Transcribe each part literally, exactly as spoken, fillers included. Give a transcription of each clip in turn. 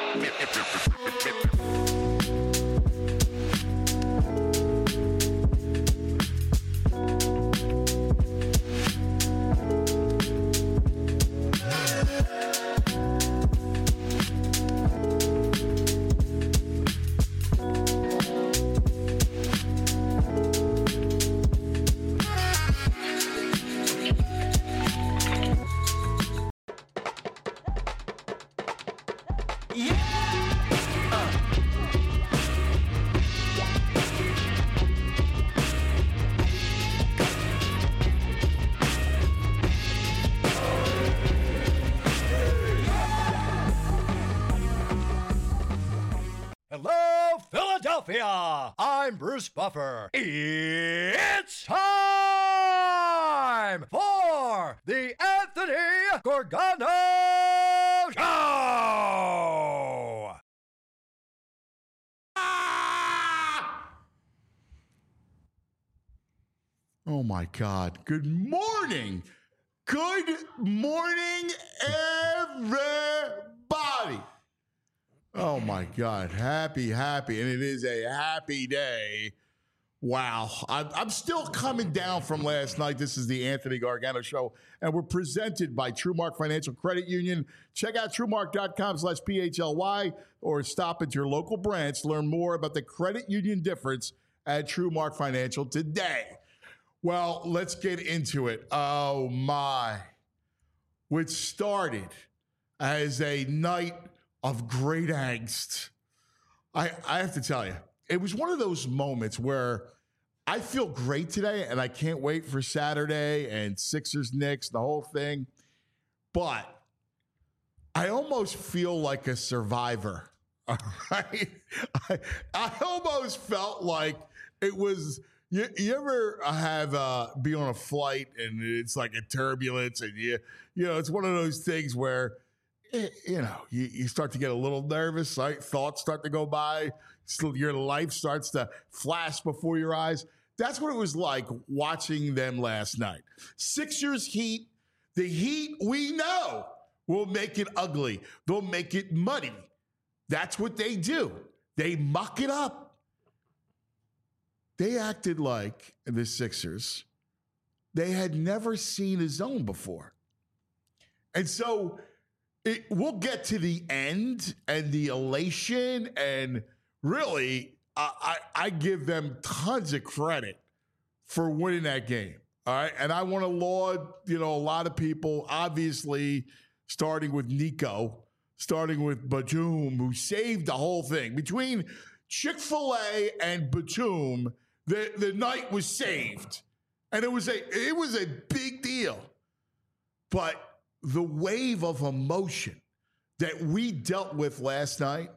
Hello, Philadelphia! I'm Bruce Buffer. It's time for the Anthony Gorgano Show! Oh my God. Good morning. Good morning, everybody. Oh my God. Happy, happy. And it is a happy day. Wow. I'm, I'm still coming down from last night. This is the Anthony Gargano Show, and we're presented by TrueMark Financial Credit Union. Check out TrueMark.com slash PHLY or stop at your local branch to learn more about the credit union difference at TrueMark Financial today. Well, let's get into it. Oh my. Which started as a night of great angst. I, I have to tell you, it was one of those moments where I feel great today and I can't wait for Saturday and Sixers Knicks, the whole thing. But I almost feel like a survivor. All right. I, I almost felt like it was, you, you ever have uh, be on a flight and it's like a turbulence and you, you know, it's one of those things where you know, you, you start to get a little nervous, right? Thoughts start to go by. So your life starts to flash before your eyes. That's what it was like watching them last night. Sixers Heat, the Heat we know will make it ugly. They'll make it muddy. That's what they do. They muck it up. They acted like, the Sixers, they had never seen a zone before. And so It, we'll get to the end and the elation, and really, I, I, I give them tons of credit for winning that game. All right, and I want to laud, you know, a lot of people, obviously, starting with Nico, starting with Batum, who saved the whole thing. Between Chick-fil-A and Batum, the, the night was saved, and it was a it was a big deal, but the wave of emotion that we dealt with last night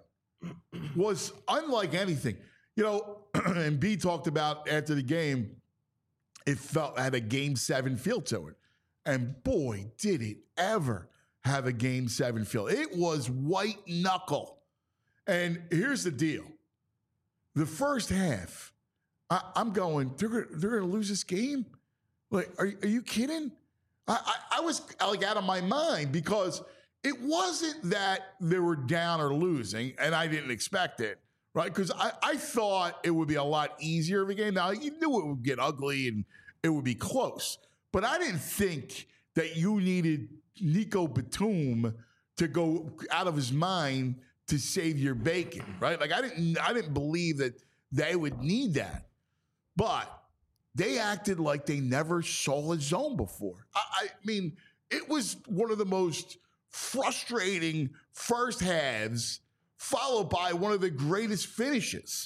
was unlike anything. You know, and B talked about after the game, it felt had a game seven feel to it. And boy, did it ever have a game seven feel. It was white knuckle. And here's the deal. The first half, I, I'm going, they're going they're to lose this game? Like, are, are you kidding? I, I, I was like out of my mind because it wasn't that they were down or losing, and I didn't expect it, right? Because I, I thought it would be a lot easier of a game. Now, you knew it would get ugly and it would be close, but I didn't think that you needed Nico Batum to go out of his mind to save your bacon, right? Like I didn't, I didn't believe that they would need that, but they acted like they never saw a zone before. I, I mean, it was one of the most frustrating first halves, followed by one of the greatest finishes.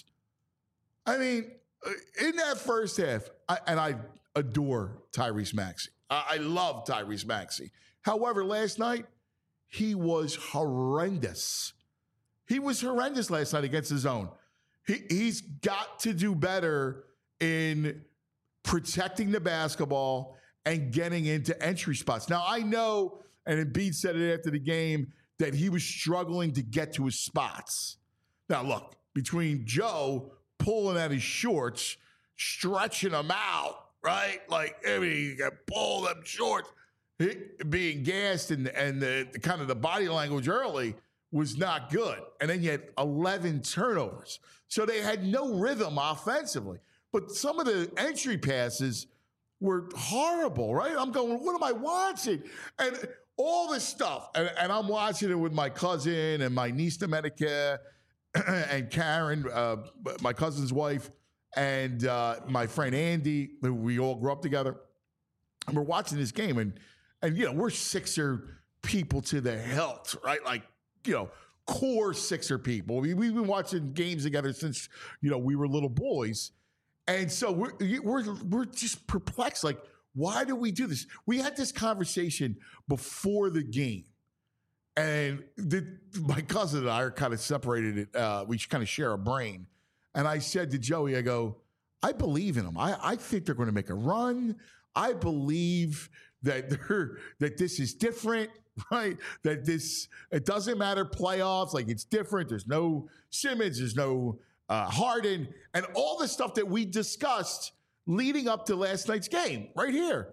I mean, in that first half, I, and I adore Tyrese Maxey. I, I love Tyrese Maxey. However, last night, he was horrendous. He was horrendous last night against the zone. He, he's got to do better in protecting the basketball and getting into entry spots. Now, I know, and Embiid said it after the game, that he was struggling to get to his spots. Now, look, between Joe pulling at his shorts, stretching them out, right? Like, I mean, you got to pull them shorts, being gassed and, and the, the kind of the body language early was not good. And then you had eleven turnovers. So they had no rhythm offensively. But some of the entry passes were horrible, right? I'm going, what am I watching? And all this stuff. And, and I'm watching it with my cousin and my niece Domenica and Karen, uh, my cousin's wife, and uh, my friend Andy, who we all grew up together. And we're watching this game. And, and you know, we're Sixer people to the hilt, right? Like, you know, core Sixer people. We, we've been watching games together since, you know, we were little boys. And so we're, we're, we're just perplexed. Like, why do we do this? We had this conversation before the game. And the, my cousin and I are kind of separated. It, uh, we kind of share a brain. And I said to Joey, I go, I believe in them. I, I think they're going to make a run. I believe that they're, that this is different, right? That this, it doesn't matter playoffs. Like, it's different. There's no Simmons. There's no uh, Harden. And all the stuff that we discussed leading up to last night's game right here.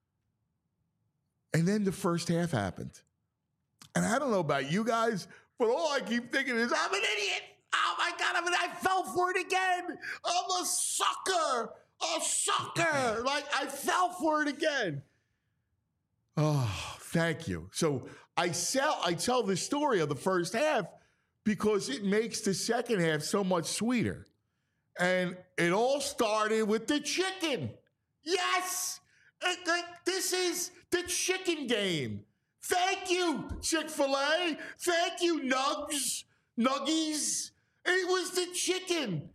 And then the first half happened. And I don't know about you guys, but all I keep thinking is, I'm an idiot. Oh, my God, I mean, I fell for it again. I'm a sucker. A sucker. Like, I fell for it again. Oh, thank you. So I sell, I tell the story of the first half because it makes the second half so much sweeter. And it all started with the chicken. Yes. It, it, this is the chicken game. Thank you, Chick-fil-A. Thank you, Nugs. Nuggies. It was the chicken.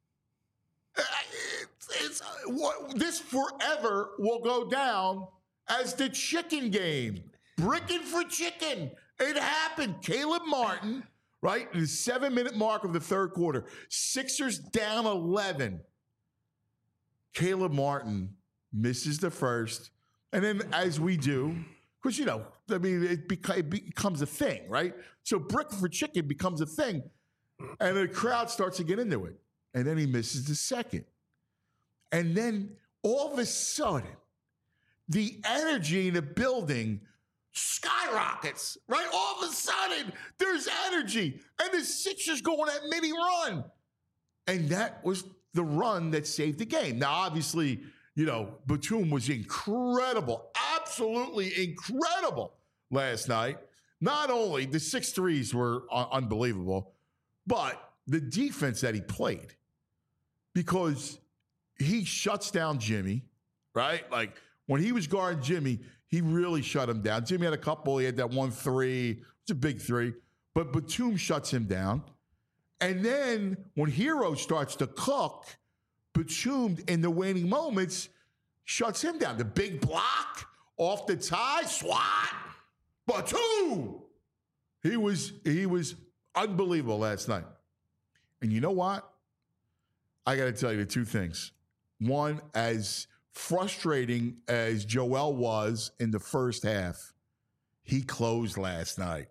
It's, it's, what, this forever will go down as the chicken game. Bricking for chicken. It happened. Caleb Martin, right? The seven-minute mark of the third quarter. Sixers down eleven. Caleb Martin misses the first. And then as we do, because, you know, I mean, it, beca- it becomes a thing, right? So bricking for chicken becomes a thing. And the crowd starts to get into it. And then he misses the second. And then all of a sudden, the energy in the building skyrockets, right? All of a sudden, there's energy. And the Sixers go on that mini run. And that was the run that saved the game. Now, obviously, you know, Batum was incredible, absolutely incredible last night. Not only the six threes were un- unbelievable, but the defense that he played, because he shuts down Jimmy, right? Like, when he was guarding Jimmy, he really shut him down. Jimmy had a couple. He had that one three. It's a big three. But Batum shuts him down. And then when Hero starts to cook, Batum, in the waning moments, shuts him down. The big block off the tie, swat. Batum! He was, he was unbelievable last night. And you know what? I got to tell you the two things. One, as frustrating as Joel was in the first half, he closed last night.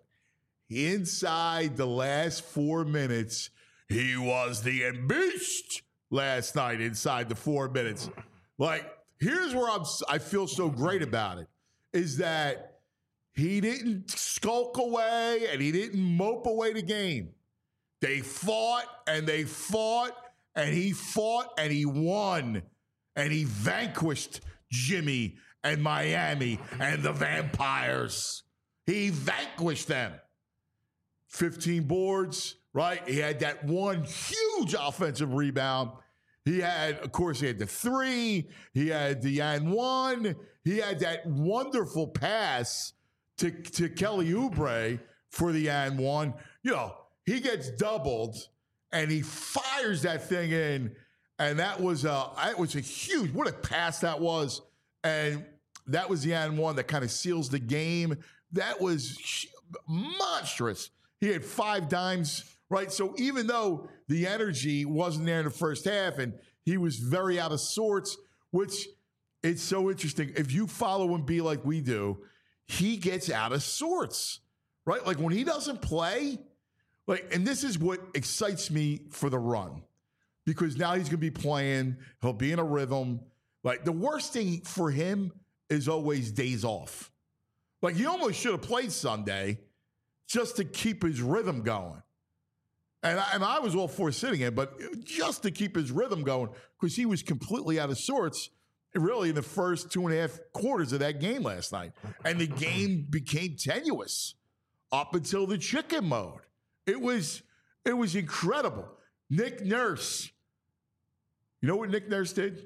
Inside the last four minutes, he was the beast last night inside the four minutes. Like, here's where I'm, I feel so great about it, is that he didn't skulk away and he didn't mope away the game. They fought and they fought and he fought and he won. And he vanquished Jimmy and Miami and the Vampires. He vanquished them. fifteen boards, right? He had that one huge offensive rebound. He had, of course, he had the three. He had the and one. He had that wonderful pass to, to Kelly Oubre for the and one. You know, he gets doubled and he fires that thing in. And that was a, that was a huge, what a pass that was. And that was the and one that kind of seals the game. That was monstrous. He had five dimes, right? So even though the energy wasn't there in the first half and he was very out of sorts, which it's so interesting. If you follow him be like we do, he gets out of sorts, right? Like when he doesn't play, like, and this is what excites me for the run. Because now he's going to be playing. He'll be in a rhythm. Like, the worst thing for him is always days off. Like, he almost should have played Sunday just to keep his rhythm going. And I, and I was all for sitting him, but just to keep his rhythm going, because he was completely out of sorts, really, in the first two and a half quarters of that game last night. And the game became tenuous up until the chicken mode. It was, it was incredible. Nick Nurse, you know what Nick Nurse did?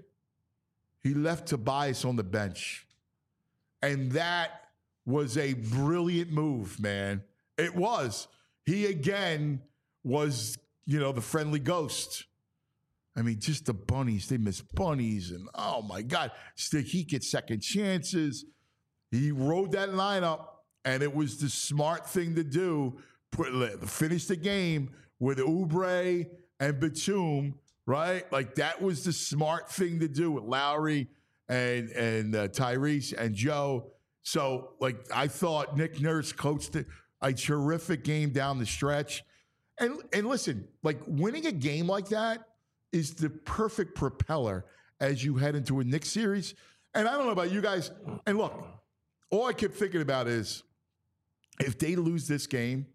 He left Tobias on the bench. And that was a brilliant move, man. It was. He, again, was, you know, the friendly ghost. I mean, just the bunnies. They miss bunnies. And, oh, my God. Stick, he gets second chances. He rode that lineup, and it was the smart thing to do. Put, finish the game with Oubre and Batum, right? Like, that was the smart thing to do with Lowry and, and uh, Tyrese and Joe. So, like, I thought Nick Nurse coached a, a terrific game down the stretch. And and listen, like, winning a game like that is the perfect propeller as you head into a Knicks series. And I don't know about you guys. And look, all I kept thinking about is if they lose this game,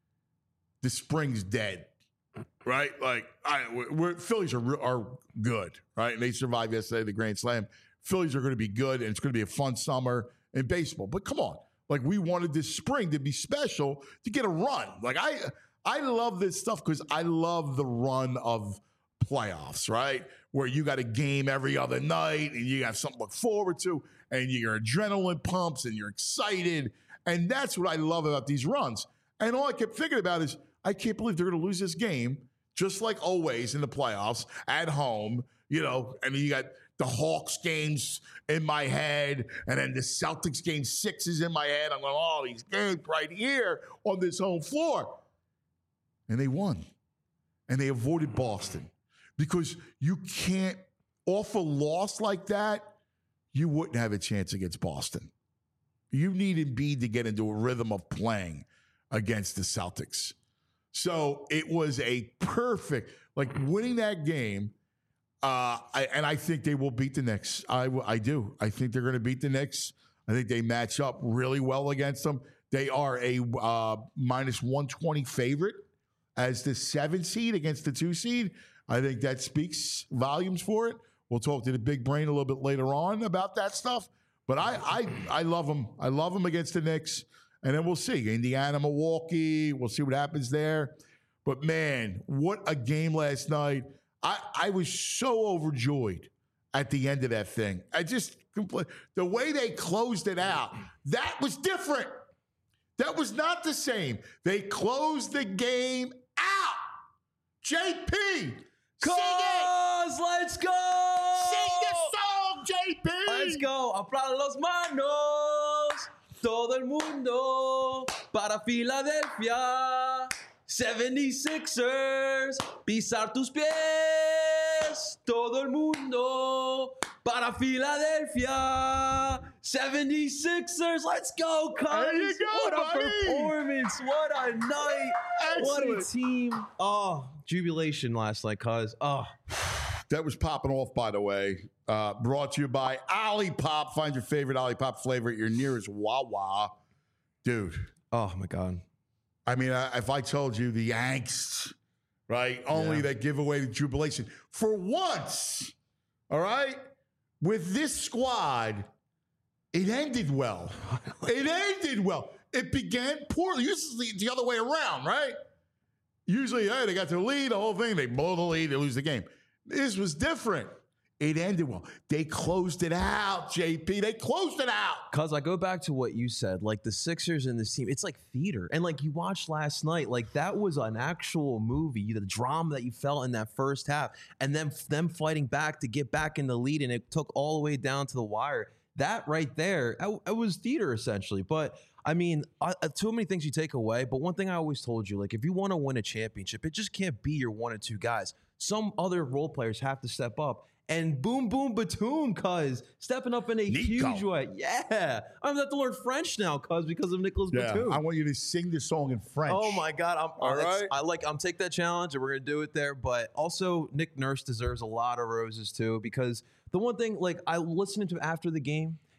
the spring's dead, right? Like, I, we're, Phillies are are good, right? And they survived yesterday, the Grand Slam. Phillies are going to be good, and it's going to be a fun summer in baseball. But come on, like, we wanted this spring to be special to get a run. Like, I. I love this stuff because I love the run of playoffs, right? Where you got a game every other night and you have something to look forward to and your adrenaline pumps and you're excited. And that's what I love about these runs. And all I kept thinking about is, I can't believe they're going to lose this game, just like always in the playoffs, at home, you know, and you got the Hawks games in my head, and then the Celtics game six is in my head. I'm going, oh, these games right here on this home floor. And they won. And they avoided Boston. Because you can't, off a loss like that, you wouldn't have a chance against Boston. You need Embiid to get into a rhythm of playing against the Celtics. So it was a perfect, like, winning that game, uh, I, and I think they will beat the Knicks. I, I do. I think they're going to beat the Knicks. I think they match up really well against them. They are a uh, minus one twenty favorite as the seven seed against the two seed. I think that speaks volumes for it. We'll talk to the big brain a little bit later on about that stuff. But I I, I love them. I love them against the Knicks. And then we'll see. Indiana, Milwaukee. We'll see what happens there. But, man, what a game last night. I, I was so overjoyed at the end of that thing. I just, the way they closed it out, that was different. That was not the same. They closed the game out. J P, Cause, let's go. Sing the song, J P. Let's go. Aplaudan los manos. Todo el mundo para Filadelfia. seventy-sixers. Pisar tus pies. Todo el mundo para Philadelphia. seventy-sixers. Let's go, Cubs. There you go, what a buddy. performance. What a night. Excellent. What a team. Oh, jubilation last night, Cuz. Oh. That was popping off, by the way. Uh, brought to you by Olipop. Find your favorite Olipop flavor at your nearest Wawa. Dude. Oh, my God. I mean, I, if I told you the angst, right? Only Yeah. that give away the jubilation. For once, all right? With this squad, it ended well. It ended well. It began poorly. Usually it's the other way around, right? Usually, hey, they got their lead, the whole thing. They blow the lead, they lose the game. This was different. It ended well. They closed it out, J P. They closed it out. Cuz I go back to what you said, like the Sixers and this team, it's like theater. And like you watched last night, like that was an actual movie, the drama that you felt in that first half, and then them fighting back to get back in the lead, and it took all the way down to the wire. That right there, it was theater essentially. But I mean, uh, too many things you take away. But one thing I always told you, like if you want to win a championship, it just can't be your one or two guys. Some other role players have to step up. And boom, boom, Batum, cuz stepping up in a Nico. huge way. Yeah. I'm going to have to learn French now, cuz, because of Nicholas Yeah, Batum. I want you to sing the song in French. Oh my God! I'm All uh, it's- right. I like. I'm take that challenge, and we're gonna do it there. But also, Nick Nurse deserves a lot of roses too, because the one thing, like, I listened to him after the game,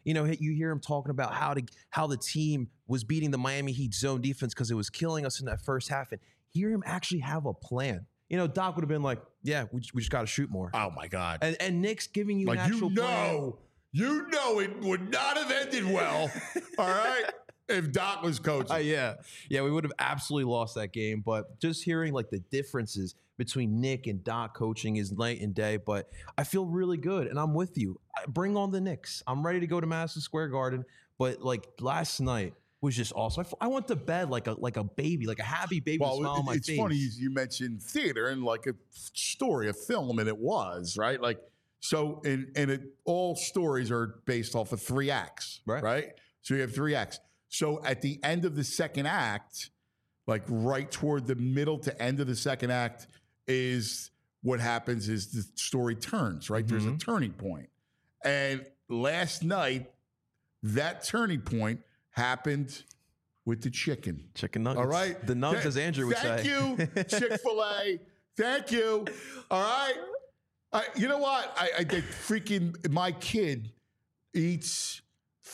you know, you hear him talking about how to how the team was beating the Miami Heat zone defense because it was killing us in that first half, and hear him actually have a plan. You know, Doc would have been like, "Yeah, we, we just got to shoot more." Oh my God! And and Nick's giving you like an actual you know, plan. you know, it would not have ended well. All right. If Doc was coaching. Uh, yeah. Yeah, we would have absolutely lost that game. But just hearing like the differences between Nick and Doc coaching is night and day. But I feel really good, and I'm with you. I, bring on the Knicks. I'm ready to go to Madison Square Garden. But like last night was just awesome. I, f- I went to bed like a like a baby, like a happy baby with a smile Well, on my it's face. funny you you mentioned theater and like a story, a film, and it was, right? Like, so, and, and it, all stories are based off of three acts, Right. right? So you have three acts. So at the end of the second act, like right toward the middle to end of the second act, is what happens is the story turns, right? There's a turning point. And last night, that turning point happened with the chicken. Chicken nuggets. All right? The nugs, Th- as Andrew would thank say. you, Chick-fil-A. Thank you. All right? I, you know what? I, I did freaking, my kid eats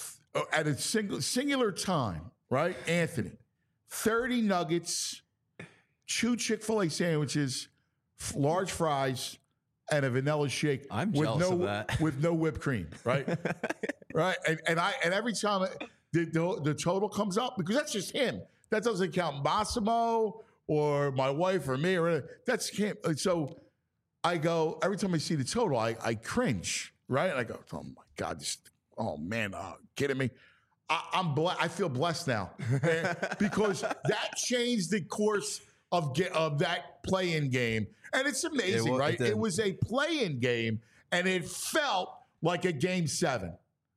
at a single singular time, right? Anthony, thirty nuggets, two Chick-fil-A sandwiches, f- large fries, and a vanilla shake. I'm with jealous no, of that. with no whipped cream, right? right, and, and I and every time it, the, the the total comes up, because that's just him. That doesn't count Massimo or my wife or me or anything. That's him. So I go every time I see the total, I I cringe, right? And I go, oh my God, this, oh man, uh, kidding me? I, I'm ble- I feel blessed now eh, because that changed the course of ge- of that play-in game, and it's amazing, It wa- right? it did. It was a play-in game, and it felt like a game seven.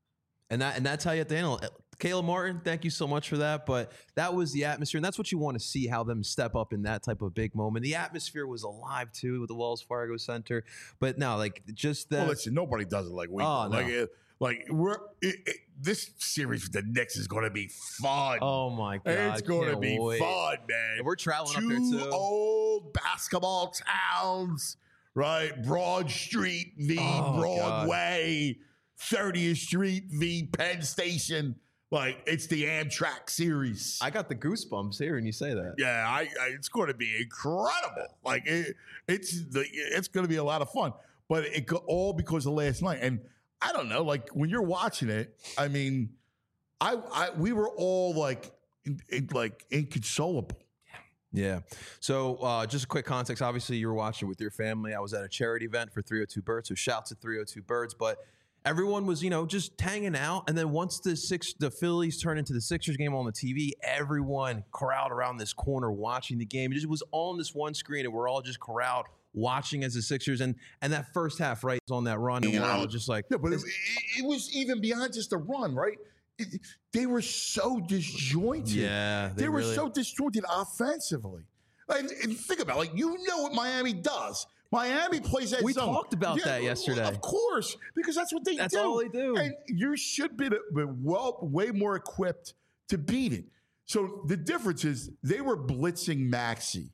And that and that's how you have to handle it. Caleb Martin, thank you so much for that. But that was the atmosphere, and that's what you want to see, how them step up in that type of big moment. The atmosphere was alive too with the Wells Fargo Center. But no, like just that. Well, listen, nobody does it like we Oh, do. Like, no. it, like we're it, it, this series with the Knicks is going to be fun. Oh my God, it's going to can't be wait. fun, man. And we're traveling Two up there too. old basketball towns, right? Broad Street v. Oh, Broadway, thirtieth Street v. Penn Station. Like, it's the Amtrak series. I got the goosebumps hearing you say that. Yeah, I, I it's going to be incredible. Like it, it's the it's going to be a lot of fun. But it go, all because of last night. And I don't know, like when you're watching it, I mean, I, I we were all like, in, in, like inconsolable. Yeah. So uh, just a quick context. Obviously, you were watching with your family. I was at a charity event for three oh two Birds. So shouts to three oh two Birds. But everyone was, you know, just hanging out. And then once the six, the Phillies turned into the Sixers game on the T V, everyone corralled around this corner watching the game. It just was on this one screen, and we're all just corralled watching as the Sixers. And and that first half, right, was on that run, and we're all just like, Yeah, but it, it, it was even beyond just a run, right? It, they were so disjointed. yeah, They, were really- so disjointed offensively. And, and think about it, like you know what Miami does. Miami plays that We zone. talked about that yesterday. Of course, because that's what they That's do. all they do. And you should be, the- be well, way more equipped to beat it. So the difference is they were blitzing Maxey.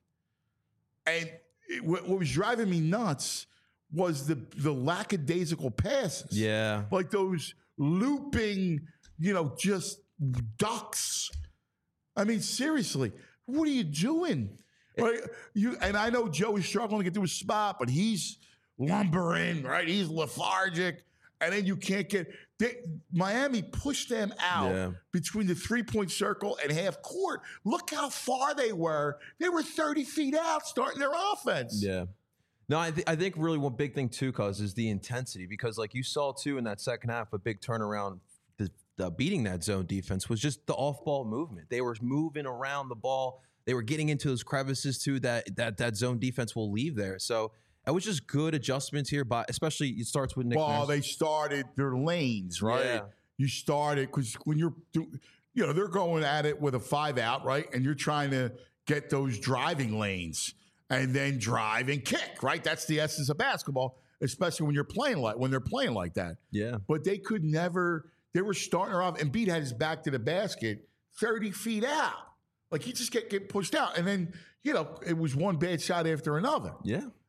And it, what, what was driving me nuts was the, the lackadaisical passes. Yeah. Like those looping, you know, just ducks. I mean, seriously, what are you doing? Right? You and I know Joe is struggling to get to his spot, but he's lumbering, right? He's lethargic, and then you can't get. They, Miami pushed them out Yeah. between the three-point circle and half court. Look how far they were. They were thirty feet out starting their offense. Yeah. No, I, th- I think really one big thing too, cause is the intensity, because like you saw too in that second half, a big turnaround, the, the beating that zone defense was just the off-ball movement. They were moving around the ball. They were getting into those crevices too that that that zone defense will leave there. So it was just good adjustments here, but especially it starts with Nick Well, Nurse. they started their lanes, right? Yeah. You started because when you're, do- you know, they're going at it with a five out, right? And you're trying to get those driving lanes and then drive and kick, right? That's the essence of basketball, especially when you're playing like when they're playing like that. Yeah. But they could never. They were starting her off, and Embiid had his back to the basket, thirty feet out. Like he just get get pushed out, and then you know it was one bad shot after another. Yeah.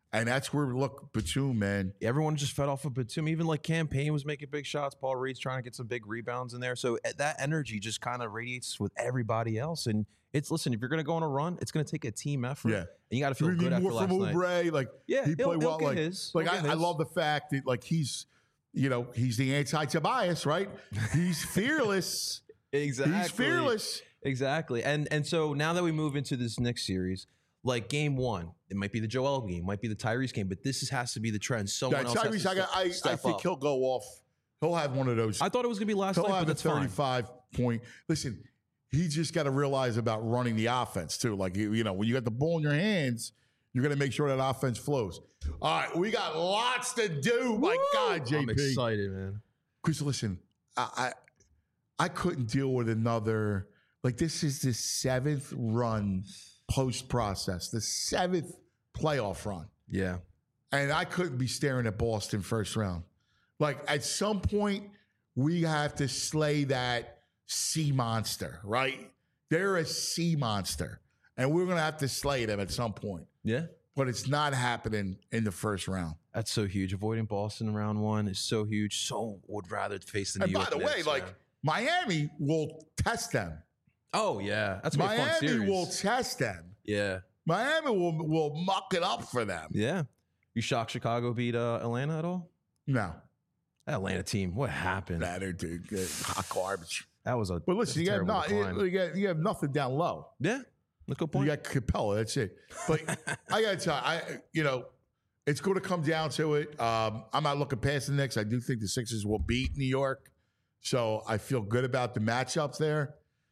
And that's where, look, Batum, man. Everyone just fed off of Batum. Even like Campaign was making big shots. Paul Reed's trying to get some big rebounds in there. So that energy just kind of radiates with everybody else. And it's, listen, if you're going to go on a run, it's going to take a team effort. Yeah. And you got to feel We good need after more last from night. Oubre. Like, Yeah, he he'll- played he'll well. get Like, his. like He'll I, get I his. love the fact that, like, he's, you know, he's the anti-Tobias, right? He's fearless. Exactly. He's fearless. Exactly. And and so now that we move into this next series, like game one, it might be the Joel game, might be the Tyrese game, but this is, has to be the trend. Someone Yeah, else has Tyrese, to I, got, step, I, I step think up. he'll go off. He'll have one of those. I thought it was going to be last He'll night, but have a that's fine. thirty-five point. Listen, he just got to realize about running the offense too. Like, you you know, when you got the ball in your hands, you're going to make sure that offense flows. All right, we got lots to do. My God, J P. I'm excited, man. Chris, listen, I, I I couldn't deal with another. Like, this is the seventh run post process, the seventh playoff run, Yeah. and I couldn't be staring at Boston first round. Like, at some point, we have to slay that sea monster, right? They're a sea monster, and we're gonna have to slay them at some point. Yeah. But it's not happening in the first round. That's so huge. Avoiding Boston in round one is so huge. So would rather face the New And by York the way, Knicks, like, man. Miami will test them. Oh, yeah. That's going to be a fun Miami series. will test them. Yeah. Miami will will muck it up for them. Yeah. You shocked Chicago beat uh, Atlanta at all? No, That Atlanta team, what happened? that are dude, hot garbage. That was a But listen, you have terrible not, decline. you, you got, you have nothing down low. Yeah. Look good You point. got Capella. That's it. But I got to tell you, I you know, it's going to come down to it. Um, I'm not looking past the Knicks. I do think the Sixers will beat New York, so I feel good about the matchups there.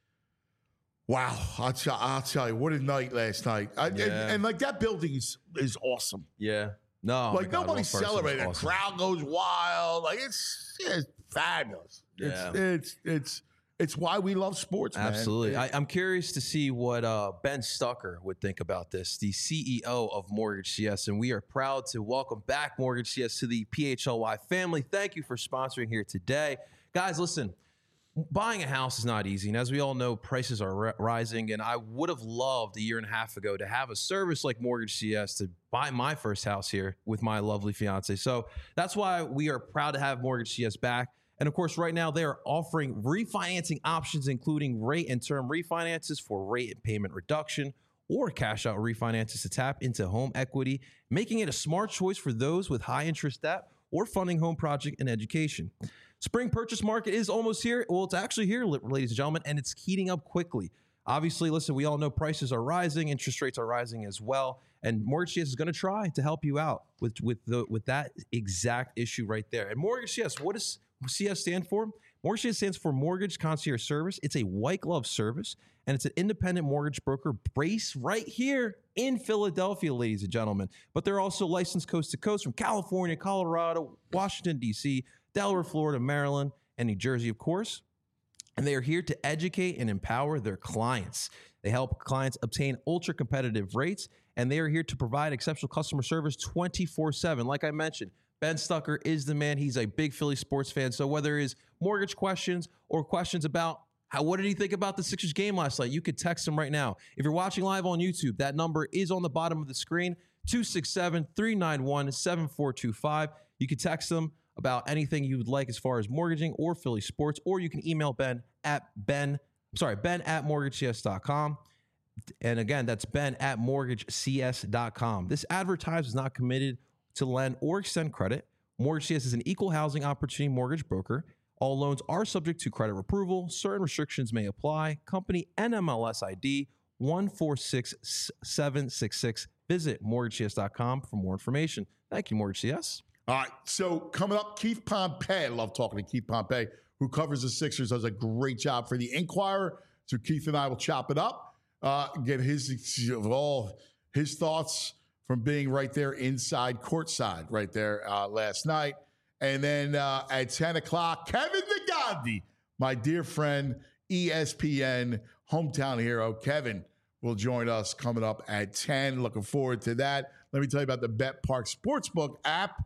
Wow, I'll, t- I'll tell you, what a night last night. I, and, Yeah. and like that building is is awesome. Yeah. No. like my God, nobody's Will Ferguson was celebrating. awesome. The crowd goes wild. Like it's, it's fabulous. Yeah. It's, it's it's it's why we love sports, man. Absolutely. It- I, I'm curious to see what uh, Ben Stucker would think about this, the C E O of Mortgage C S. And we are proud to welcome back Mortgage C S to the P H L Y family. Thank you for sponsoring here today. Guys, listen, buying a house is not easy. And as we all know, prices are ri- rising. And I would have loved a year and a half ago to have a service like Mortgage C S to buy my first house here with my lovely fiance. So that's why we are proud to have Mortgage C S back. And of course, right now they are offering refinancing options, including rate and term refinances for rate and payment reduction or cash out refinances to tap into home equity, making it a smart choice for those with high interest debt or funding home project and education. Spring purchase market is almost here. Well, it's actually here, ladies and gentlemen, and it's heating up quickly. Obviously, listen, we all know prices are rising, interest rates are rising as well, and Mortgage C S is going to try to help you out with with the with that exact issue right there. And Mortgage C S, what does C S stand for? Mortgage C S stands for Mortgage Concierge Service. It's a white glove service, and it's an independent mortgage broker based right here in Philadelphia, ladies and gentlemen. But they're also licensed coast to coast from California, Colorado, Washington, D C, Delaware, Florida, Maryland, and New Jersey, of course. And they are here to educate and empower their clients. They help clients obtain ultra competitive rates, and they are here to provide exceptional customer service twenty-four seven. Like I mentioned, Ben Stucker is the man. He's a big Philly sports fan. So whether it is mortgage questions or questions about how, what did he think about the Sixers game last night, you could text him right now. If you're watching live on YouTube, that number is on the bottom of the screen, two six seven, three nine one, seven four two five. You can text him about anything you would like as far as mortgaging or Philly sports, or you can email Ben at Ben, I'm sorry, Ben at mortgage c s dot com. And again, that's Ben at mortgage c s dot com. This advertisement is not committed to lend or extend credit. Mortgage C S is an equal housing opportunity mortgage broker. All loans are subject to credit approval. Certain restrictions may apply. Company N M L S I D one four six seven six six. Visit mortgage c s dot com for more information. Thank you, Mortgage C S. All right, so coming up, Keith Pompey. I love talking to Keith Pompey, who covers the Sixers, does a great job for the Inquirer. So Keith and I will chop it up, uh, get his all his thoughts from being right there inside courtside right there uh, last night. And then uh, at ten o'clock, Kevin Negandhi, my dear friend, E S P N hometown hero, Kevin, will join us coming up at ten. Looking forward to that. Let me tell you about the Bet Park Sportsbook app.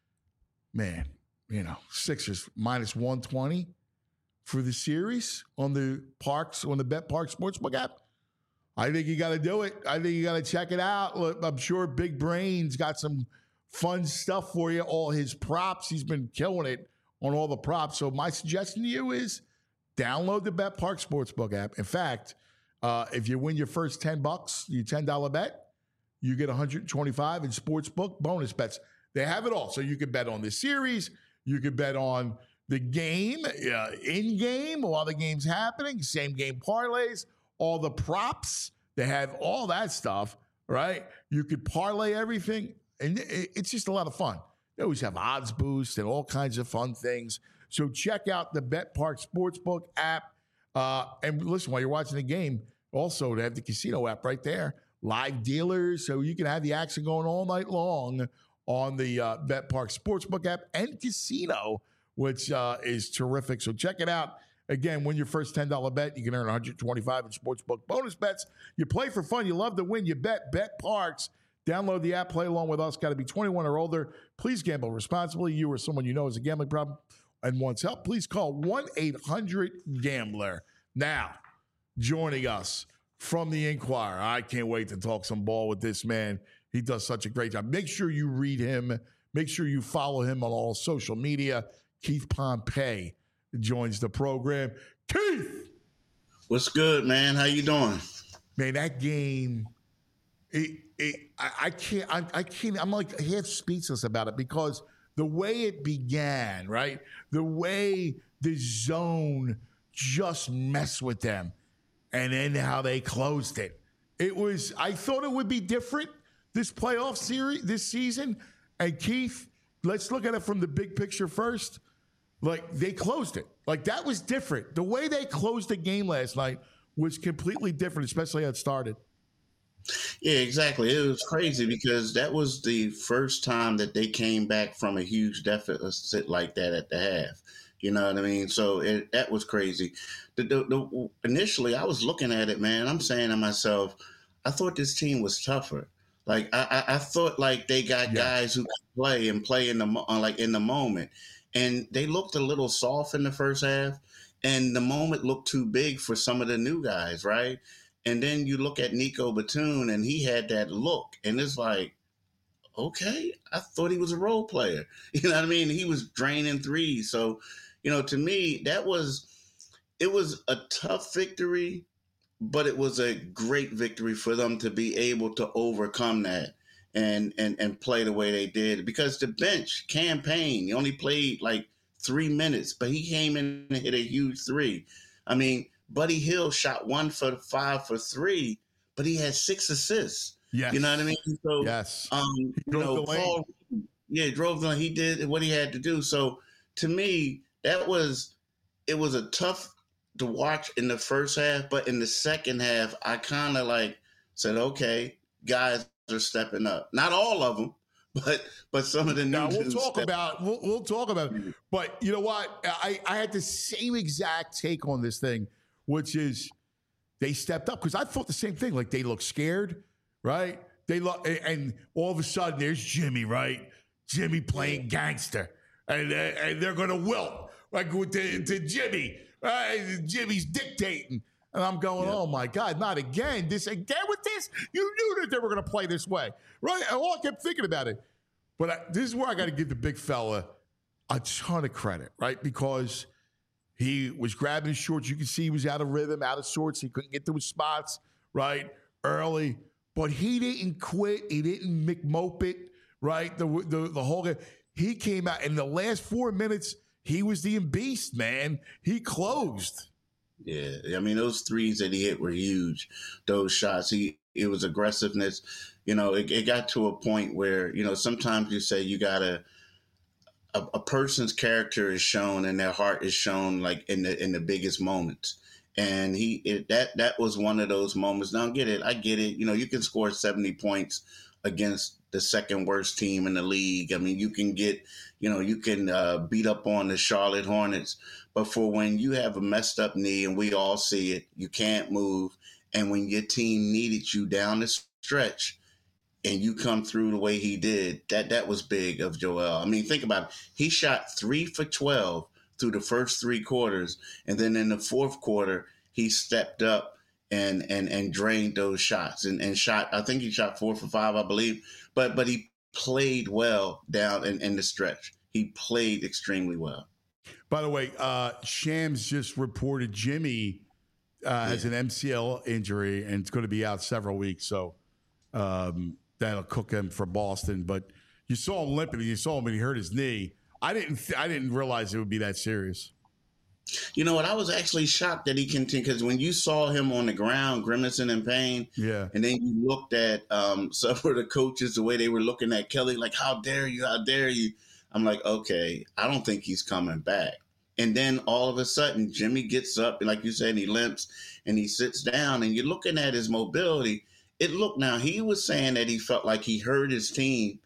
Man, you know, Sixers minus one twenty for the series on the Parks, on the Bet Park Sportsbook app. I think you got to do it. I think you got to check it out. Look, I'm sure Big Brain's got some fun stuff for you. All his props, he's been killing it on all the props. So my suggestion to you is download the BetParx Sportsbook app. In fact, uh, if you win your first ten bucks, your ten dollar bet, you get one hundred twenty-five in Sportsbook bonus bets. They have it all. So you can bet on the series. You can bet on the game, uh, in-game, while the game's happening, same game parlays, all the props. They have all that stuff, right? You could parlay everything, and it's just a lot of fun. They always have odds boosts and all kinds of fun things. So check out the BetParx Sportsbook app. Uh, and listen, while you're watching the game, also they have the casino app right there. Live dealers, so you can have the action going all night long on the uh, BetParx Sportsbook app and casino, which uh, is terrific. So check it out. Again, win your first ten dollar bet. You can earn one hundred twenty-five in Sportsbook bonus bets. You play for fun. You love to win. You bet. BetParx. Download the app. Play along with us. Got to be twenty-one or older. Please gamble responsibly. You or someone you know has a gambling problem and wants help, please call one eight hundred gambler. Now, joining us from the Inquirer. I can't wait to talk some ball with this man. He does such a great job. Make sure you read him. Make sure you follow him on all social media. Keith Pompey joins the program. Keith! What's good, man? How you doing? Man, that game, it, it, I, I can't, I, I can't, I'm like half speechless about it because the way it began, right? The way the zone just messed with them and then how they closed it. It was, I thought it would be different this playoff series, this season. And Keith, let's look at it from the big picture first. Like, they closed it. Like, that was different. The way they closed the game last night was completely different, especially how it started. Yeah, exactly. It was crazy because that was the first time that they came back from a huge deficit like that at the half. You know what I mean? So it, that was crazy. The, the, the, initially, I was looking at it, man. I'm saying to myself, I thought this team was tougher. Like, I, I, I thought like they got yeah. guys who could play and play in the like in the moment. And they looked a little soft in the first half, and the moment looked too big for some of the new guys, right? And then you look at Nico Batum, and he had that look, and it's like, okay, I thought he was a role player. You know what I mean? He was draining threes. So, you know, to me, that was it was a tough victory, but it was a great victory for them to be able to overcome that. And, and and play the way they did because the bench campaign, he only played like three minutes, but he came in and hit a huge three. I mean, Buddy Hield shot one for five for three, but he had six assists. Yes. You know what I mean? So, yes. Um, you know, Paul, yeah, drove the he did what he had to do. So to me, that was it was a tough to watch in the first half, but in the second half, I kind of like said, okay, guys are stepping up. Not all of them, but but some of the new. Now we'll talk about we'll, we'll talk about it. But you know what? I, I had the same exact take on this thing, which is they stepped up because I thought the same thing. Like they look scared, right? They look, and all of a sudden there's Jimmy, right? Jimmy playing gangster, and and they're gonna wilt like to, to Jimmy. Right? Jimmy's dictating. And I'm going, yeah. oh, my God, not again. This again with this? You knew that they were going to play this way, right? And all I kept thinking about it. But I, this is where I got to give the big fella a ton of credit, right? Because he was grabbing his shorts. You can see he was out of rhythm, out of sorts. He couldn't get to his spots, right, early. But he didn't quit. He didn't McMope it, right, the, the, the whole game. He came out. In the last four minutes, he was the beast, man. He closed. Yeah, I mean, those threes that he hit were huge. Those shots, he it was aggressiveness. You know, it, it got to a point where, you know, sometimes you say you got to a, a person's character is shown and their heart is shown like in the in the biggest moments. And he it, that that was one of those moments. Now, get it. I get it. You know, you can score seventy points against the second worst team in the league. I mean, you can get, you know, you can uh, beat up on the Charlotte Hornets. But for when you have a messed up knee and we all see it, you can't move. And when your team needed you down the stretch and you come through the way he did, that that was big of Joel. I mean, think about it. He shot three for twelve through the first three quarters. And then in the fourth quarter, he stepped up and and and drained those shots and, and shot. I think he shot four for five, I believe. But but he played well down in, in the stretch. He played extremely well. By the way, uh, Shams just reported Jimmy uh, yeah. has an M C L injury and it's going to be out several weeks. So um, that'll cook him for Boston. But you saw him limping. You saw him and he hurt his knee. I didn't. Th- I didn't realize it would be that serious. You know what? I was actually shocked that he continued, because when you saw him on the ground grimacing in pain, yeah, and then you looked at um, some of the coaches, the way they were looking at Kelly, like, how dare you, how dare you? I'm like, okay, I don't think he's coming back. And then all of a sudden, Jimmy gets up, like you said, he limps, and he sits down, and you're looking at his mobility. It looked, now, he was saying that he felt like he hurt his team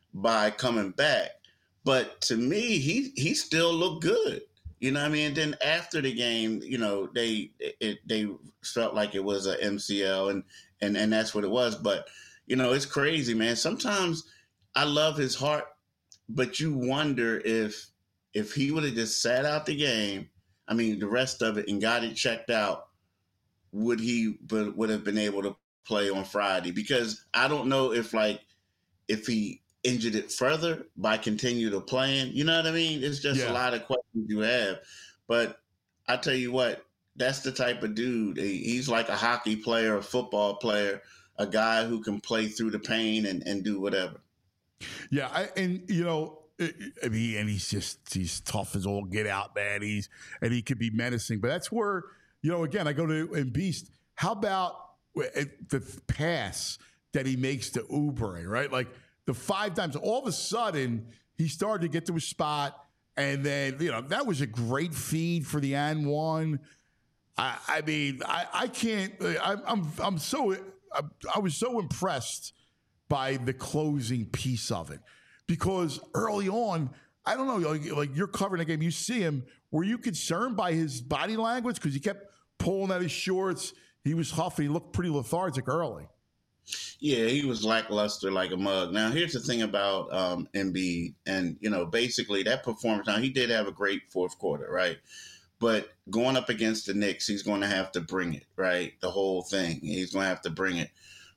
by coming back. But to me, he he still looked good. You know what I mean? And then after the game, you know, they it, they felt like it was a M C L, and, and, and that's what it was. But, you know, it's crazy, man. Sometimes I love his heart, but you wonder if if he would have just sat out the game, I mean, the rest of it, and got it checked out, would he would have been able to play on Friday? Because I don't know if, like, if he injured it further by continue to playing. You know what I mean? It's just yeah. a lot of questions you have. But I tell you what, that's the type of dude. He's like a hockey player, a football player, a guy who can play through the pain and, and do whatever. Yeah, I, and, you know, I mean, and he's just, he's tough as all get out, man. He's, and he could be menacing. But that's where, you know, again, I go to and Beast, how about the pass that he makes to Oubre, right? Like, the five times, all of a sudden, he started to get to a spot, and then, you know, that was a great feed for the and one. I, I mean, I, I can't, I, I'm I'm so, I, I was so impressed by the closing piece of it, because early on, I don't know, like, like you're covering the game, you see him, were you concerned by his body language? Because he kept pulling at his shorts, he was huffing, he looked pretty lethargic early. Yeah, he was lackluster like a mug. Now, here's the thing about um, Embiid, and, you know, basically that performance, now he did have a great fourth quarter, right? But going up against the Knicks, he's going to have to bring it, right? The whole thing. He's going to have to bring it.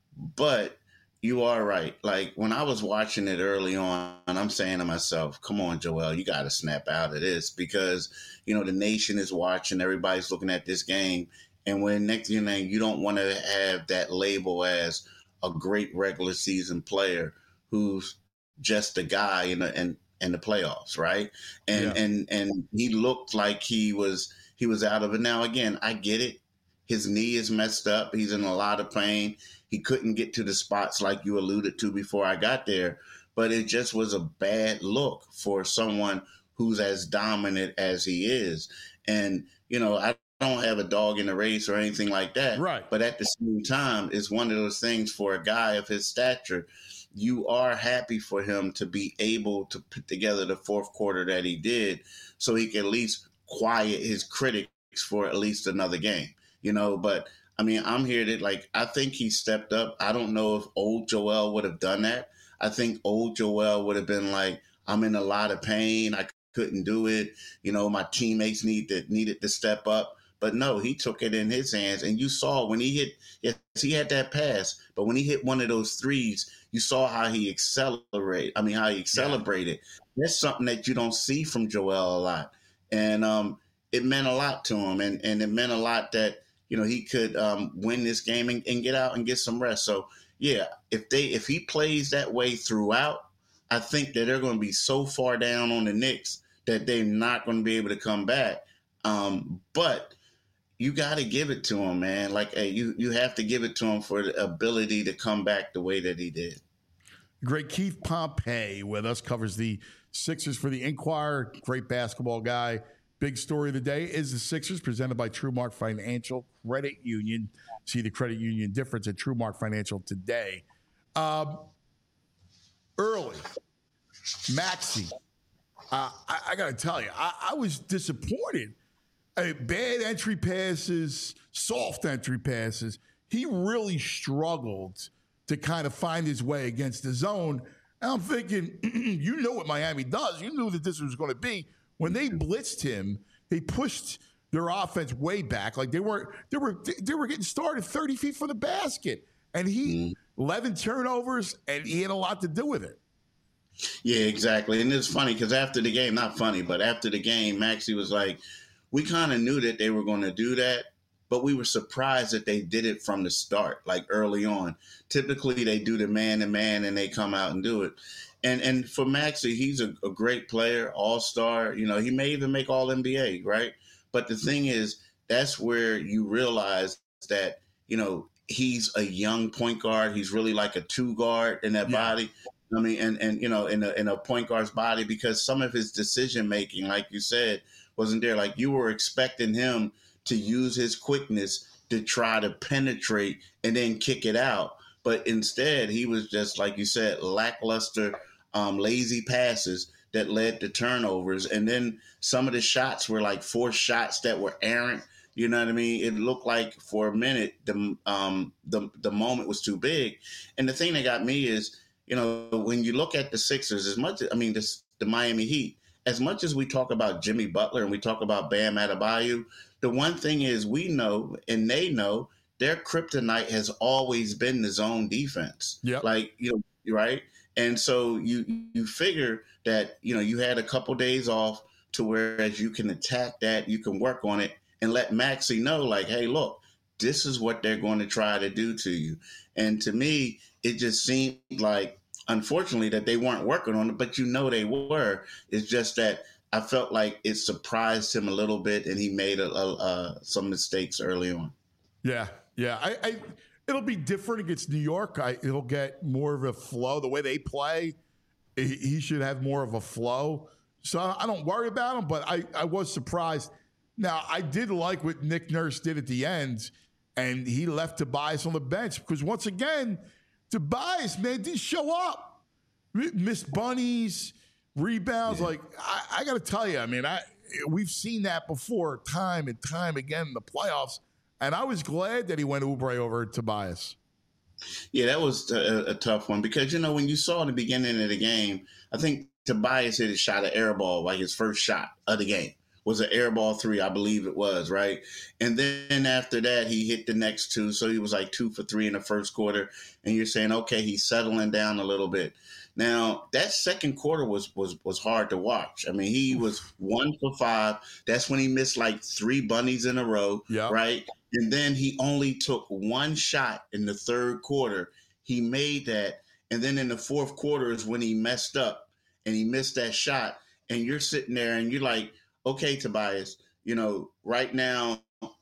But you are right. Like, when I was watching it early on, I'm saying to myself, come on, Joel, you got to snap out of this, because, you know, the nation is watching. Everybody's looking at this game. And when next you know, you don't want to have that label as a great regular season player who's just a guy in the in, in the playoffs, right? And yeah. and and he looked like he was he was out of it. Now again, I get it. His knee is messed up. He's in a lot of pain. He couldn't get to the spots like you alluded to before I got there. But it just was a bad look for someone who's as dominant as he is. And, you know, I don't have a dog in the race or anything like that. Right. But at the same time, it's one of those things for a guy of his stature. You are happy for him to be able to put together the fourth quarter that he did, so he can at least quiet his critics for at least another game, you know. But I mean, I'm here to, like, I think he stepped up. I don't know if old Joel would have done that. I think old Joel would have been like, I'm in a lot of pain. I couldn't do it. You know, my teammates need to, needed to step up. But no, he took it in his hands. And you saw when he hit, yes, he had that pass, but when he hit one of those threes, you saw how he accelerated. I mean, how he celebrated. Yeah. That's something that you don't see from Joel a lot. And um, it meant a lot to him. And, and it meant a lot that, you know, he could um, win this game and, and get out and get some rest. So, yeah, if they if he plays that way throughout, I think that they're going to be so far down on the Knicks that they're not going to be able to come back. Um, but you got to give it to him, man. Like, hey, you you have to give it to him for the ability to come back the way that he did. Great. Keith Pompey with us, covers the Sixers for the Inquirer. Great basketball guy. Big story of the day is the Sixers, presented by TrueMark Financial Credit Union. See the credit union difference at TrueMark Financial today. Um, early, Maxey. Uh, I, I got to tell you, I, I was disappointed. I mean, bad entry passes, soft entry passes. He really struggled to kind of find his way against the zone. And I'm thinking, you know what Miami does. You knew that this was going to be. When they blitzed him, they pushed their offense way back. Like they were, they were, they were getting started thirty feet from the basket, and he mm. eleven turnovers, and he had a lot to do with it. Yeah, exactly. And it's funny because after the game, not funny, but after the game, Maxey was like, we kind of knew that they were going to do that, but we were surprised that they did it from the start, like early on. Typically, they do the man-to-man and they come out and do it. And and for Maxey, he's a, a great player, all-star. You know, he may even make all N B A, right? But the thing is, that's where you realize that, you know, he's a young point guard. He's really like a two guard in that yeah. body. I mean, and, and you know, in a, in a point guard's body, because some of his decision-making, like you said, wasn't there. Like you were expecting him to use his quickness to try to penetrate and then kick it out. But instead, he was just, like you said, lackluster, um, lazy passes that led to turnovers. And then some of the shots were like forced shots that were errant. You know what I mean? It looked like for a minute the um, the the moment was too big. And the thing that got me is, you know, when you look at the Sixers, as much, I mean, this, the Miami Heat, as much as we talk about Jimmy Butler and we talk about Bam Adebayo, the one thing is we know and they know their kryptonite has always been the zone defense. Yeah. Like, you know, right? And so you you figure that, you know, you had a couple days off to whereas you can attack that, you can work on it and let Maxey know, like, hey, look, this is what they're going to try to do to you. And to me, it just seemed like, unfortunately, that they weren't working on it, but you know they were. It's just that I felt like it surprised him a little bit, and he made a, a, uh, some mistakes early on. Yeah, yeah. I, I it'll be different against New York. I, it'll get more of a flow. The way they play, he, he should have more of a flow. So I don't worry about him, but I, I was surprised. Now, I did like what Nick Nurse did at the end, and he left Tobias on the bench because, once again, Tobias, man, didn't show up. Missed bunnies, rebounds. Yeah. Like, I, I got to tell you, I mean, I we've seen that before time and time again in the playoffs, and I was glad that he went Oubre over Tobias. Yeah, that was a, a tough one because, you know, when you saw in the beginning of the game, I think Tobias hit a shot, an air ball, like his first shot of the game. Was an air ball three, I believe it was, right? And then after that, he hit the next two. So he was like two for three in the first quarter. And you're saying, okay, he's settling down a little bit. Now, that second quarter was was was hard to watch. I mean, he was one for five. That's when he missed like three bunnies in a row, yep. right? And then he only took one shot in the third quarter. He made that. And then in the fourth quarter is when he messed up and he missed that shot. And you're sitting there and you're like, okay, Tobias, you know, right now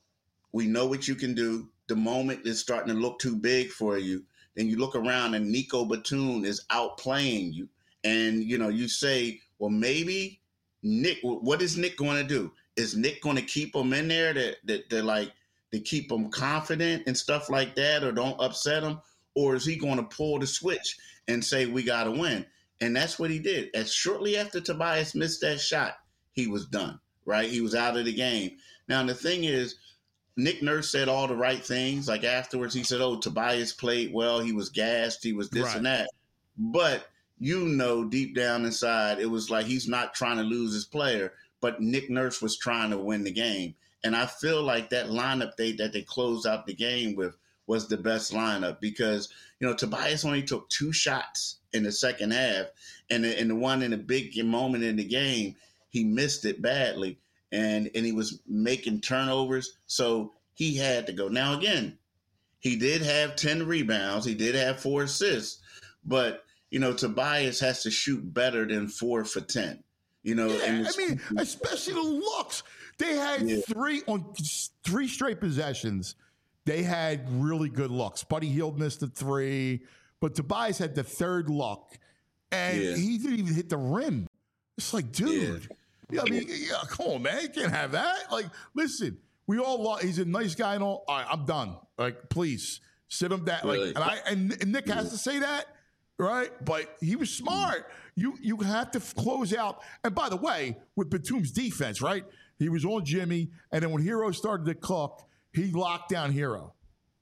we know what you can do. The moment is starting to look too big for you. Then you look around and Nico Batum is outplaying you. And, you know, you say, well, maybe Nick, what is Nick going to do? Is Nick going to keep him in there that that they're like to keep him confident and stuff like that or don't upset him? Or is he going to pull the switch and say, we got to win? And that's what he did. As shortly after Tobias missed that shot, he was done, right? He was out of the game. Now, the thing is, Nick Nurse said all the right things. Like afterwards, he said, oh, Tobias played well. He was gassed. He was this right. and that. But you know, deep down inside, it was like he's not trying to lose his player, but Nick Nurse was trying to win the game. And I feel like that lineup they, that they closed out the game with was the best lineup because, you know, Tobias only took two shots in the second half. And the, and the one in a big moment in the game, he missed it badly, and, and he was making turnovers, so he had to go. Now, again, he did have ten rebounds. He did have four assists, but, you know, Tobias has to shoot better than four for ten. You know, yeah, and I mean, especially the looks. They had yeah. three on three straight possessions. They had really good looks. Buddy Hield missed the three, but Tobias had the third look, and yeah. he didn't even hit the rim. It's like, dude. Yeah. Yeah, I mean, yeah, come on, man. You can't have that. Like, listen, we all love, he's a nice guy and all. All right, I'm done. Like, please, sit him down. Really? Like, and I and, and Nick has to say that, right? But he was smart. You you have to close out. And by the way, with Batum's defense, right? He was on Jimmy, and then when Hero started to cook, he locked down Hero.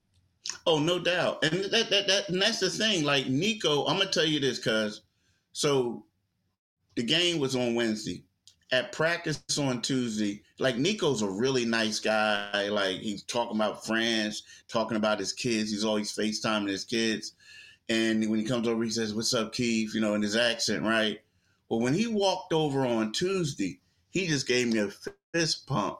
Oh, no doubt. And that that, that and that's the thing. Like, Nico, I'm gonna tell you this, cuz so the game was on Wednesday. at practice on Tuesday, like Nico's a really nice guy. Like he's talking about friends, talking about his kids. He's always FaceTiming his kids. And when he comes over, he says, "What's up, Keith?" You know, in his accent, right? Well, when he walked over on Tuesday, he just gave me a fist pump.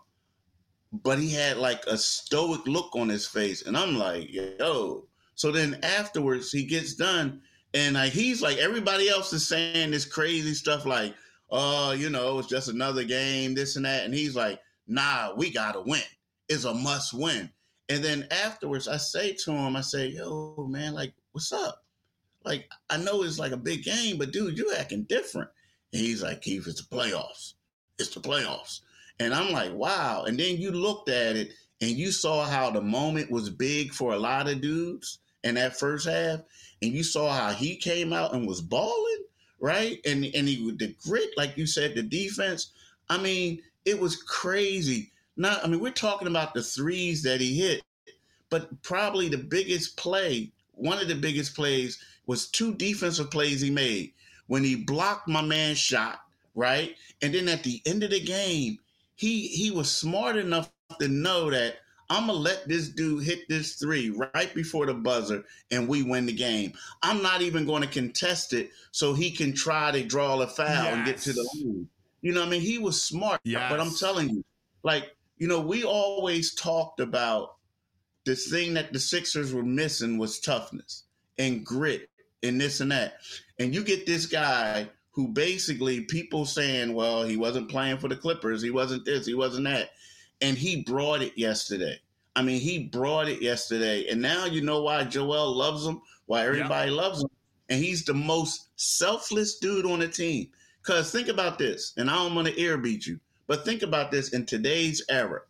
But he had like a stoic look on his face. And I'm like, yo. So then afterwards, he gets done. And like he's like, everybody else is saying this crazy stuff like, oh, you know, it's just another game, this and that. And he's like, nah, we got to win. It's a must win. And then afterwards, I say to him, I say, yo, man, like, what's up? Like, I know it's like a big game, but dude, you're acting different. And he's like, Keith, it's the playoffs. It's the playoffs. And I'm like, wow. And then you looked at it and you saw how the moment was big for a lot of dudes in that first half. And you saw how he came out and was balling, right? And and he with the grit, like you said, the defense. I mean, it was crazy. Not, I mean, we're talking about the threes that he hit, but probably the biggest play, one of the biggest plays was two defensive plays he made when he blocked my man's shot, right? And then at the end of the game, he he was smart enough to know that I'm going to let this dude hit this three right before the buzzer and we win the game. I'm not even going to contest it so he can try to draw a foul yes. and get to the line. You know what I mean? He was smart, yes. but I'm telling you, like, you know, we always talked about the thing that the Sixers were missing was toughness and grit and this and that. And you get this guy who basically people saying, well, he wasn't playing for the Clippers. He wasn't this, he wasn't that. And he brought it yesterday. I mean, he brought it yesterday. And now you know why Joel loves him, why everybody yeah. loves him. And he's the most selfless dude on the team. Because think about this, and I don't want to ear beat you, but think about this in today's era.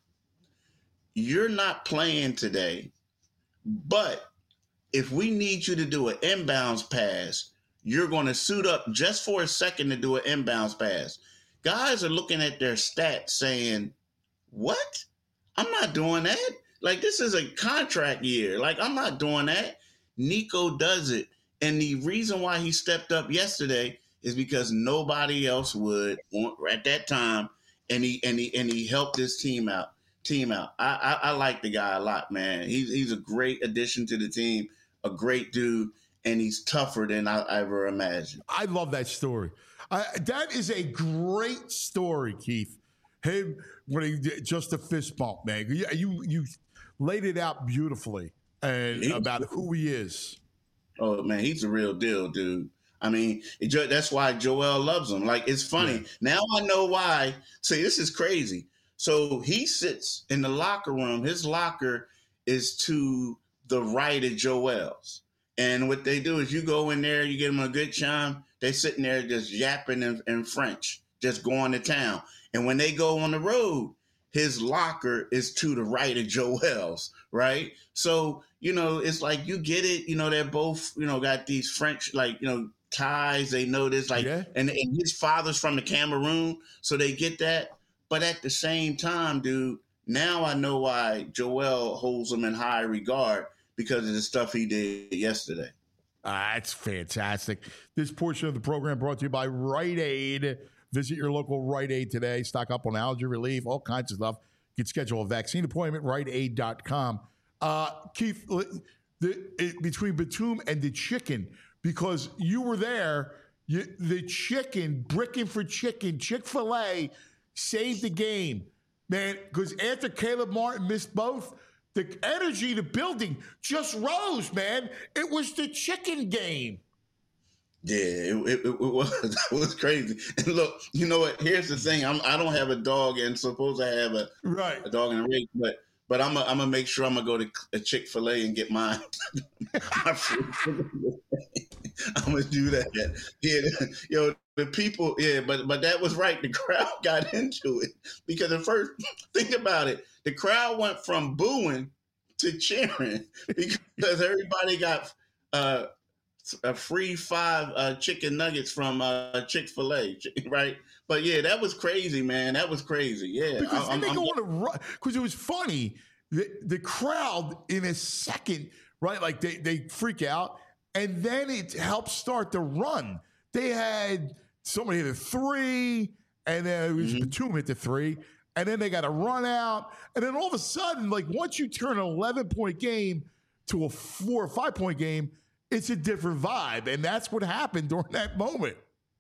You're not playing today, but if we need you to do an inbounds pass, you're going to suit up just for a second to do an inbounds pass. Guys are looking at their stats saying, what? I'm not doing that. Like, this is a contract year. Like, I'm not doing that. Nico does it. And the reason why he stepped up yesterday is because nobody else would at that time. And he and he and he helped his team out. Team out. I, I, I like the guy a lot, man. He's he's a great addition to the team, a great dude, and he's tougher than I ever imagined. I love that story. I, that is a great story, Keith. Him when he did just a fist bump, man. You you, you laid it out beautifully and he, about who he is. Oh man, he's a real deal, dude. I mean, it, that's why Joel loves him. Like, it's funny. Yeah. Now I know why. See, this is crazy. So he sits in the locker room. His locker is to the right of Joel's. And what they do is you go in there, you get them a good chime. They sitting there just yapping in, in French, just going to town. And when they go on the road, his locker is to the right of Joel's, right? So, you know, it's like you get it. You know, they're both, you know, got these French, like, you know, ties. They know this, like, yeah. and, and his father's from the Cameroon, so they get that. But at the same time, dude, now I know why Joel holds him in high regard because of the stuff he did yesterday. Uh, that's fantastic. This portion of the program brought to you by Rite Aid. Visit your local Rite Aid today. Stock up on allergy relief, all kinds of stuff. You can schedule a vaccine appointment, rite aid dot com. Uh, Keith, the, it, between Batum and the chicken, because you were there, you, the chicken, bricking for chicken, Chick-fil-A saved the game, man, because after Caleb Martin missed both, the energy, the building just rose, man. It was the chicken game. Yeah, it, it, it was it was crazy. And look, you know what? Here's the thing: I'm I don't have a dog, and suppose I have a right a dog in a race, but but I'm a, I'm gonna make sure I'm gonna go to a Chick-fil-A and get mine. my food. I'm gonna do that. Yeah, yo, the people. Yeah, but but that was right. The crowd got into it because at first, think about it. The crowd went from booing to cheering because everybody got. Uh, a free five uh, chicken nuggets from uh, Chick-fil-A, right? But yeah, that was crazy, man. That was crazy. Yeah, because I, then I'm, they go I'm, on a run. Because it was funny. The, the crowd in a second, right? Like they they freak out, and then it helps start the run. They had somebody hit a three, and then it was Mhm. Batum hit the three, and then they got a run out, and then all of a sudden, like once you turn an eleven-point game to a four or five-point game, it's a different vibe, and that's what happened during that moment.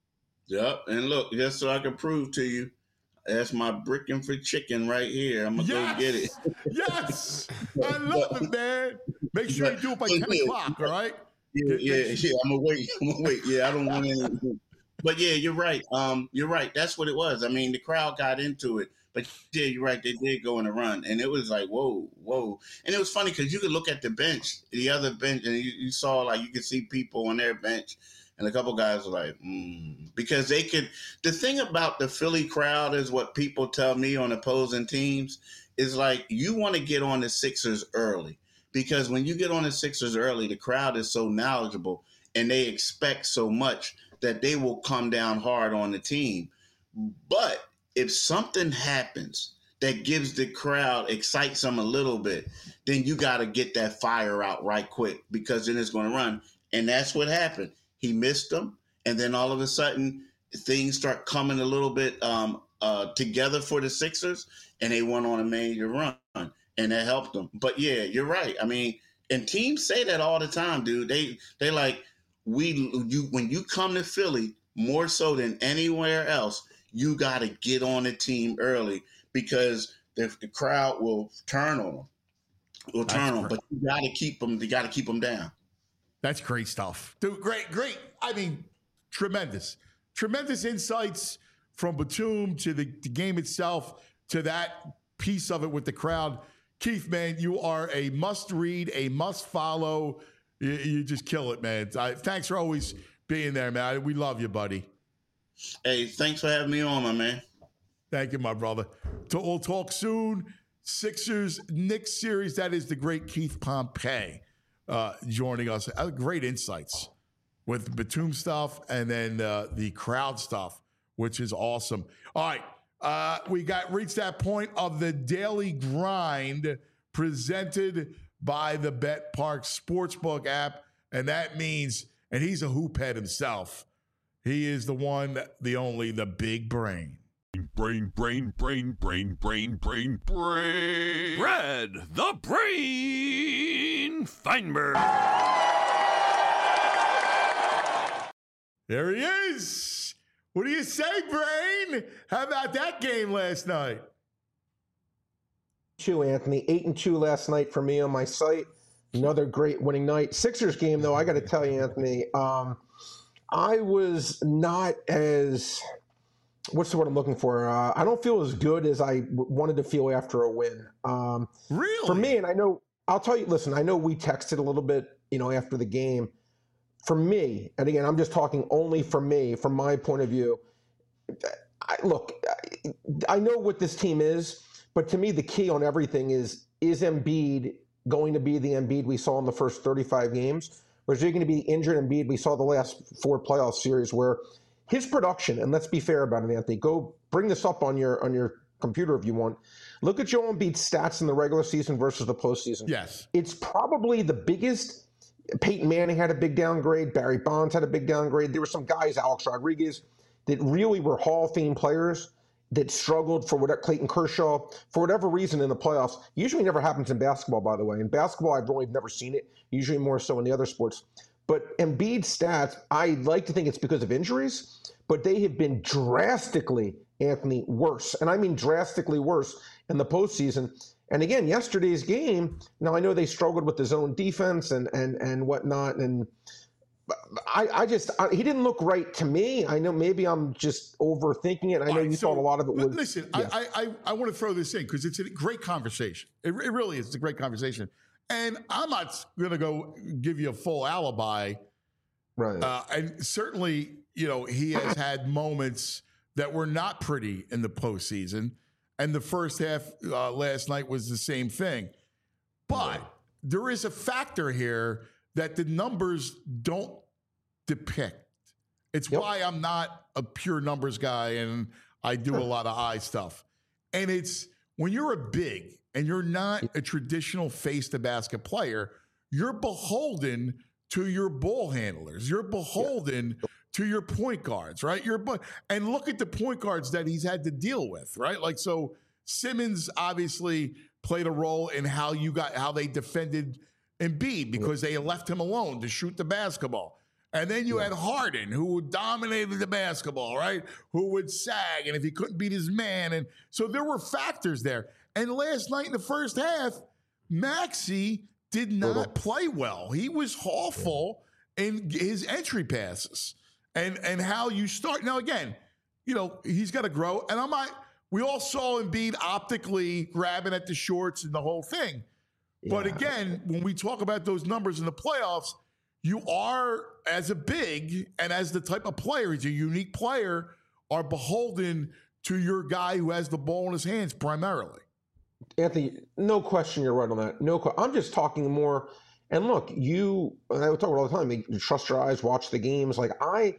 Yep. And look, just so I can prove to you, that's my bricking for chicken right here. I'm gonna Yes! go get it. Yes, I love it, man. Make sure you do it by ten o'clock, all right? Yeah, Get- yeah, make yeah. I'm gonna wait. I'm gonna wait. Yeah, I don't want anything. But yeah, you're right. Um, you're right. That's what it was. I mean, the crowd got into it. But yeah, you're right. They did go on a run, and it was like, whoa, whoa. And it was funny because you could look at the bench, the other bench, and you, you saw like you could see people on their bench, and a couple guys were like, mm. because they could. The thing about the Philly crowd is what people tell me on opposing teams is like you want to get on the Sixers early because when you get on the Sixers early, the crowd is so knowledgeable and they expect so much that they will come down hard on the team. But if something happens that gives the crowd, excites them a little bit, then you got to get that fire out right quick because then it's going to run. And that's what happened. He missed them. And then all of a sudden, things start coming a little bit um, uh, together for the Sixers, and they went on a major run, and that helped them. But, yeah, you're right. I mean, and teams say that all the time, dude. They they like, we you when you come to Philly, more so than anywhere else, you got to get on the team early because the, the crowd will turn on them. Will turn on, but you got to keep them. You got to keep them down. That's great stuff. Dude, great, great. I mean, tremendous. Tremendous insights from Batum to the, the game itself to that piece of it with the crowd. Keith, man, you are a must-read, a must-follow. You, you just kill it, man. I, thanks for always being there, man. We love you, buddy. Hey, thanks for having me on, my man. Thank you, my brother. To, we'll talk soon. Sixers Knicks series. That is the great Keith Pompey uh, joining us. Uh, great insights with Batum stuff and then uh, the crowd stuff, which is awesome. All right, uh, we got reached that point of the daily grind presented by the Bet Park Sportsbook app, and that means, and he's a hoop head himself. He is the one, the only, the big brain. Brain, brain, brain, brain, brain, brain, brain. Brad the Brain Feinberg. There he is. What do you say, Brain? How about that game last night? Two, Anthony. Eight and two last night for me on my site. Another great winning night. Sixers game, though, I got to tell you, Anthony, um, I was not as, what's the word I'm looking for? Uh, I don't feel as good as I w- wanted to feel after a win. Um, Really? For me, and I know, I'll tell you, listen, I know we texted a little bit, you know, after the game. For me, and again, I'm just talking only for me, from my point of view, I, look, I, I know what this team is, but to me, the key on everything is, is Embiid going to be the Embiid we saw in the first thirty-five games? Or is he going to be the injured Embiid we saw the last four playoff series where his production, and let's be fair about it, Anthony, go bring this up on your on your computer if you want. Look at Joel Embiid's stats in the regular season versus the postseason. Yes. It's probably the biggest. Peyton Manning had a big downgrade. Barry Bonds had a big downgrade. There were some guys, Alex Rodriguez, that really were Hall of Fame players that struggled for whatever, Clayton Kershaw, for whatever reason in the playoffs. Usually never happens in basketball, by the way. In basketball, I've really never seen it, usually more so in the other sports. But Embiid's stats, I like to think it's because of injuries, but they have been drastically, Anthony, worse. And I mean drastically worse in the postseason. And again, yesterday's game, now I know they struggled with the zone defense and and and whatnot, and I, I just, I, he didn't look right to me. I know maybe I'm just overthinking it. I know All right, you so, thought a lot of it was. Listen, yeah. I, I, I want to throw this in because it's a great conversation. It, it really is. It's a great conversation. And I'm not going to go give you a full alibi. Right. Uh, and certainly, you know, he has had moments that were not pretty in the postseason. And the first half uh, last night was the same thing. But there is a factor here that the numbers don't depict. It's Yep. why I'm not a pure numbers guy and I do a lot of eye stuff. And it's when you're a big and you're not a traditional face-to-basket player, you're beholden to your ball handlers. You're beholden to your point guards, right? Your and look at the point guards that he's had to deal with, right? Like so, Simmons obviously played a role in how you got how they defended Embiid because they left him alone to shoot the basketball. And then you yeah. had Harden, who dominated the basketball, right? Who would sag, and if he couldn't beat his man, and so there were factors there. And last night in the first half, Maxey did not play well. He was awful in his entry passes and and how you start. Now again, you know he's got to grow, and I'm not. We all saw Embiid optically grabbing at the shorts and the whole thing. Yeah. But again, when we talk about those numbers in the playoffs, you are, as a big and as the type of player, he's a unique player, are beholden to your guy who has the ball in his hands primarily. Anthony, no question you're right on that. No, I'm just talking more. And look, you, and I talk about all the time, you trust your eyes, watch the games. Like I,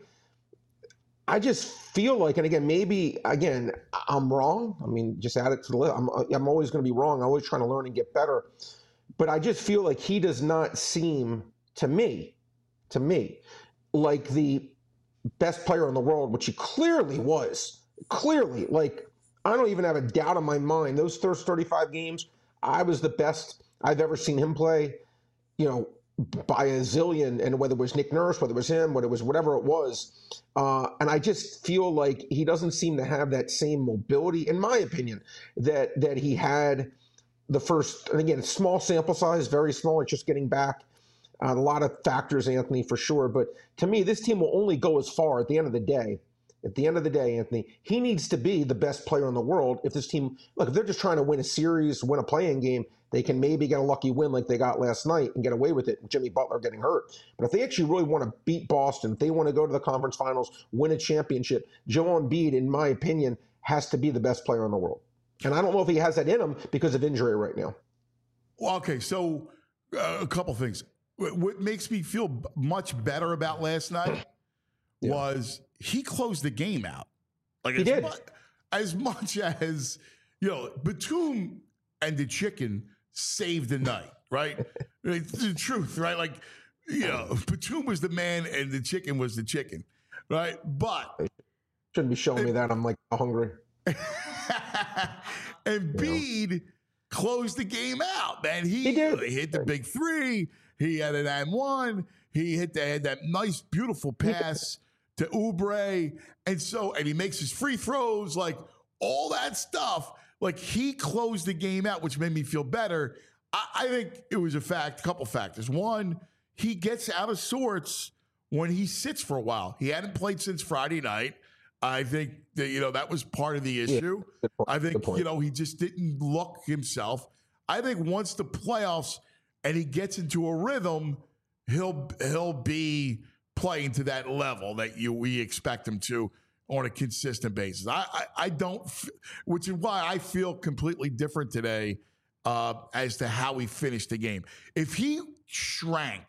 I just feel like, and again, maybe, again, I'm wrong. I mean, just add it to the list. I'm, I'm always going to be wrong. I'm always trying to learn and get better. But I just feel like he does not seem, to me, to me, like the best player in the world, which he clearly was. Clearly, like, I don't even have a doubt in my mind. Those first thirty-five games, I was the best I've ever seen him play, you know, by a zillion, and whether it was Nick Nurse, whether it was him, whether it was whatever it was. Uh, and I just feel like he doesn't seem to have that same mobility, in my opinion, that that he had the first, and again, small sample size, very small, it's just getting back. Uh, a lot of factors, Anthony, for sure. But to me, this team will only go as far at the end of the day. At the end of the day, Anthony, he needs to be the best player in the world. If this team, look, if they're just trying to win a series, win a playing game, they can maybe get a lucky win like they got last night and get away with it, Jimmy Butler getting hurt. But if they actually really want to beat Boston, if they want to go to the conference finals, win a championship, Joel Embiid, in my opinion, has to be the best player in the world. And I don't know if he has that in him because of injury right now. Well, okay, so uh, a couple things. What makes me feel much better about last night yeah. was he closed the game out. Like he as did. Much, as much as, you know, Batum and the chicken saved the night, right? It's the truth, right? Like, you know, Batum was the man and the chicken was the chicken, right? But shouldn't be showing it, me that. I'm like hungry. Embiid you know. closed the game out, man. He, he did. He hit the big three. He had an and one. He hit the, had that nice, beautiful pass to Oubre. And so, and he makes his free throws, like all that stuff. Like he closed the game out, which made me feel better. I, I think it was a fact, a couple factors. One, he gets out of sorts when he sits for a while. He hadn't played since Friday night. I think that, you know, that was part of the issue. Yeah, I think, you know, he just didn't look himself. I think once the playoffs and he gets into a rhythm, he'll he'll be playing to that level that you we expect him to on a consistent basis. I I, I don't, which is why I feel completely different today uh, as to how he finished the game. If he shrank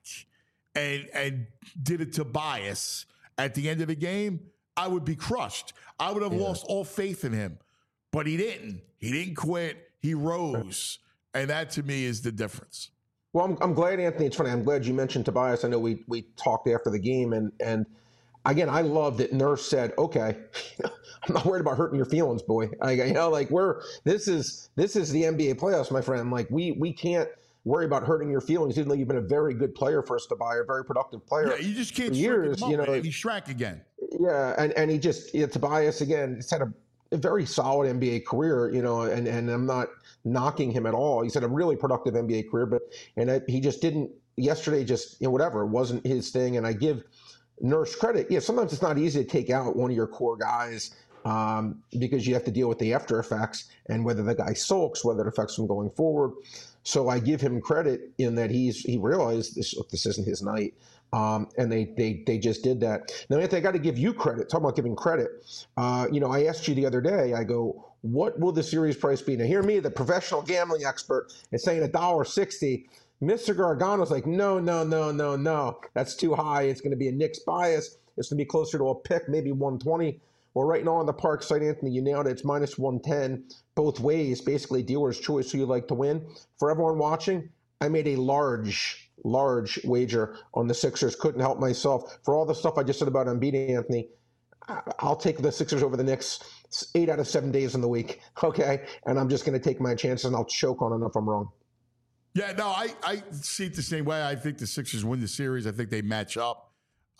and and did a Tobias at the end of the game, I would be crushed. I would have yeah. lost all faith in him, but he didn't. He didn't quit. He rose, and that to me is the difference. Well, I'm, I'm glad, Anthony. It's funny. I'm glad you mentioned Tobias. I know we we talked after the game, and and again, I love that Nurse said, "Okay, I'm not worried about hurting your feelings, boy. I, you know, like we're this is this is the N B A playoffs, my friend. Like we we can't worry about hurting your feelings, even though you've been a very good player for us to buy, a very productive player. Yeah, you just can't for years. Him up, you know, and he shrank again. Yeah, and and he just yeah, Tobias again. He's had a, a very solid N B A career, you know, and and I'm not knocking him at all. He's had a really productive N B A career, but and I, he just didn't yesterday. Just you know, whatever, it wasn't his thing. And I give Nurse credit. Yeah, sometimes it's not easy to take out one of your core guys um, because you have to deal with the after effects and whether the guy sulks, whether it affects him going forward. So I give him credit in that he's he realized this this isn't his night. Um, and they, they they just did that. Now, Anthony, I got to give you credit. Talking about giving credit. Uh, you know, I asked you the other day, I go, what will the series price be? Now, hear me, the professional gambling expert, is saying one dollar sixty. Mister Gargano's like, no, no, no, no, no. That's too high. It's going to be a Knicks bias. It's going to be closer to a pick, maybe one twenty. Well, right now on the Park site, Anthony, you nailed it. It's minus one ten both ways, basically dealer's choice who you'd like to win. For everyone watching, I made a large large wager on the Sixers. Couldn't help myself. For all the stuff I just said about Embiid, Anthony, I'll take the Sixers over the next eight out of seven days in the week, okay? And I'm just going to take my chances, and I'll choke on it if I'm wrong. Yeah, no, I, I see it the same way. I think the Sixers win the series. I think they match up,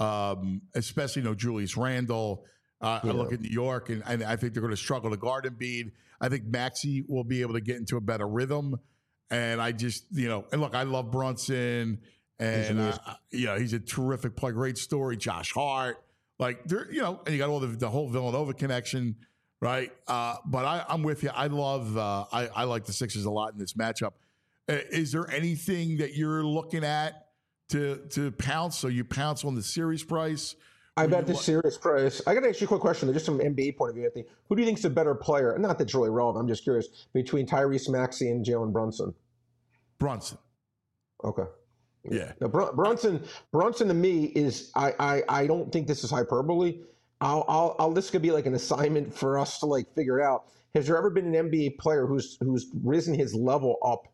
um, especially, you know, Julius Randle. Uh, yeah. I look at New York, and, and I think they're going to struggle to guard Embiid. I think Maxey will be able to get into a better rhythm. And I just, you know, and look, I love Brunson, and, uh, you know, he's a terrific player, great story. Josh Hart. Like, they're, you know, and you got all the, the whole Villanova connection, right? Uh, but I, I'm with you. I love, uh, I, I like the Sixers a lot in this matchup. Uh, is there anything that you're looking at to to pounce? So you pounce on the series price? I bet the series price. I got to ask you a quick question, just from an N B A point of view, Anthony. Who do you think is the better player? Not that it's really relevant. I'm just curious. Between Tyrese Maxey and Jalen Brunson. Brunson. Okay. Yeah. Now, Br- Brunson. Brunson to me is. I. I. I don't think this is hyperbole. I'll. I'll. I'll this could be like an assignment for us to like figure it out. Has there ever been an N B A player who's who's risen his level up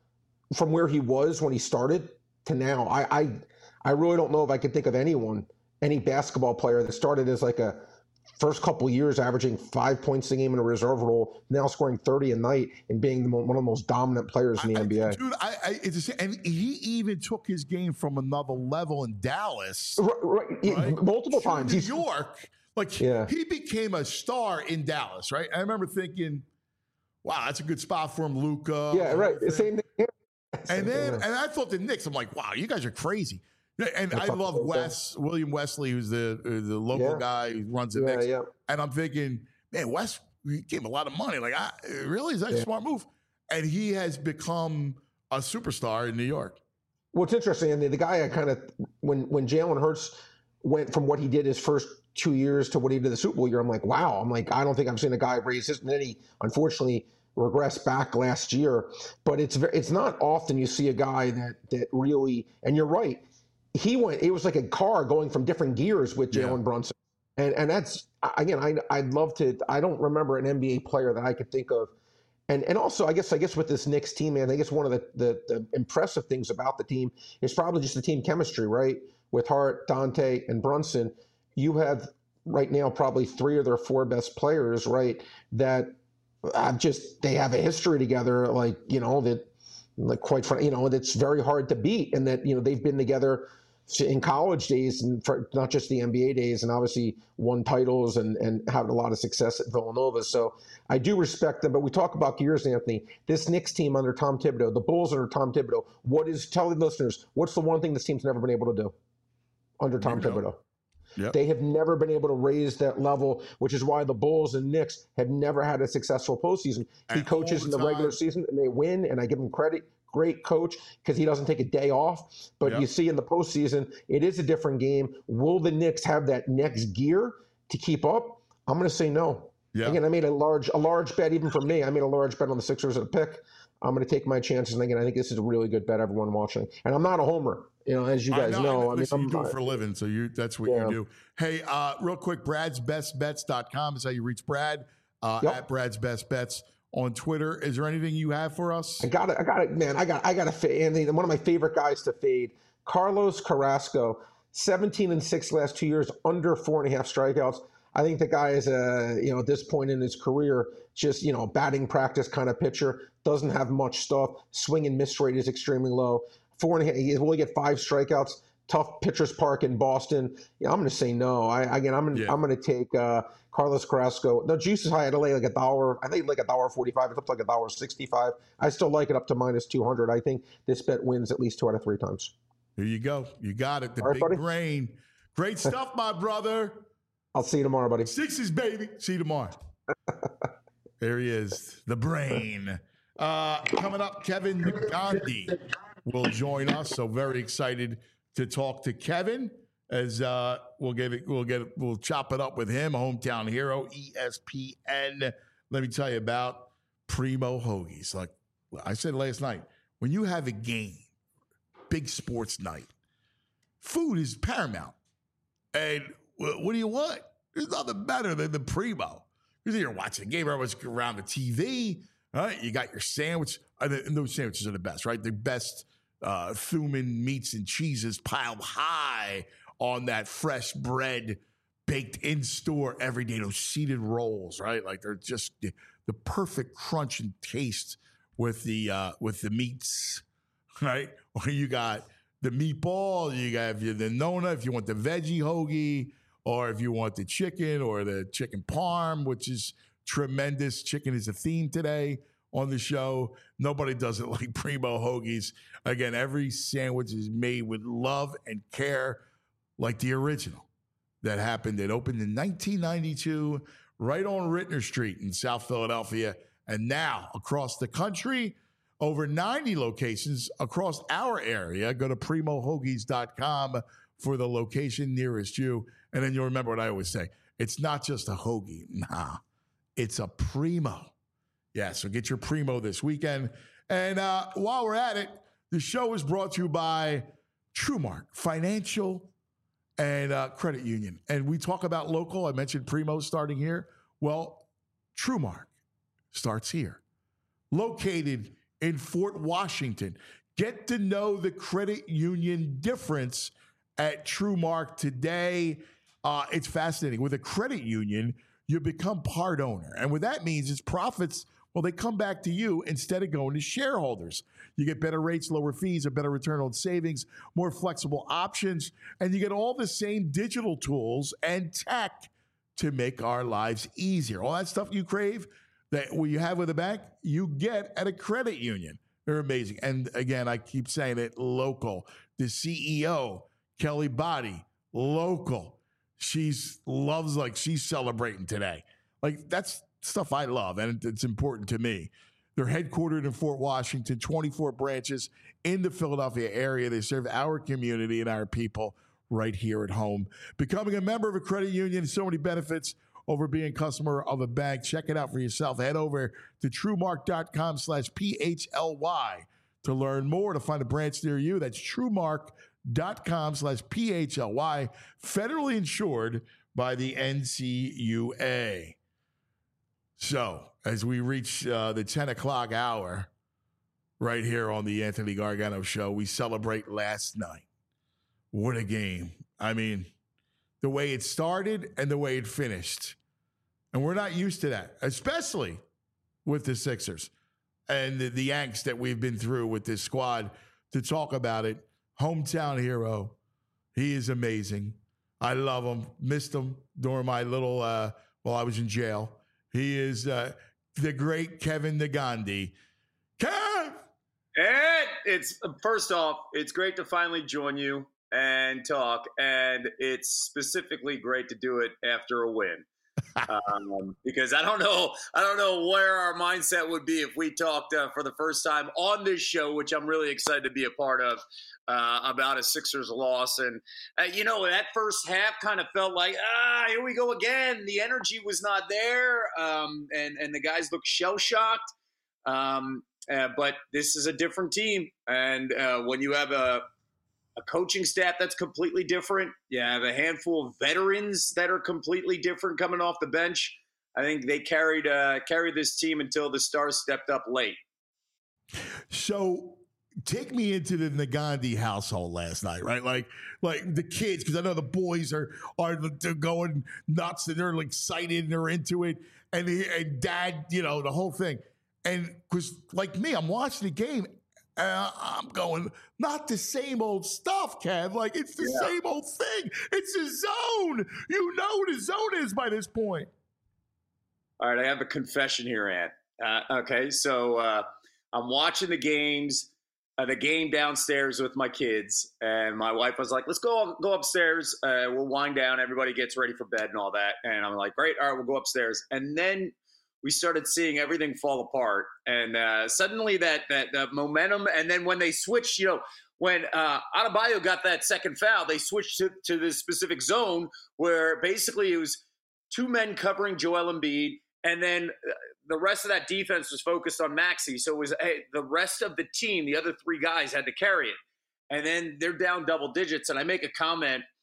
from where he was when he started to now? I. I. I really don't know if I could think of anyone. Any basketball player that started as like a first couple years averaging five points a game in a reserve role, now scoring thirty a night and being the, one of the most dominant players in the I, N B A. Dude, I, I, it's a, and he even took his game from another level in Dallas. Right, right, right? multiple to times. New He's, York. Like, yeah. he became a star in Dallas, right? I remember thinking, wow, that's a good spot for him, Luka. Yeah, right. The same thing. Yeah. And then, and I thought the Knicks, I'm like, wow, you guys are crazy. And I love Wes, William Wesley, who's the uh, the local yeah. guy who runs the yeah, Knicks. Yeah. And I'm thinking, man, Wes gave him a lot of money. Like, I, really? Is that yeah. a smart move? And he has become a superstar in New York. Well, it's interesting. And the, the guy I kind of, when, when Jalen Hurts went from what he did his first two years to what he did the Super Bowl year, I'm like, wow. I'm like, I don't think I've seen a guy raise his, and then he, unfortunately, regressed back last year. But it's very, it's not often you see a guy that that really, and you're right, he went, it was like a car going from different gears with Jalen yeah. Brunson. And and that's, again, I, I'd love to, I don't remember an N B A player that I could think of. And and also, I guess I guess with this Knicks team, man, I guess one of the, the, the impressive things about the team is probably just the team chemistry, right? With Hart, Dante, and Brunson, you have right now probably three of their four best players, right? That have just, they have a history together, like, you know, that, like, quite frankly, you know, that's very hard to beat. And that, you know, they've been together in college days and for not just the N B A days, and obviously won titles and, and had a lot of success at Villanova. So I do respect them, but we talk about gears, Anthony. This Knicks team under Tom Thibodeau, the Bulls under Tom Thibodeau, what is, tell the listeners, what's the one thing this team's never been able to do under Tom Thibodeau? Yep. They have never been able to raise that level, which is why the Bulls and Knicks have never had a successful postseason. He and coaches in the time. regular season and they win, and I give him credit. Great coach because he doesn't take a day off. But yep. you see in the postseason, it is a different game. Will the Knicks have that next gear to keep up? I'm going to say no. Yep. Again, I made a large a large bet even for me. I made a large bet on the Sixers at a pick. I'm going to take my chances. And again, I think this is a really good bet, everyone watching. And I'm not a homer, you know, as you guys I know. know. I, I mean, listen, I'm, you do it for a living, so you that's what yeah. you do. Hey, uh, real quick, brads best bets dot com is how you reach Brad, uh, yep. at Brad's Best Bets on Twitter. Is there anything you have for us? I got it. I got it, man. I got I got to fade. Anthony, one of my favorite guys to fade, Carlos Carrasco, seventeen and six last two years, under four and a half strikeouts. I think the guy is a, you know, at this point in his career, just, you know, batting practice kind of pitcher, doesn't have much stuff. Swing and miss rate is extremely low. Four and a half, he will only get five strikeouts. Tough pitchers park in Boston. Yeah, I'm going to say no. I again, I'm gonna, yeah. I'm going to take uh, Carlos Carrasco. The juice is high. I had to lay like a dollar. I think like a dollar forty-five. It's up to like a dollar sixty-five. I still like it up to minus two hundred. I think this bet wins at least two out of three times. Here you go. You got it. The All right, big buddy. brain. Great stuff, my brother. I'll see you tomorrow, buddy. Sixes, baby. See you tomorrow. There he is, the brain. Uh, coming up, Kevin Gandhi will join us. So very excited to talk to Kevin as uh, we'll give it, we'll get, it, we'll chop it up with him. Hometown hero, E S P N. Let me tell you about Primo Hoagies. Like I said last night, when you have a game, big sports night, food is paramount. And what do you want? There's nothing better than the Primo. Because you're watching a game, everyone's around the T V, right? You got your sandwich. And those sandwiches are the best, right? The best uh, Thuman meats and cheeses piled high on that fresh bread baked in store every day. Those seeded rolls, right? Like they're just the, the perfect crunch and taste with the uh, with the meats, right? Or you got the meatball, you got the Nona if you want the veggie hoagie, or if you want the chicken or the chicken parm, which is tremendous. Chicken is a theme today on the show. Nobody does it like Primo Hoagies. Again, every sandwich is made with love and care, like the original that happened. It opened in nineteen ninety-two right on Rittner Street in South Philadelphia. And now across the country, over ninety locations across our area. Go to primo hoagies dot com for the location nearest you. And then you'll remember what I always say. It's not just a hoagie. Nah, it's a Primo. Yeah, so get your Primo this weekend. And uh, while we're at it, the show is brought to you by TrueMark Financial and uh, Credit Union. And we talk about local. I mentioned Primo starting here. Well, TrueMark starts here. Located in Fort Washington. Get to know the credit union difference at TrueMark today. Uh, it's fascinating. With a credit union, you become part owner. And what that means is profits, well, they come back to you instead of going to shareholders. You get better rates, lower fees, a better return on savings, more flexible options, and you get all the same digital tools and tech to make our lives easier. All that stuff you crave that you have with a bank, you get at a credit union. They're amazing. And again, I keep saying it, local. The C E O, Kelly Body, local. She's loves like she's celebrating today. Like that's stuff I love, and it's important to me. They're headquartered in Fort Washington, twenty-four branches in the Philadelphia area. They serve our community and our people right here at home. Becoming a member of a credit union, so many benefits over being a customer of a bank. Check it out for yourself. Head over to truemark dot com slash P H L Y to learn more, to find a branch near you. That's truemark dot com slash P H L Y, federally insured by the N C U A. So, as we reach uh, the ten o'clock hour right here on the Anthony Gargano Show, we celebrate last night. What a game. I mean, the way it started and the way it finished. And we're not used to that, especially with the Sixers and the, the angst that we've been through with this squad. To talk about it, hometown hero. He is amazing. I love him. Missed him during my little, uh, while I was in jail. He is uh, the great Kevin Negandhi. Kev! And it's, first off, it's great to finally join you and talk. And it's specifically great to do it after a win. um, because I don't know, I don't know where our mindset would be if we talked uh, for the first time on this show, which I'm really excited to be a part of, uh, about a Sixers loss. And uh, you know, that first half kind of felt like, ah, here we go again. The energy was not there, um, and and the guys looked shell shocked. Um, uh, but this is a different team, and uh, when you have a a coaching staff that's completely different. You have a handful of veterans that are completely different coming off the bench. I think they carried uh, carried this team until the stars stepped up late. So take me into the Negandhi household last night, right? Like, like the kids, because I know the boys are are they're going nuts and they're excited and they're into it, and, he, and dad, you know, the whole thing. And because like me, I'm watching the game. Uh, I'm going, not the same old stuff, Kev. Like, it's the yeah. same old thing. It's a zone. You know what a zone is by this point. All right, I have a confession here, Ant. Uh, okay, so uh, I'm watching the games, uh, the game downstairs with my kids, and my wife was like, let's go go upstairs. Uh, we'll wind down. Everybody gets ready for bed and all that. And I'm like, great, all right, we'll go upstairs. And then we started seeing everything fall apart, and uh, suddenly that, that that momentum. And then when they switched, you know, when uh, Adebayo got that second foul, they switched to, to this specific zone where basically it was two men covering Joel Embiid, and then the rest of that defense was focused on Maxey. So it was hey, the rest of the team, the other three guys had to carry it, and then they're down double digits. And I make a comment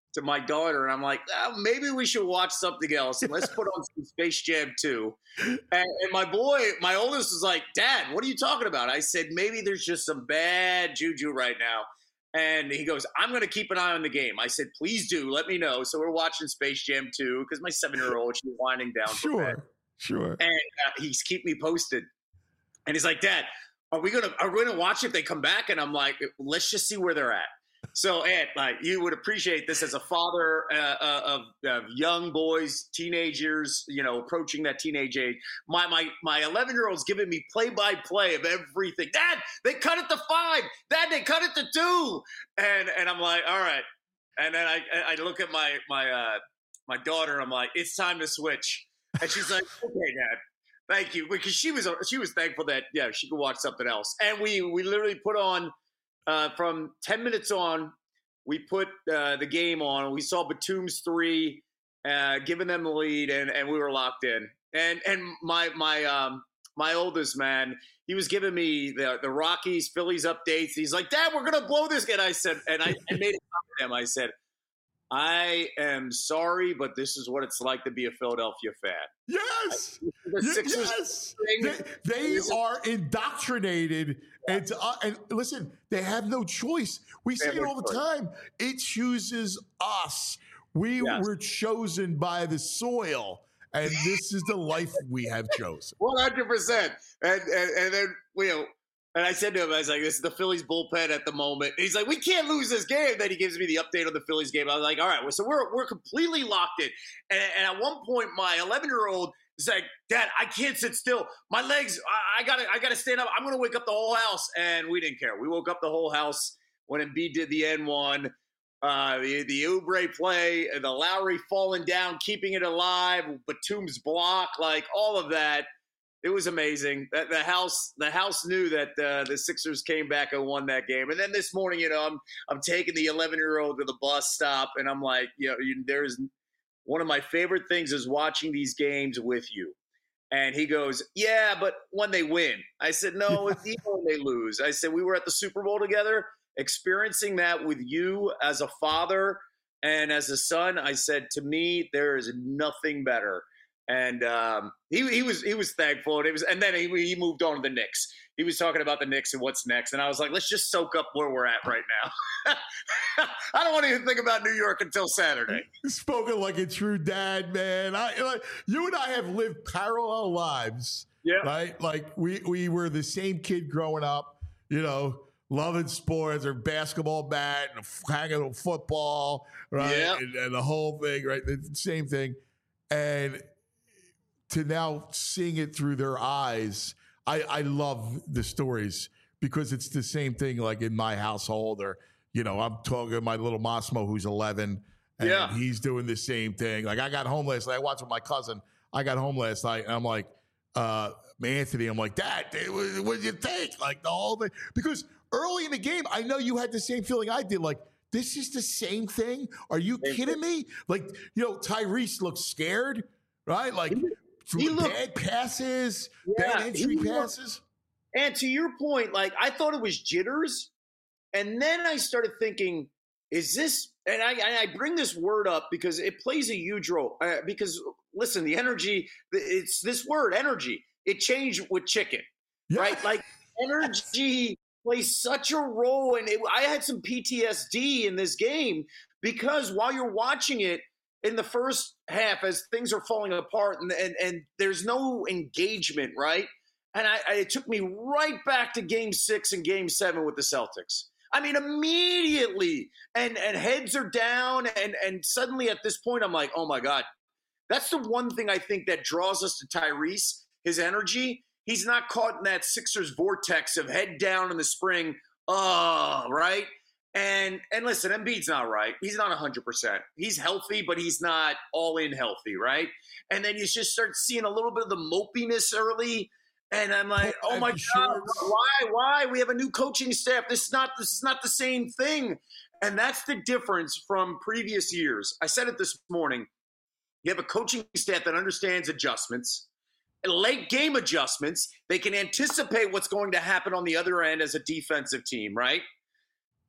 to my daughter, and I'm like, oh, maybe we should watch something else. Let's put on some Space Jam two. And, and my boy, my oldest, was like, Dad, what are you talking about? I said, maybe there's just some bad juju right now. And he goes, I'm going to keep an eye on the game. I said, please do. Let me know. So we're watching Space Jam two because my seven-year-old, she's winding down. Sure, sure. And uh, he's keep me posted. And he's like, Dad, are we gonna are we gonna watch if they come back? And I'm like, let's just see where they're at. So, Ed, like, you would appreciate this as a father uh, uh, of, of young boys, teenagers, you know, approaching that teenage age. My my my eleven-year-old's giving me play-by-play of everything. Dad, they cut it to five. Dad, they cut it to two. And and I'm like, all right. And then I I look at my my uh, my daughter. I'm like, it's time to switch. And she's like, okay, Dad. Thank you, because she was she was thankful that yeah she could watch something else, and we we literally put on uh, from ten minutes on, we put uh, the game on. We saw Batum's three, uh, giving them the lead, and, and we were locked in. And and my my um my oldest man, he was giving me the the Rockies Phillies updates. He's like, Dad, we're gonna blow this. And I said, and I, I made it up to him. I said, I am sorry, but this is what it's like to be a Philadelphia fan. Yes, the yes. They, they are indoctrinated, and to, uh, and listen, they have no choice. We say it all the time. It chooses us. We yes. were chosen by the soil, and this is the life we have chosen. One hundred percent. And and and then you know. And I said to him, I was like, this is the Phillies bullpen at the moment. And he's like, we can't lose this game. Then he gives me the update on the Phillies game. I was like, all right, well, so we're we're completely locked in. And, and at one point, my eleven-year-old is like, Dad, I can't sit still. My legs, I, I gotta I gotta stand up. I'm gonna wake up the whole house. And we didn't care. We woke up the whole house when Embiid did the N one, uh, the the Oubre play, the Lowry falling down, keeping it alive, Batum's block, like all of that. It was amazing. That the house, the house knew that uh, the Sixers came back and won that game. And then this morning, you know, I'm I'm taking the eleven-year-old to the bus stop, and I'm like, you know, you, there's one of my favorite things is watching these games with you. And he goes, yeah, but when they win. I said, no, it's even when they lose. I said, we were at the Super Bowl together, experiencing that with you as a father and as a son. I said, to me, there is nothing better. And um, he he was he was thankful, and it was, and then he he moved on to the Knicks. He was talking about the Knicks and what's next, and I was like, let's just soak up where we're at right now. I don't want to even think about New York until Saturday. Spoken like a true dad, man. I like, you and I have lived parallel lives. Yeah, right. Like we we were the same kid growing up. You know, loving sports or basketball bat and hanging on football, right? Yeah. And, and the whole thing, right? The same thing, and to now seeing it through their eyes, I, I love the stories because it's the same thing like in my household, or, you know, I'm talking to my little Massimo who's eleven, and yeah. he's doing the same thing. Like I got home last night, I watched with my cousin. I got home last night and I'm like, uh, Anthony, I'm like, Dad, what, what did you think? Like the whole thing. Because early in the game, I know you had the same feeling I did. Like, this is the same thing? Are you same kidding thing. me? Like, you know, Tyrese looks scared, right? Like, He looked, bad passes, yeah, bad entry passes. And to your point, like I thought it was jitters. And then I started thinking, is this, and I, I bring this word up because it plays a huge role. Uh, because listen, the energy, it's this word, energy, it changed with chicken, yeah. right? Like energy plays such a role. And it, I had some P T S D in this game because while you're watching it, in the first half, as things are falling apart and and, and there's no engagement, right? And I, I, it took me right back to game six and game seven with the Celtics. I mean, immediately, and and heads are down, and and suddenly at this point, I'm like, oh my God. That's the one thing I think that draws us to Tyrese, his energy. He's not caught in that Sixers vortex of head down in the spring, oh, right? And and listen, Embiid's not right. He's not one hundred percent. He's healthy, but he's not all in healthy, right? And then you just start seeing a little bit of the mopiness early. And I'm like, oh my God, why? Why? We have a new coaching staff. This is not this is not the same thing. And that's the difference from previous years. I said it this morning. You have a coaching staff that understands adjustments, late game adjustments. They can anticipate what's going to happen on the other end as a defensive team, right?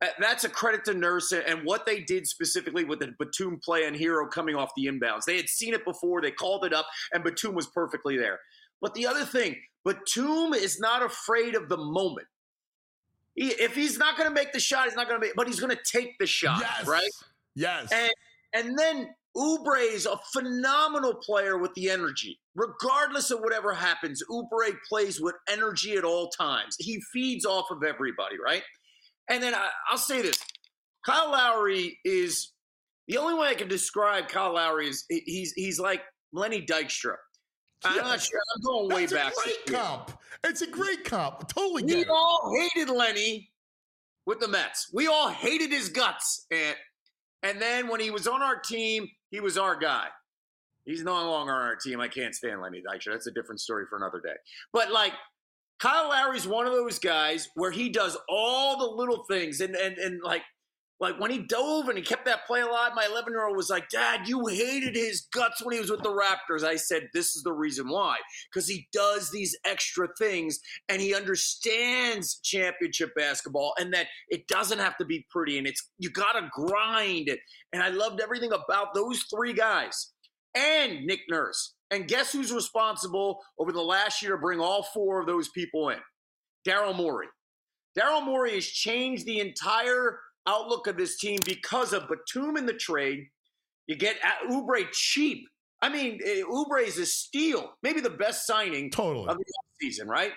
Uh, That's a credit to Nurse and what they did specifically with the Batum play and Hero coming off the inbounds. They had seen it before. They called it up, and Batum was perfectly there. But the other thing, Batum is not afraid of the moment. He, if he's not going to make the shot, he's not going to make, but he's going to take the shot, Yes. right? Yes. And and then Oubre is a phenomenal player with the energy. Regardless of whatever happens, Oubre plays with energy at all times. He feeds off of everybody, right? And then I, I'll say this. Kyle Lowry is – the only way I can describe Kyle Lowry is he's he's like Lenny Dykstra. I'm Yes. not sure. I'm going way That's back. a great comp. It's a great comp. Totally We get it. all hated Lenny with the Mets. We all hated his guts. And, and then when he was on our team, he was our guy. He's no longer on our team. I can't stand Lenny Dykstra. That's a different story for another day. But, like, Kyle Lowry's one of those guys where he does all the little things. And, and, and like, like when he dove and he kept that play alive, my eleven-year-old was like, Dad, you hated his guts when he was with the Raptors. I said, this is the reason why. Because he does these extra things and he understands championship basketball and that it doesn't have to be pretty and it's you got to grind it. And I loved everything about those three guys and Nick Nurse. And guess who's responsible over the last year to bring all four of those people in? Daryl Morey. Daryl Morey has changed the entire outlook of this team because of Batum in the trade. You get Oubre cheap. I mean, Oubre is a steal, maybe the best signing Totally. of the season, right?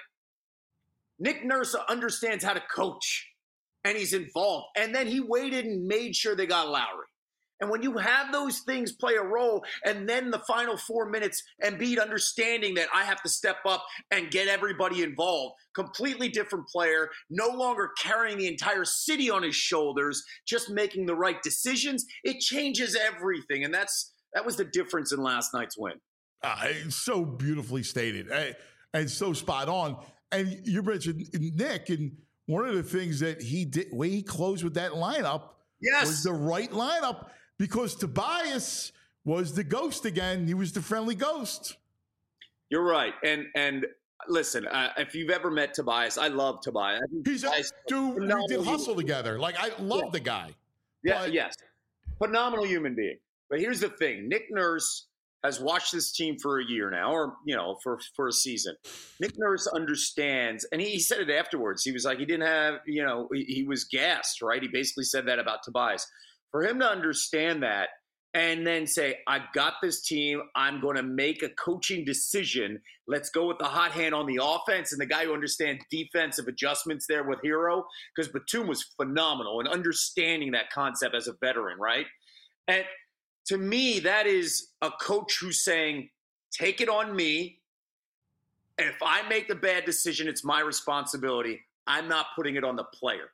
Nick Nurse understands how to coach, and he's involved. And then he waited and made sure they got Lowry. And when you have those things play a role, and then the final four minutes, Embiid understanding that I have to step up and get everybody involved, completely different player, no longer carrying the entire city on his shoulders, just making the right decisions, it changes everything. And that's that was the difference in last night's win. Uh, it's so beautifully stated and, and so spot on. And you mentioned Nick, and one of the things that he did, way he closed with that lineup, Yes. was the right lineup. Because Tobias was the ghost again. He was the friendly ghost. You're right. And and listen, uh, if you've ever met Tobias, I love Tobias. I think He's a Tobias is dude. We phenomenal did human- hustle together. Like, I love Yeah. the guy. Yeah, But- yes. Phenomenal human being. But here's the thing. Nick Nurse has watched this team for a year now, or, you know, for, for a season. Nick Nurse understands, and he, he said it afterwards. He was like, he didn't have, you know, he, he was gassed, right? He basically said that about Tobias. For him to understand that and then say, I've got this team, I'm going to make a coaching decision. Let's go with the hot hand on the offense and the guy who understands defensive adjustments there with Hero, because Batum was phenomenal in understanding that concept as a veteran, right? And to me, that is a coach who's saying, take it on me. If I make the bad decision, it's my responsibility. I'm not putting it on the player.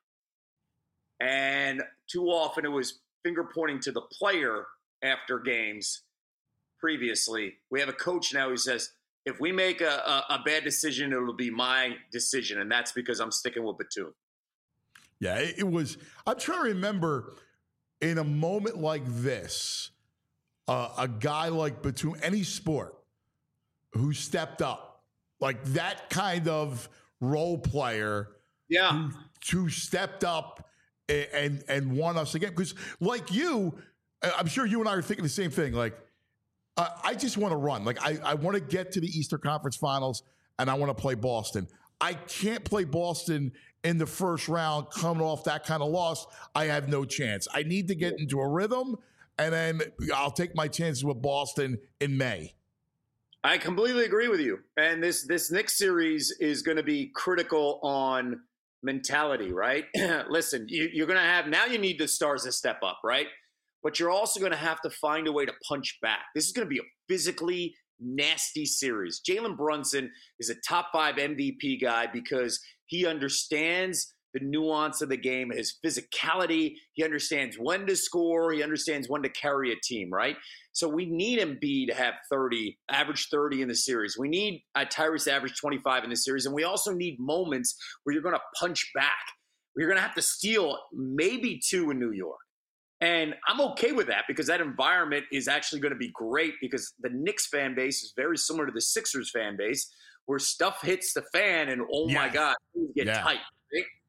And too often it was finger pointing to the player after games previously. We have a coach now who says, if we make a, a, a bad decision, it'll be my decision. And that's because I'm sticking with Batum. Yeah, it, it was. I'm trying to remember in a moment like this, uh, a guy like Batum, any sport, who stepped up, like that kind of role player Yeah. who, who stepped up and, and, and won us again. Because like you, I'm sure you and I are thinking the same thing. Like, uh, I just want to run. Like, I, I want to get to the Eastern Conference Finals, and I want to play Boston. I can't play Boston in the first round coming off that kind of loss. I have no chance. I need to get into a rhythm, and then I'll take my chances with Boston in May. I completely agree with you. And this this Knicks series is going to be critical on mentality, right? Listen, you, you're going to have – now you need the stars to step up, right? But you're also going to have to find a way to punch back. This is going to be a physically nasty series. Jalen Brunson is a top five M V P guy because he understands the nuance of the game, his physicality. He understands when to score. He understands when to carry a team, right? So we need Embiid to have thirty, average thirty in the series. We need uh, Tyrese to average twenty-five in the series. And we also need moments where you're going to punch back. Where you're going to have to steal maybe two in New York. And I'm okay with that because that environment is actually going to be great because the Knicks fan base is very similar to the Sixers fan base where stuff hits the fan and, oh, my Yes. God, things get Yeah. tight. Right?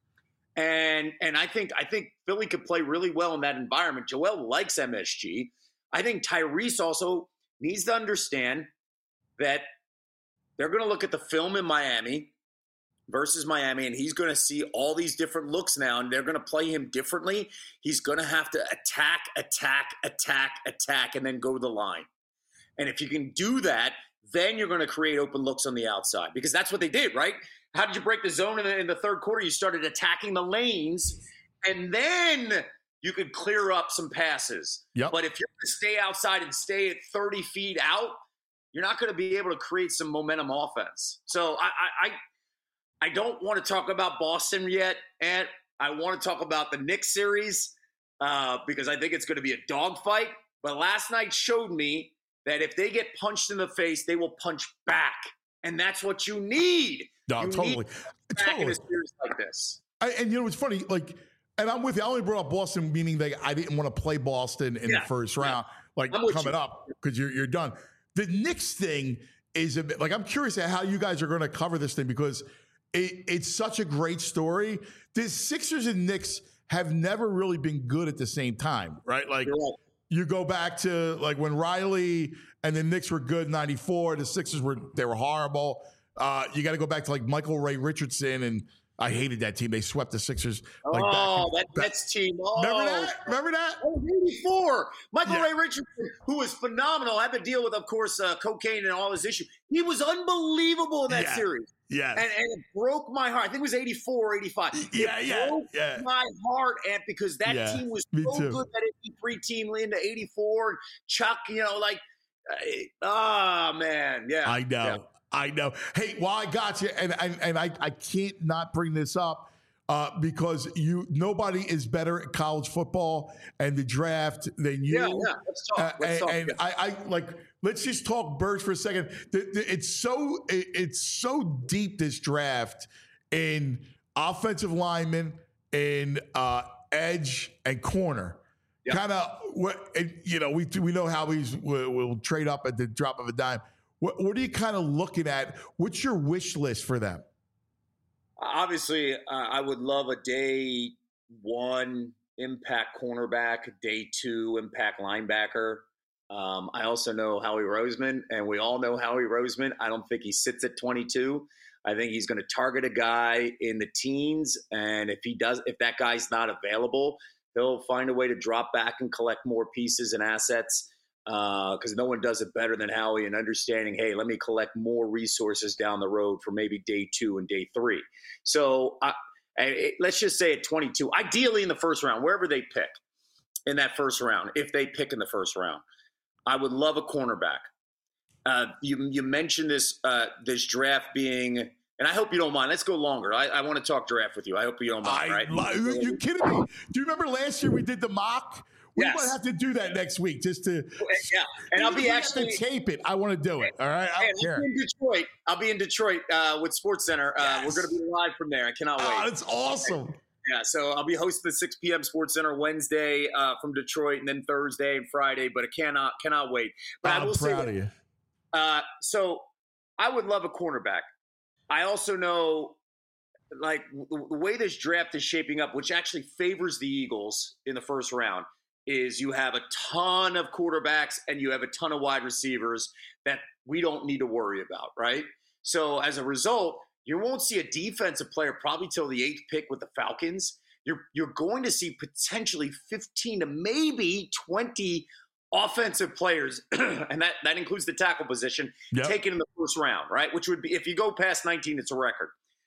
And and I think I think Philly could play really well in that environment. Joel likes M S G. I think Tyrese also needs to understand that they're going to look at the film in Miami versus Miami, and he's going to see all these different looks now, and they're going to play him differently. He's going to have to attack, attack, attack, attack, and then go to the line. And if you can do that, then you're going to create open looks on the outside, because that's what they did, right? How did you break the zone in the, in the third quarter? You started attacking the lanes, and then you could clear up some passes. Yep. But if you're going to stay outside and stay at thirty feet out, you're not going to be able to create some momentum offense. So I, I, I I don't want to talk about Boston yet, and I want to talk about the Knicks series uh, because I think it's going to be a dogfight. But last night showed me that if they get punched in the face, they will punch back, and that's what you need. No, you totally, need back totally. in a series like this. I, and you know, it's funny, like, and I'm with you. I only brought up Boston, meaning that I didn't want to play Boston in Yeah, the first round, yeah. like I'm with coming you. up because you're you're done. The Knicks thing is a bit like I'm curious at how you guys are going to cover this thing because it, it's such a great story. The Sixers and Knicks have never really been good at the same time, right? Like You're right. you go back to like when Riley and the Knicks were good in ninety-four, the Sixers were they were horrible. Uh, you got to go back to like Michael Ray Richardson, and I hated that team. They swept the Sixers. Like Oh, back, that Nets team. Oh. Remember that? Remember that? Oh, eighty-four. Michael Yeah. Ray Richardson, who was phenomenal, had to deal with, of course, uh, cocaine and all his issues. He was unbelievable in that Yeah. series. Yes. And, and it broke my heart. I think it was eighty-four or eighty-five. Yeah, it yeah, broke yeah. my heart, and because that Yeah, team was me so too. good, that eighty-three team into eighty-four. And Chuck, you know, like, ah, oh, man. Yeah. I know. Yeah. I know. Hey, well, I got you, and and, and I, I can't not bring this up uh, because you nobody is better at college football and the draft than you. Yeah, yeah. Let's talk. Uh, Let's and talk. and I, I like. Let's just talk birds for a second. The, the, it's so it, it's so deep, this draft, in offensive linemen, in uh, edge and corner. Yeah. Kind of what and, you know. We we know how he's will, will trade up at the drop of a dime. What, what are you kind of looking at? What's your wish list for them? Obviously, uh, I would love a day one impact cornerback, day two impact linebacker. Um, I also know Howie Roseman, and we all know Howie Roseman. I don't think he sits at twenty-two. I think he's going to target a guy in the teens, and if he does, if that guy's not available, he'll find a way to drop back and collect more pieces and assets. Because uh, no one does it better than Howie in understanding, hey, let me collect more resources down the road for maybe day two and day three. So uh, it, let's just say at twenty-two, ideally in the first round, wherever they pick in that first round, if they pick in the first round, I would love a cornerback. Uh, you you mentioned this uh, this draft being, and I hope you don't mind. Let's go longer. I, I want to talk draft with you. I hope you don't mind, I, right? li- you kidding me? Do you remember last year we did the mock? We Yes. might have to do that next week just to. Yeah, and I'll Even if be we have actually to tape it. I want to do it. All right, I Hey, don't I'll care. be in Detroit. I'll be in Detroit uh, with Sports Center. Uh, Yes. We're going to be live from there. I cannot wait. Oh, that's awesome. Yeah, so I'll be hosting the six p.m. Sports Center Wednesday uh, from Detroit, and then Thursday and Friday. But I cannot cannot wait. But I I'm will say, proud of you. uh, so I would love a cornerback. I also know, like w- the way this draft is shaping up, which actually favors the Eagles in the first round, is you have a ton of quarterbacks and you have a ton of wide receivers that we don't need to worry about, right? So as a result, you won't see a defensive player probably till the eighth pick with the Falcons. You're you're going to see potentially fifteen to maybe twenty offensive players, and that, that includes the tackle position, Yep. taken in the first round, right? Which would be, if you go past nineteen, it's a record.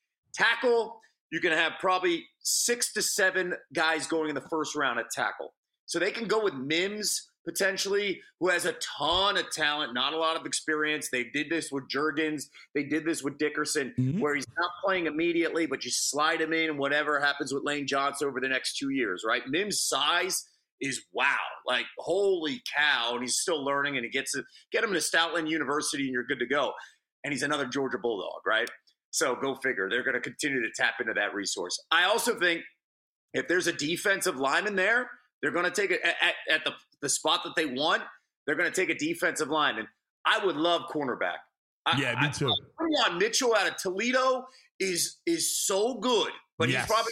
Tackle, you can have probably six to seven guys going in the first round at tackle. So they can go with Mims, potentially, who has a ton of talent, not a lot of experience. They did this with Juergens. They did this with Dickerson, Mhm. where he's not playing immediately, but you slide him in and whatever happens with Lane Johnson over the next two years, right? Mims' size is wow. Like, holy cow. And he's still learning, and he gets to get him to Stoutland University, and you're good to go. And he's another Georgia Bulldog, right? So go figure. They're going to continue to tap into that resource. I also think if there's a defensive lineman there, they're going to take it at, at, at the, the spot that they want. They're going to take a defensive lineman. I would love cornerback. I, Yeah, me too. Leon Mitchell out of Toledo is is so good, but Yes. he's probably going to be the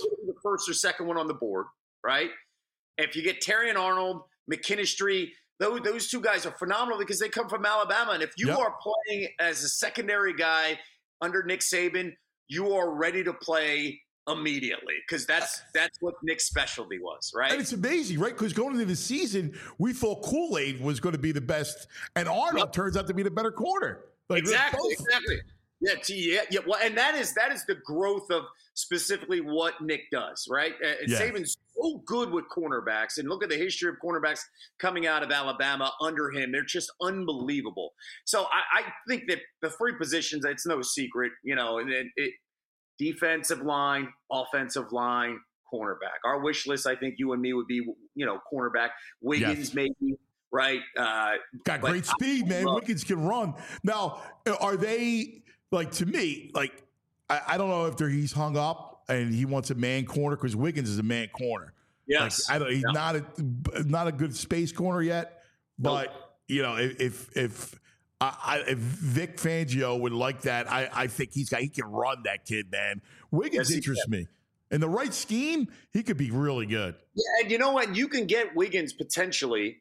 first or second one on the board, right? If you get Terrion Arnold, McKinstry, those, those two guys are phenomenal because they come from Alabama. And if you Yep. are playing as a secondary guy under Nick Saban, you are ready to play immediately because that's that's what Nick's specialty was, right? And it's amazing, right? Because going into the season, we thought Kool-Aid was going to be the best, and Arnold Yep. turns out to be the better corner. Like, they're Exactly, both- exactly. Yeah, t- yeah, yeah. Well, and that is that is the growth of specifically what Nick does, right? Uh, And Yeah. Saban's so good with cornerbacks, and look at the history of cornerbacks coming out of Alabama under him; they're just unbelievable. So I, I think that the three positions, it's no secret, you know, and it, it defensive line, offensive line, cornerback. Our wish list, I think you and me would be, you know, cornerback, Wiggins Yes. maybe, right? Uh, Got But great speed, I man. love- Wiggins can run. Now, are they like to me? Like, I, I don't know if they're, he's hung up and he wants a man corner because Wiggins is a man corner. yes, Like, I don't. He's Yeah. not a not a good space corner yet. But you know, if if, if I, I, if Vic Fangio would like that, I, I think he's got he can run that kid, man. Wiggins Yes, he interests me. In the right scheme, he could be really good. Yeah, and you know what? You can get Wiggins potentially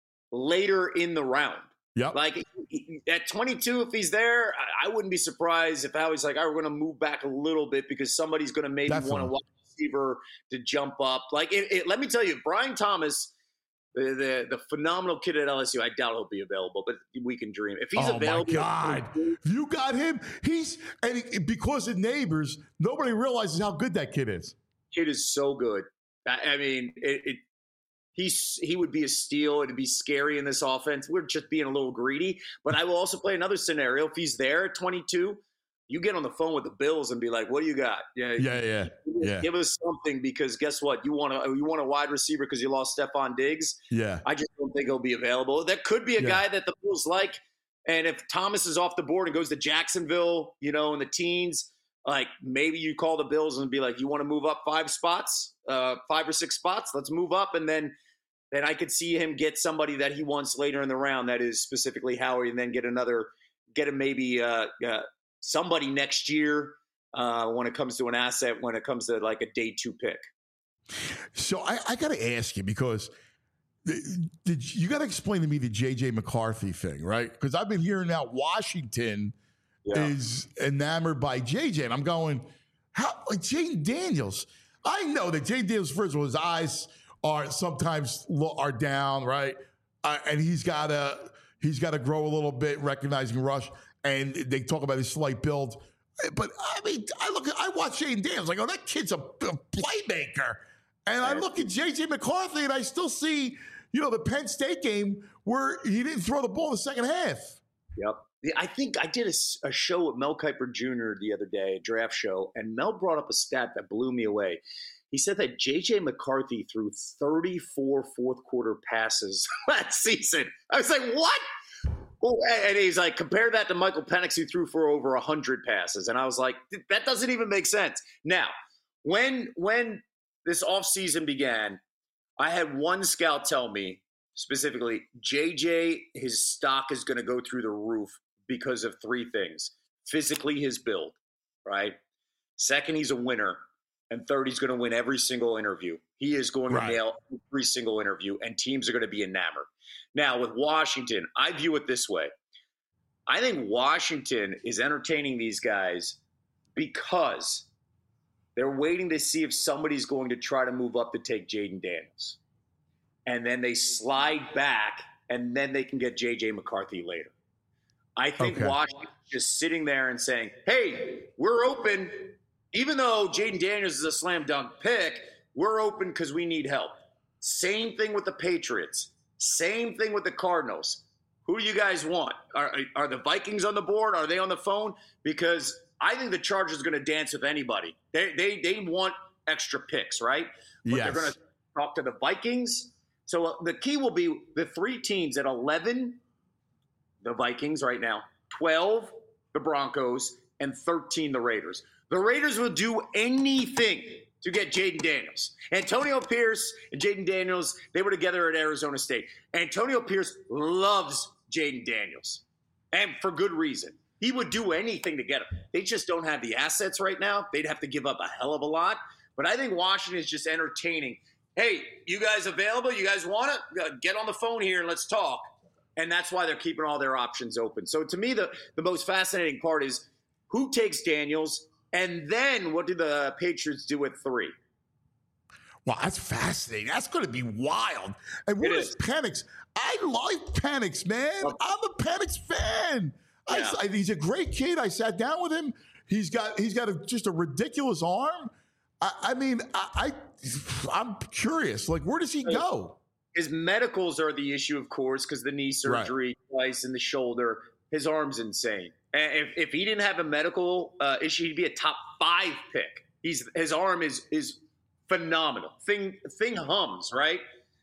later in the round. Yep. Like at twenty-two, if he's there, I, I wouldn't be surprised if Howie's like, "All right, we're going to move back a little bit because somebody's going to maybe want Definitely. a wide receiver to jump up." Like, it, it, let me tell you, Brian Thomas, the, the the phenomenal kid at L S U, I doubt he'll be available, but we can dream. If he's oh available, my God! If you got him, he's and he- because of neighbors, nobody realizes how good that kid is. kid is so good. I, I mean, it, it he's he would be a steal. It'd be scary in this offense. We're just being a little greedy. But I will also play another scenario. If he's there at twenty-two, you get on the phone with the Bills and be like, "What do you got? Yeah, Yeah, yeah, yeah, give us something because guess what? You want a you want a wide receiver because you lost Stephon Diggs. yeah. I just don't think he'll be available. There could be a Yeah. guy that the Bills like, and if Thomas is off the board and goes to Jacksonville, you know, in the teens, like maybe you call the Bills and be like, you want to move up five spots, uh, five or six spots? Let's move up, and then then I could see him get somebody that he wants later in the round that is specifically Howie, and then get another, get him maybe uh, uh, somebody next year uh, when it comes to an asset, when it comes to like a day two pick. So I, I got to ask you because the- did you got to explain to me the J J McCarthy thing, right? Because I've been hearing now Washington Yeah. is enamored by J J, and I'm going, how like Jaden Daniels? I know that Jaden Daniels, first of all, his eyes are sometimes lo- are down, right? Uh, and he's got to he's got to grow a little bit, recognizing rush. And they talk about his slight build, but I mean, I look, at, I watch Jaden Daniels, like, oh, that kid's a, a playmaker. And I look at J J McCarthy, and I still see, you know, the Penn State game where he didn't throw the ball in the second half. Yep. Yeah, I think I did a, s- a show with Mel Kiper Junior the other day, a draft show, and Mel brought up a stat that blew me away. He said that J J McCarthy threw thirty-four fourth quarter passes last season. I was like, what? Well, and he's like, compare that to Michael Penix, who threw for over one hundred passes. And I was like, that doesn't even make sense. Now, when when this offseason began, I had one scout tell me specifically, J J, his stock is going to go through the roof because of three things. Physically, his build, right? Second, he's a winner. And third, he's going to win every single interview. He is going Right. to nail every single interview, and teams are going to be enamored. Now, with Washington, I view it this way. I think Washington is entertaining these guys because they're waiting to see if somebody's going to try to move up to take Jaden Daniels. And then they slide back, and then they can get J J McCarthy later. I think Okay. Washington's just sitting there and saying, hey, we're open. Even though Jaden Daniels is a slam dunk pick, we're open because we need help. Same thing with the Patriots. Same thing with the Cardinals. Who do you guys want? Are, are the Vikings on the board? Are they on the phone? Because I think the Chargers are going to dance with anybody. They they they want extra picks, right? But Yes. they're going to talk to the Vikings. So uh, the key will be the three teams at eleven, the Vikings right now, twelve, the Broncos, and thirteen, the Raiders. The Raiders will do anything to get Jaden Daniels. Antonio Pierce and Jaden Daniels, they were together at Arizona State. Antonio Pierce loves Jaden Daniels, and for good reason. He would do anything to get him. They just don't have the assets right now. They'd have to give up a hell of a lot. But I think Washington is just entertaining. Hey, you guys available? You guys want it? Get on the phone here and let's talk. And that's why they're keeping all their options open. So to me, the, the most fascinating part is who takes Daniels, and then what do the Patriots do at three? Well, that's fascinating. That's going to be wild. And what It is is. Penix? I like Penix, man. Oh. I'm a Penix fan. Yeah. I, I, he's a great kid. I sat down with him. He's got he's got a, just a ridiculous arm. I, I mean, I, I I'm curious. Like, where does he go? His medicals are the issue, of course, because the knee surgery twice in the shoulder. His arm's insane. And if, if he didn't have a medical uh, issue, he'd be a top five pick. He's his arm is is phenomenal. Thing thing hums, right?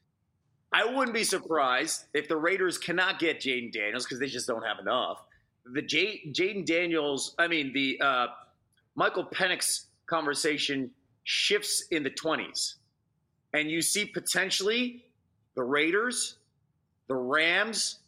I wouldn't be surprised if the Raiders cannot get Jaden Daniels because they just don't have enough. The J- Jaden Daniels, I mean the uh, Michael Penix conversation shifts in the twenties, and you see potentially the Raiders, the Rams,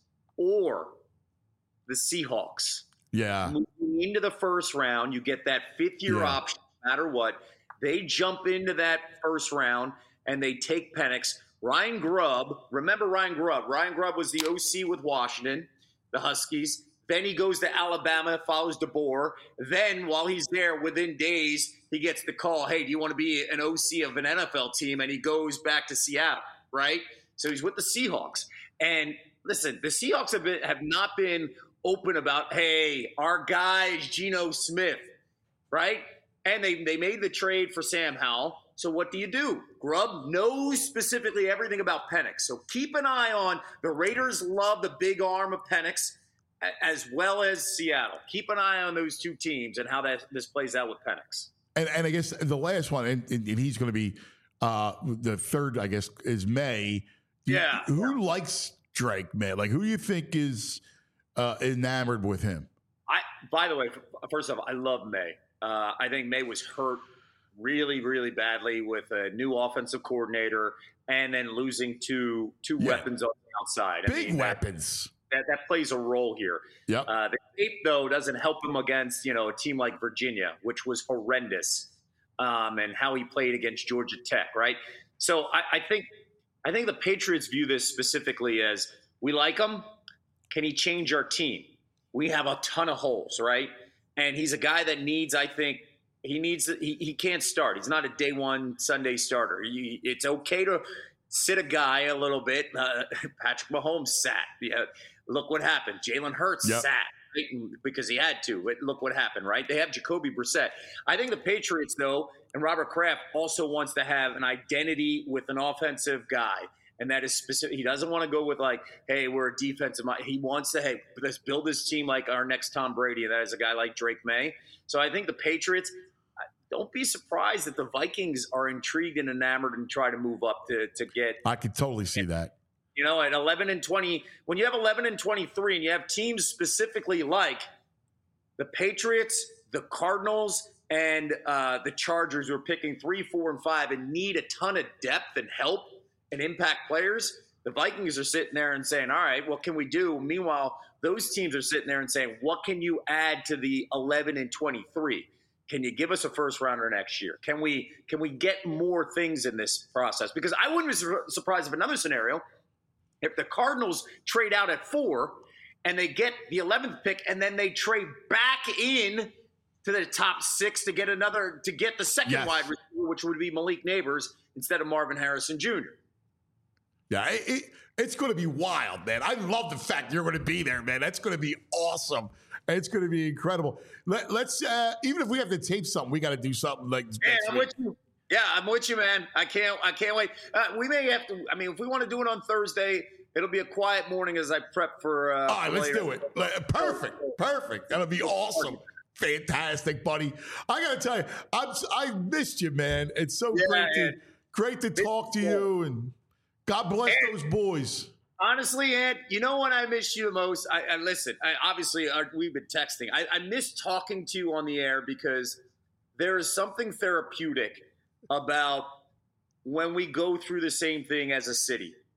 or the Seahawks. Yeah. Moving into the first round, you get that fifth-year Yeah. option no matter what. They jump into that first round, and they take Penix. Ryan Grubb, remember Ryan Grubb. Ryan Grubb was the O C with Washington, the Huskies. Then he goes to Alabama, follows DeBoer. Then while he's there, within days, he gets the call, hey, do you want to be an O C of an N F L team? And he goes back to Seattle, right? So he's with the Seahawks. And listen, the Seahawks have been, have not been open about, hey, our guy is Geno Smith, right? And they, they made the trade for Sam Howell. So what do you do? Grubb knows specifically everything about Penix. So keep an eye on the Raiders love the big arm of Penix as well as Seattle. Keep an eye on those two teams and how that this plays out with Penix. And, and I guess the last one, and, and he's going to be uh, the third, I guess, is May. Do you- Yeah. who likes Drake, man? Like, who do you think is uh, enamored with him? I, by the way, first off, I love May. Uh, I think May was hurt really, really badly with a new offensive coordinator and then losing two two Yeah. weapons on the outside. I Big mean, that- weapons. That, that plays a role here. Yep. Uh, the tape, though, doesn't help him against, you know, a team like Virginia, which was horrendous, um, and how he played against Georgia Tech, right? So I, I think I think the Patriots view this specifically as, we like him. Can he change our team? We have a ton of holes, right? And he's a guy that needs, I think, he needs he, he can't start. He's not a day one Sunday starter. He, it's okay to sit a guy a little bit. Uh, Patrick Mahomes sat. Yeah, look what happened. Jalen Hurts Yep. sat right? because he had to. But look what happened, right? They have Jacoby Brissett. I think the Patriots, though, and Robert Kraft also wants to have an identity with an offensive guy. And that is specific. He doesn't want to go with like, hey, we're a defensive mind. He wants to, hey, let's build this team like our next Tom Brady. And that is a guy like Drake May. So I think the Patriots, don't be surprised that the Vikings are intrigued and enamored and try to move up to, to get, I could totally see that. you know, at eleven and twenty. When you have eleven and twenty-three and you have teams specifically like the Patriots, the Cardinals, and uh, the Chargers who are picking three, four, and five and need a ton of depth and help and impact players, the Vikings are sitting there and saying, all right, what can we do? Meanwhile, those teams are sitting there and saying, what can you add to the eleven and twenty-three? Can you give us a first rounder next year? Can we can we get more things in this process? Because I wouldn't be sur- surprised if another scenario, if the Cardinals trade out at four and they get the eleventh pick and then they trade back in to the top six to get another to get the second Yes. wide receiver, which would be Malik Neighbors instead of Marvin Harrison Junior Yeah, it, it, it's going to be wild, man. I love the fact you're going to be there, man. That's going to be awesome. It's going to be incredible. Let, let's uh, even if we have to tape something, we got to do something like Yeah, next I'm week. with you. Yeah, I'm with you, man. I can't. I can't wait. Uh, we may have to. I mean, if we want to do it on Thursday, it'll be a quiet morning as I prep for. Uh, All right, for let's later. do it. Like, Perfect, perfect. That'll be awesome. Fantastic, buddy. I got to tell you, I'm, I missed you, man. It's so Yeah, great to man. great to talk to you, and God bless And- those boys. Honestly, Ed, you know what I miss you the most? I, I listen. I, obviously, uh, we've been texting. I, I miss talking to you on the air because there is something therapeutic about when we go through the same thing as a city.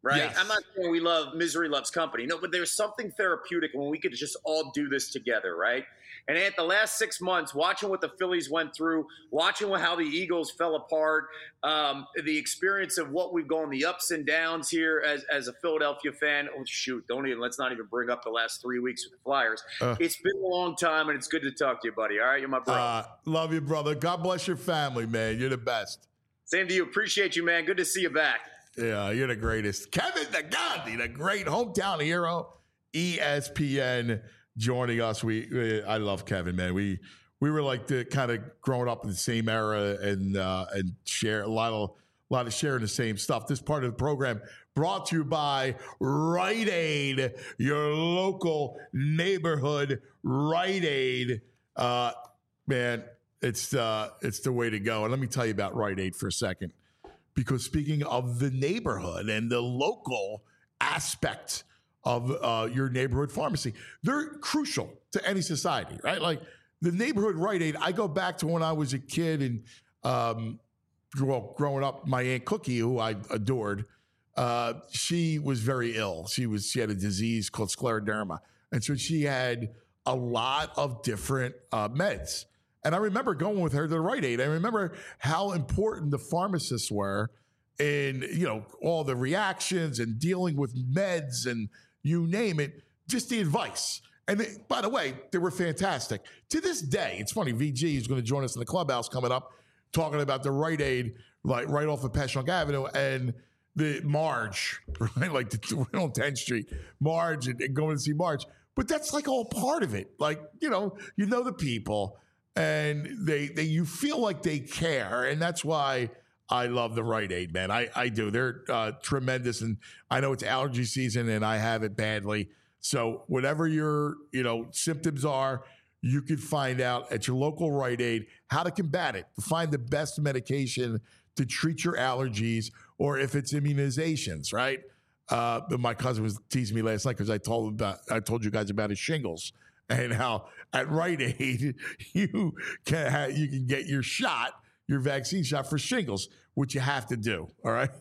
right? Yes. I'm not saying we love misery loves company. No, but there's something therapeutic when we could just all do this together, right? And at the last six months, watching what the Phillies went through, watching how the Eagles fell apart, um, the experience of what we've gone, the ups and downs here as, as a Philadelphia fan. Oh, shoot, don't even, let's not even bring up the last three weeks with the Flyers. Uh, it's been a long time, and it's good to talk to you, buddy. All right, you're my brother. Uh, love you, brother. God bless your family, man. You're the best. Same to you. Appreciate you, man. Good to see you back. Yeah, you're the greatest. Kevin the Gandhi, the great hometown hero, E S P N, joining us. We, we I love Kevin, man. We we were like the kind of growing up in the same era and uh, and share a lot of a lot of sharing the same stuff. This part of the program brought to you by Rite Aid, your local neighborhood Rite Aid. Uh, man, it's uh, it's the way to go. And let me tell you about Rite Aid for a second. Because speaking of the neighborhood and the local aspect of uh, your neighborhood pharmacy, they're crucial to any society, right? Like the neighborhood Rite Aid, I go back to when I was a kid and, um, well, growing up, my Aunt Cookie, who I adored, uh, she was very ill. She was she had a disease called scleroderma. And so she had a lot of different uh, meds. And I remember going with her to the Rite Aid. I remember how important the pharmacists were in, you know, all the reactions and dealing with meds and you name it, just the advice. And they, by the way, they were fantastic. To this day, it's funny, V G is going to join us in the clubhouse coming up, talking about the Rite Aid, like right off of Passyunk Avenue and the Marge, right? Like the, on tenth Street, Marge and, and going to see Marge. But that's like all part of it. Like, you know, you know the people. And they, they, you feel like they care, and that's why I love the Rite Aid, man. I, I do. They're uh, tremendous, and I know it's allergy season, and I have it badly. So whatever your, you know, symptoms are, you can find out at your local Rite Aid how to combat it, to find the best medication to treat your allergies, or if it's immunizations, right? Uh, but my cousin was teasing me last night because I told him about, I told you guys about his shingles. And how at Rite Aid you can have, you can get your shot, your vaccine shot for shingles, which you have to do, all right?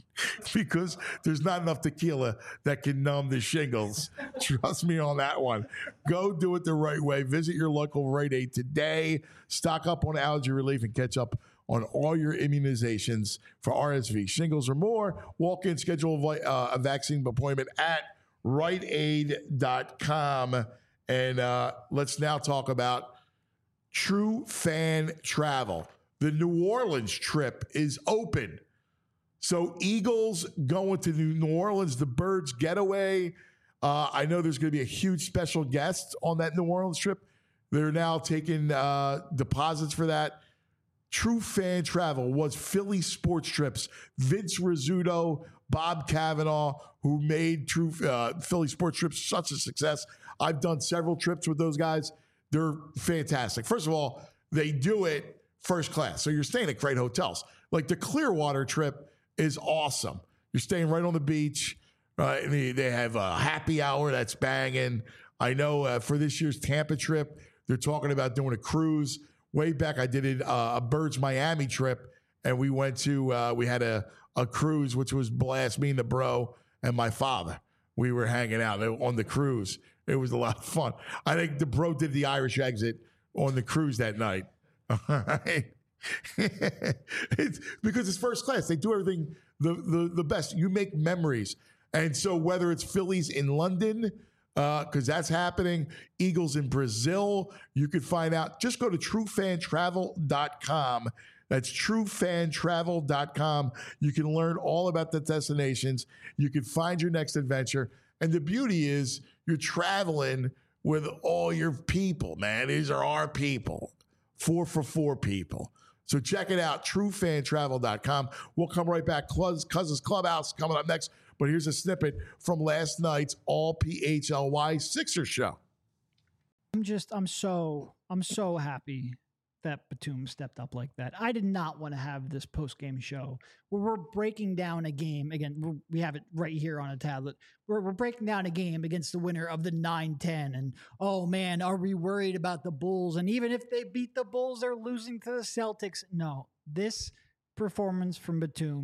Because there's not enough tequila that can numb the shingles. Trust me on that one. Go do it the right way. Visit your local Rite Aid today. Stock up on allergy relief and catch up on all your immunizations for R S V, shingles, or more. Walk in, schedule a, uh, a vaccine appointment at rite aid dot com. And uh, let's now talk about True Fan Travel. The New Orleans trip is open. So Eagles going to New Orleans, the Birds getaway. Uh, I know there's going to be a huge special guest on that New Orleans trip. They're now taking uh, deposits for that. True Fan Travel was Philly Sports Trips. Vince Rizzuto, Bob Cavanaugh, who made True uh, Philly Sports Trips such a success. I've done several trips with those guys. They're fantastic. First of all, they do it first class. So you're staying at great hotels. Like the Clearwater trip is awesome. You're staying right on the beach. Right? They, they have a happy hour that's banging. I know uh, for this year's Tampa trip, they're talking about doing a cruise. Way back, I did it, uh, a Birds Miami trip, and we went to, uh, we had a, a cruise, which was blast, me and the bro and my father. We were hanging out on the cruise. It was a lot of fun. I think the bro did the Irish exit on the cruise that night. It's because it's first class. They do everything the, the, the best. You make memories. And so whether it's Phillies in London, because uh, that's happening, Eagles in Brazil, you could find out. Just go to true fan travel dot com. That's true fan travel dot com. You can learn all about the destinations. You can find your next adventure. And the beauty is you're traveling with all your people, man. These are our people. Four for four people. So check it out, true fan travel dot com. We'll come right back. Cousins Clubhouse coming up next. But here's a snippet from last night's All P H L Y Sixers show. I'm just, I'm so, I'm so happy that Batum stepped up like that. I did not want to have this post-game show where we're breaking down a game. Again, we're, we have it right here on a tablet. We're, we're breaking down a game against the winner of the nine ten. And, oh, man, are we worried about the Bulls? And even if they beat the Bulls, they're losing to the Celtics. No, this performance from Batum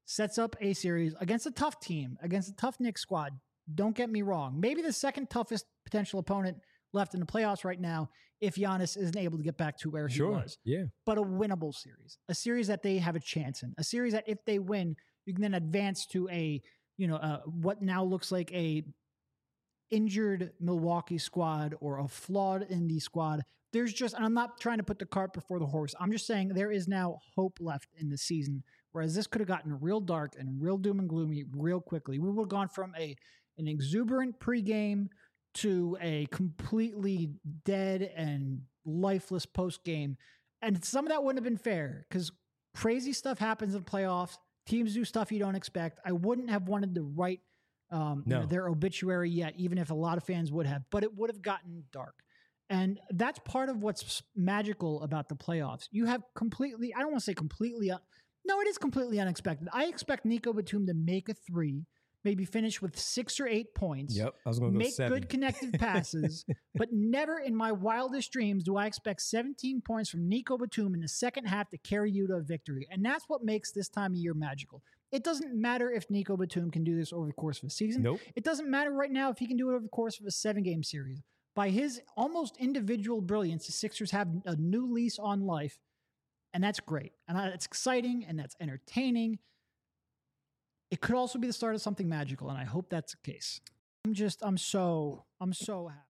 sets up a series against a tough team, against a tough Knicks squad. Don't get me wrong. Maybe the second toughest potential opponent left in the playoffs right now if Giannis isn't able to get back to where Sure. he was. Yeah. But a winnable series, a series that they have a chance in, a series that if they win, you can then advance to a, you know, uh, what now looks like a injured Milwaukee squad or a flawed Indy squad. There's just, and I'm not trying to put the cart before the horse. I'm just saying there is now hope left in the season, whereas this could have gotten real dark and real doom and gloomy real quickly. We would have gone from a an exuberant pregame to a completely dead and lifeless postgame. And some of that wouldn't have been fair because crazy stuff happens in the playoffs. Teams do stuff you don't expect. I wouldn't have wanted to write um, you No. know, their obituary yet, even if a lot of fans would have, but it would have gotten dark. And that's part of what's magical about the playoffs. You have completely, I don't want to say completely, un- no, it is completely unexpected. I expect Nico Batum to make a three, maybe finish with six or eight points. Yep. I was going to go Make seven. good connected passes, but never in my wildest dreams do I expect seventeen points from Nico Batum in the second half to carry you to a victory. And that's what makes this time of year magical. It doesn't matter if Nico Batum can do this over the course of a season. Nope. It doesn't matter right now if he can do it over the course of a seven-game series. By his almost individual brilliance, the Sixers have a new lease on life, and that's great. And that's exciting, and that's entertaining. It could also be the start of something magical, and I hope that's the case. I'm just, I'm so, I'm so happy.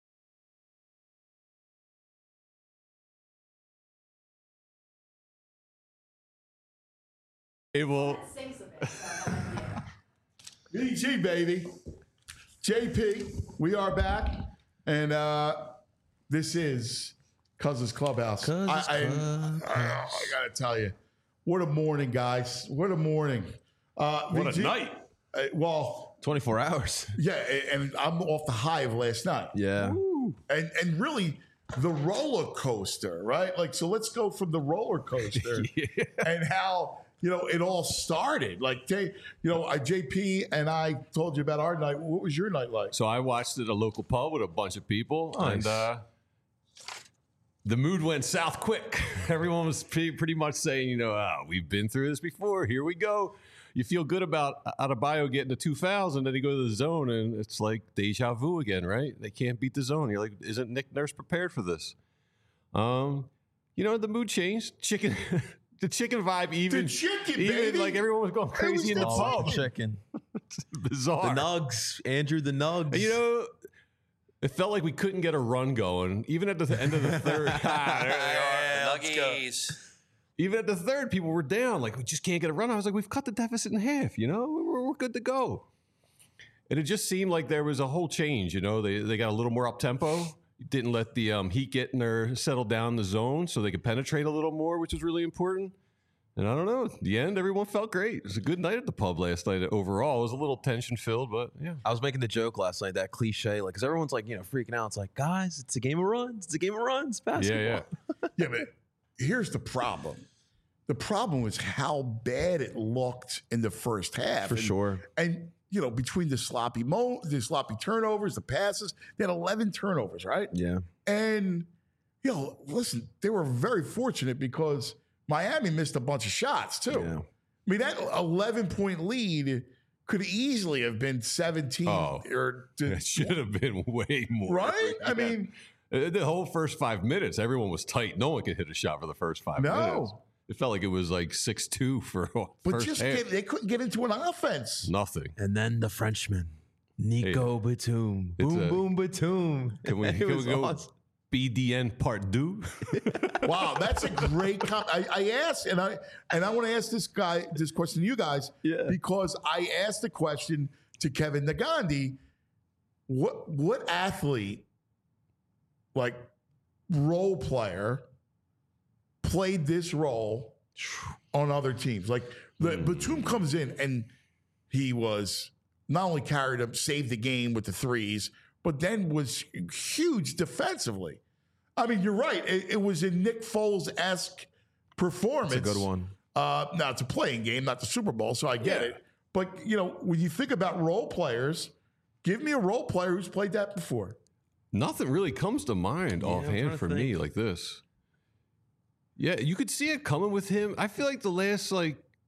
It will. B G, baby. J P, we are back. And uh, this is Cousins Clubhouse. Cousins I, I, Clubhouse. I, I got to tell you, what a morning, guys. What a morning. Uh, What V G a night. Uh, well, twenty-four hours. yeah, and I'm off the high of last night. Yeah. And and really, the roller coaster, right? Like, so let's go from the roller coaster and how, you know, it all started. Like, J, you know, I, J P and I told you about our night. What was your night like? So I watched it at a local pub with a bunch of people, Nice. and uh, the mood went south quick. Everyone was pretty, pretty much saying, you know, ah, we've been through this before. Here we go. You feel good about Adebayo getting to two fouls, and then he go to the zone, and it's like deja vu again, right? They can't beat the zone. You're like, isn't Nick Nurse prepared for this? Um, you know, the mood changed. Chicken, the chicken vibe, even The chicken, even baby. like everyone was going crazy in the the pub. Chicken. It's bizarre. The Nugs. Andrew the Nugs. And, you know, it felt like we couldn't get a run going, even at the end of the third. Ah, there they are. Nuggies. Even at the third, people were down. Like, we just can't get a run. I was like, we've cut the deficit in half, you know? We're, we're good to go. And it just seemed like there was a whole change, you know? They they got a little more up-tempo. Didn't let the um, Heat get in there, settle down in the zone so they could penetrate a little more, which was really important. And I don't know. At the end, everyone felt great. It was a good night at the pub last night overall. It was a little tension-filled, but yeah. I was making the joke last night, that cliche, like, because everyone's like, you know, freaking out. It's like, guys, it's a game of runs. It's a game of runs. Basketball. Yeah, yeah. Yeah, but here's the problem. The problem was how bad it looked in the first half. For and, sure. And, you know, between the sloppy mo, the sloppy turnovers, the passes, they had eleven turnovers, right? Yeah. And, you know, listen, they were very fortunate because Miami missed a bunch of shots, too. Yeah. I mean, that eleven-point lead could easily have been seventeen. Oh. or It should have been way more. Right? I Yeah. mean, Uh, the whole first five minutes, everyone was tight. No one could hit a shot for the first five No. minutes. It felt like it was like six two for but first just half. get, they couldn't get into an offense. Nothing. And then the Frenchman, Nico Batum. It's Boom, a- boom, Batum. Can we, It can we was go awesome. B D N part two? Wow, that's a great comment. I, I asked, and I and I want to ask this guy this question to you guys, Yeah. because I asked the question to Kevin Nagandi. What what athlete, like role player, played this role on other teams? Like the Batum comes in and he was not only carried him, saved the game with the threes, but then was huge defensively. I mean, you're right. It, it was a Nick Foles-esque performance. It's a good one. Uh, now, it's a playing game, not the Super Bowl, so I get Yeah. it. But, you know, when you think about role players, give me a role player who's played that before. Nothing really comes to mind I'm trying offhand to for think. me like this. Yeah, you could see it coming with him. I feel like the last like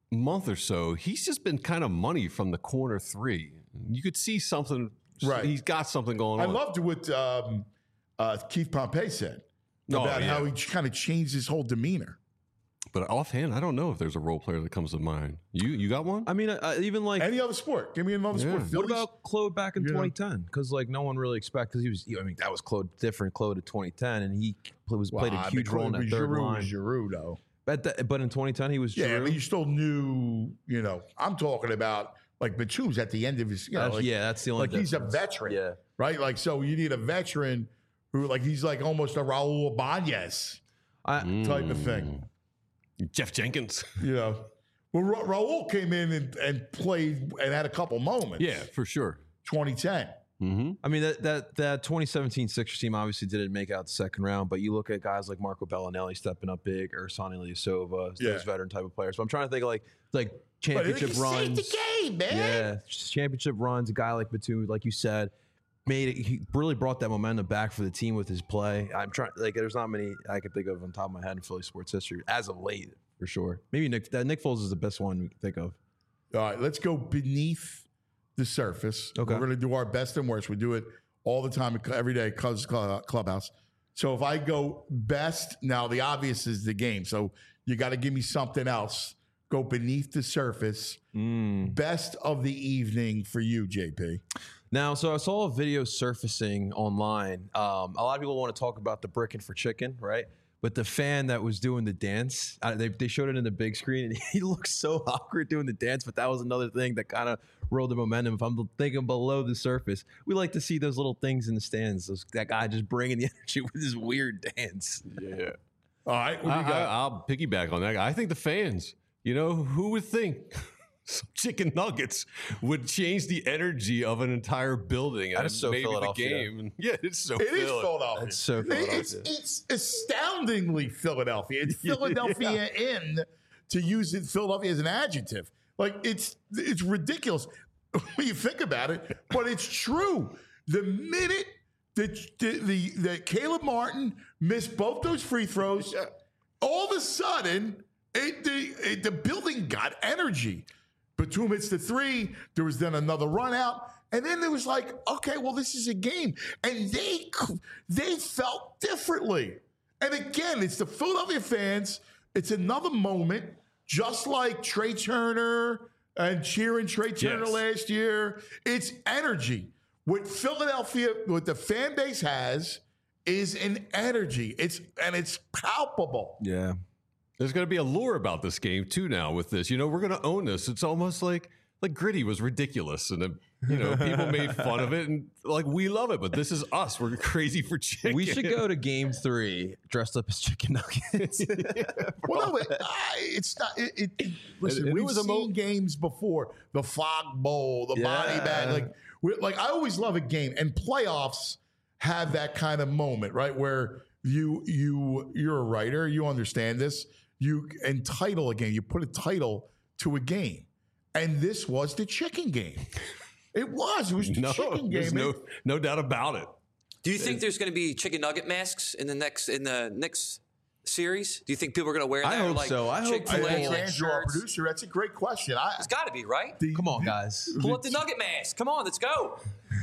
month or so, he's just been kind of money from the corner three. You could see something. Right. He's got something going I on. loved what um, uh, Keith Pompey said Oh, about yeah. how he kind of changed his whole demeanor. But offhand, I don't know if there's a role player that comes to mind. You you got one? I mean, uh, even like Any other sport? Give me another sport. Yeah. what Phillies? about Claude back in You know. twenty ten? Because like no one really expected because he was. I mean, that was Claude different Claude at twenty ten, and he pl- was Well, played a I huge mean, role in that Giroux third was line. Giroux, though. But the, but in twenty ten, he was. Yeah, I Giroux. mean, you still knew. You know, I'm talking about like Batum's at the end of his. You know, That's- like, yeah, that's the only. like he's a difference. veteran. Yeah. Right. Like so, you need a veteran who like he's like almost a Raul Ibanez I, type of thing. Jeff Jenkins. You know, well, Ra- Raul came in and, and played and had a couple moments. Yeah, for sure. twenty ten. Mm-hmm. I mean, that that that twenty seventeen Sixers team obviously didn't make out the second round, but you look at guys like Marco Bellinelli stepping up big, or Sonny Ilyasova, Yeah. those veteran type of players. But I'm trying to think of like like But championship he runs. saved the game, man. Yeah, championship runs. A guy like Batum, like you said, made it. He really brought that momentum back for the team with his play. I'm trying like there's not many I could think of on top of my head in Philly sports history as of late for sure. Maybe Nick that Nick Foles is the best one we can think of. All right, let's go beneath the surface. Okay. We're going to do our best and worst. We do it all the time, every day, Cubs Clubhouse. So if I go best, now the obvious is the game. So you got to give me something else. Go beneath the surface. Mm. Best of the evening for you, J P. Now, so I saw a video surfacing online. Um, a lot of people want to talk about the bricking for chicken, right? But the fan that was doing the dance, uh, they, they showed it in the big screen, and he looked so awkward doing the dance. But that was another thing that kind of rolled the momentum. If I'm thinking below the surface, we like to see those little things in the stands. Those, that guy just bringing the energy with his weird dance. Yeah. All right, what do I, you got? I, I'll piggyback on that. I think the fans, you know, who would think some chicken nuggets would change the energy of an entire building That and is so maybe Philadelphia. the game? Yeah, it's so It is Philly. Philadelphia. That's so It's, Philadelphia. it's astoundingly Philadelphia. It's Philadelphia in, to use it, Philadelphia as an adjective. Like it's it's ridiculous when you think about it, but it's true. The minute that the, the, that Caleb Martin missed both those free throws, all of a sudden it, the it, the building got energy. Batum hits the three. There was then another run out. And then there was like, okay, well, this is a game. And they they felt differently. And again, it's the Philadelphia fans. It's another moment, just like Trey Turner and cheering Trey Turner Yes. last year. It's energy. What Philadelphia, what the fan base has is an energy. It's and it's palpable. Yeah. There's going to be a lure about this game too. Now with this, you know, we're going to own this. It's almost like like Gritty was ridiculous, and uh, you know, people made fun of it, and like we love it. But this is us. We're crazy for chicken. We should go to game three dressed up as chicken nuggets. Well, no, but, I, it's not. It, it, it- listen, it we've was a seen mo- games before. The Fog Bowl, the body Yeah. bag. Like, we like I always love a game, and playoffs have that kind of moment, right? Where you you you're a writer, you understand this. You entitle a game. You put a title to a game, and this was the chicken game. It was. It was the no, chicken there's game. no no doubt about it. Do you think there's going to be chicken nugget masks in the next in the next series? Do you think people are going to wear that? I hope like so. I hope Chick-fil-A, I think like Andrew, our shirts? producer, that's a great question. I, It's got to be, right? the- Come on, guys. Pull up the nugget mask. Come on, let's go.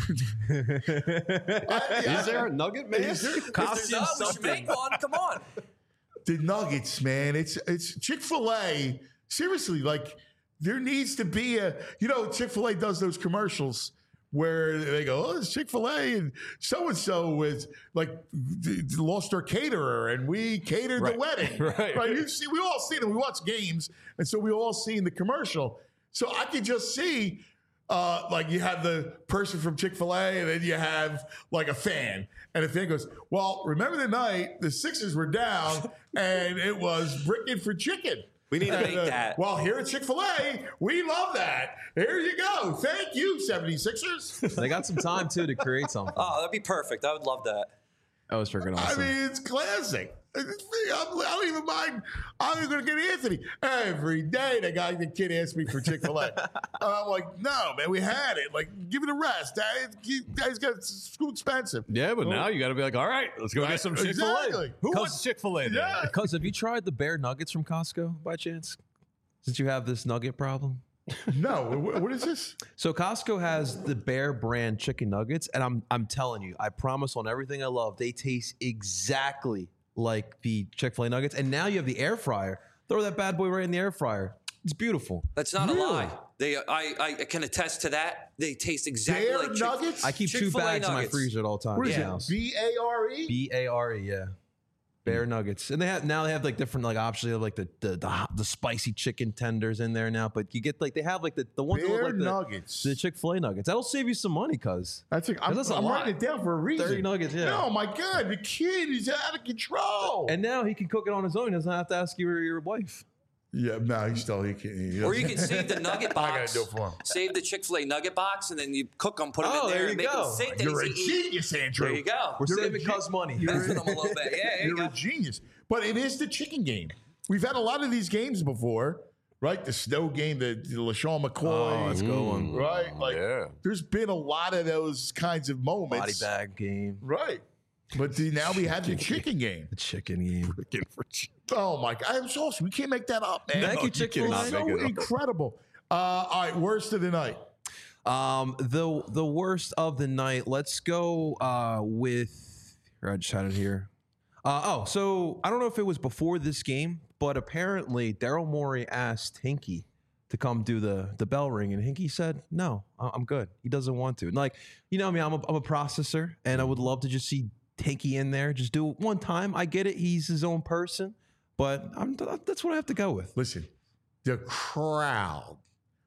I- yeah, Is there a nugget man? Is there- If there's not, we should make one. Come on. the Nuggets, man. It's it's Chick-fil-A. Seriously, like there needs to be a, you know, Chick-fil-A does those commercials where they go, oh, it's Chick-fil-A and so-and-so is like d- d- lost our caterer and we catered Right. the wedding. Right. You see, we all seen it. We watch games. And so we all seen the commercial. So I could just see uh, like you have the person from Chick-fil-A and then you have like a fan. And the fan goes, well, remember the night the Sixers were down and it was bricking for chicken. We need to And, make uh, that. Well, here at Chick-fil-A, we love that. Here you go. Thank you, seventy-sixers. They got some time too to create something. Oh, that'd be perfect. I would love that. That was freaking I awesome. mean, it's classic. I'm, I don't even mind. I'm even going to get Anthony. Every day, the guy, the kid asks me for Chick-fil-A. And I'm like, no, man, we had it. Like, give it a rest. That guy's got it's too expensive. Yeah, but now you got to be like, all right, let's go Right, get some Chick Fil A. exactly. Who wants Chick Fil A? Yeah. Cuz, have you tried the bear nuggets from Costco by chance? Since you have this nugget problem. No, what, what is this? So Costco has the Bear brand chicken nuggets, and I'm I'm telling you, I promise on everything I love, they taste exactly like the Chick-fil-A nuggets. And now you have the air fryer. Throw that bad boy right in the air fryer. It's beautiful. That's not Really? a lie. They, I, I can attest to that. They taste exactly Bear like Chick- nuggets? I keep two Chick-fil-A bags in my nuggets. freezer at all times. What is in it? the house. B A R E? B A R E, yeah. Bear nuggets, and they have now they have like different like options. They have like the the, the hot- the spicy chicken tenders in there now, but you get like they have like the the ones that look Bear like the, nuggets. the Chick-fil-A nuggets. That'll save you some money, cuz. That's a, I'm, That's a I'm lot. writing it down for a reason. thirty nuggets, yeah. No, my God, the kid is out of control. And now he can cook it on his own. He doesn't have to ask you or your wife. yeah, no, he's still he can. He Or you can save the nugget I box. gotta do it for him. Save the Chick-fil-A nugget box, and then you cook them, put them Oh, in there, there and you make go. them think that You're a he's eating. genius, Andrew. There you go. We're You're a saving ge- cuz money. Messing them a little bit. Yeah, there you You're go. a genius. But it is the chicken game. We've had a lot of these games before, right? The snow game, the, the LaShawn McCoy. Oh, that's a good one. Right? Like, Yeah. there's been a lot of those kinds of moments. Body bag game. Right. But the, now we have the chicken game. The chicken game. Looking for ch- Oh, my God. I'm so awesome. We can't make that up, man. Thank you, Chick-fil-A. cannot So make it up. incredible. Uh, all right, worst of the night. Um, the the worst of the night. Let's go uh, with. Here, I just had it here. Uh, oh, so I don't know if it was before this game, but apparently Daryl Morey asked Hinkie to come do the the bell ring, and Hinkie said, "No, I- I'm good." He doesn't want to. And like, you know, I mean, I'm a, I'm a processor, and I would love to just see Hinkie in there, just do it one time. I get it; he's his own person, but I'm that's what I have to go with. Listen, the crowd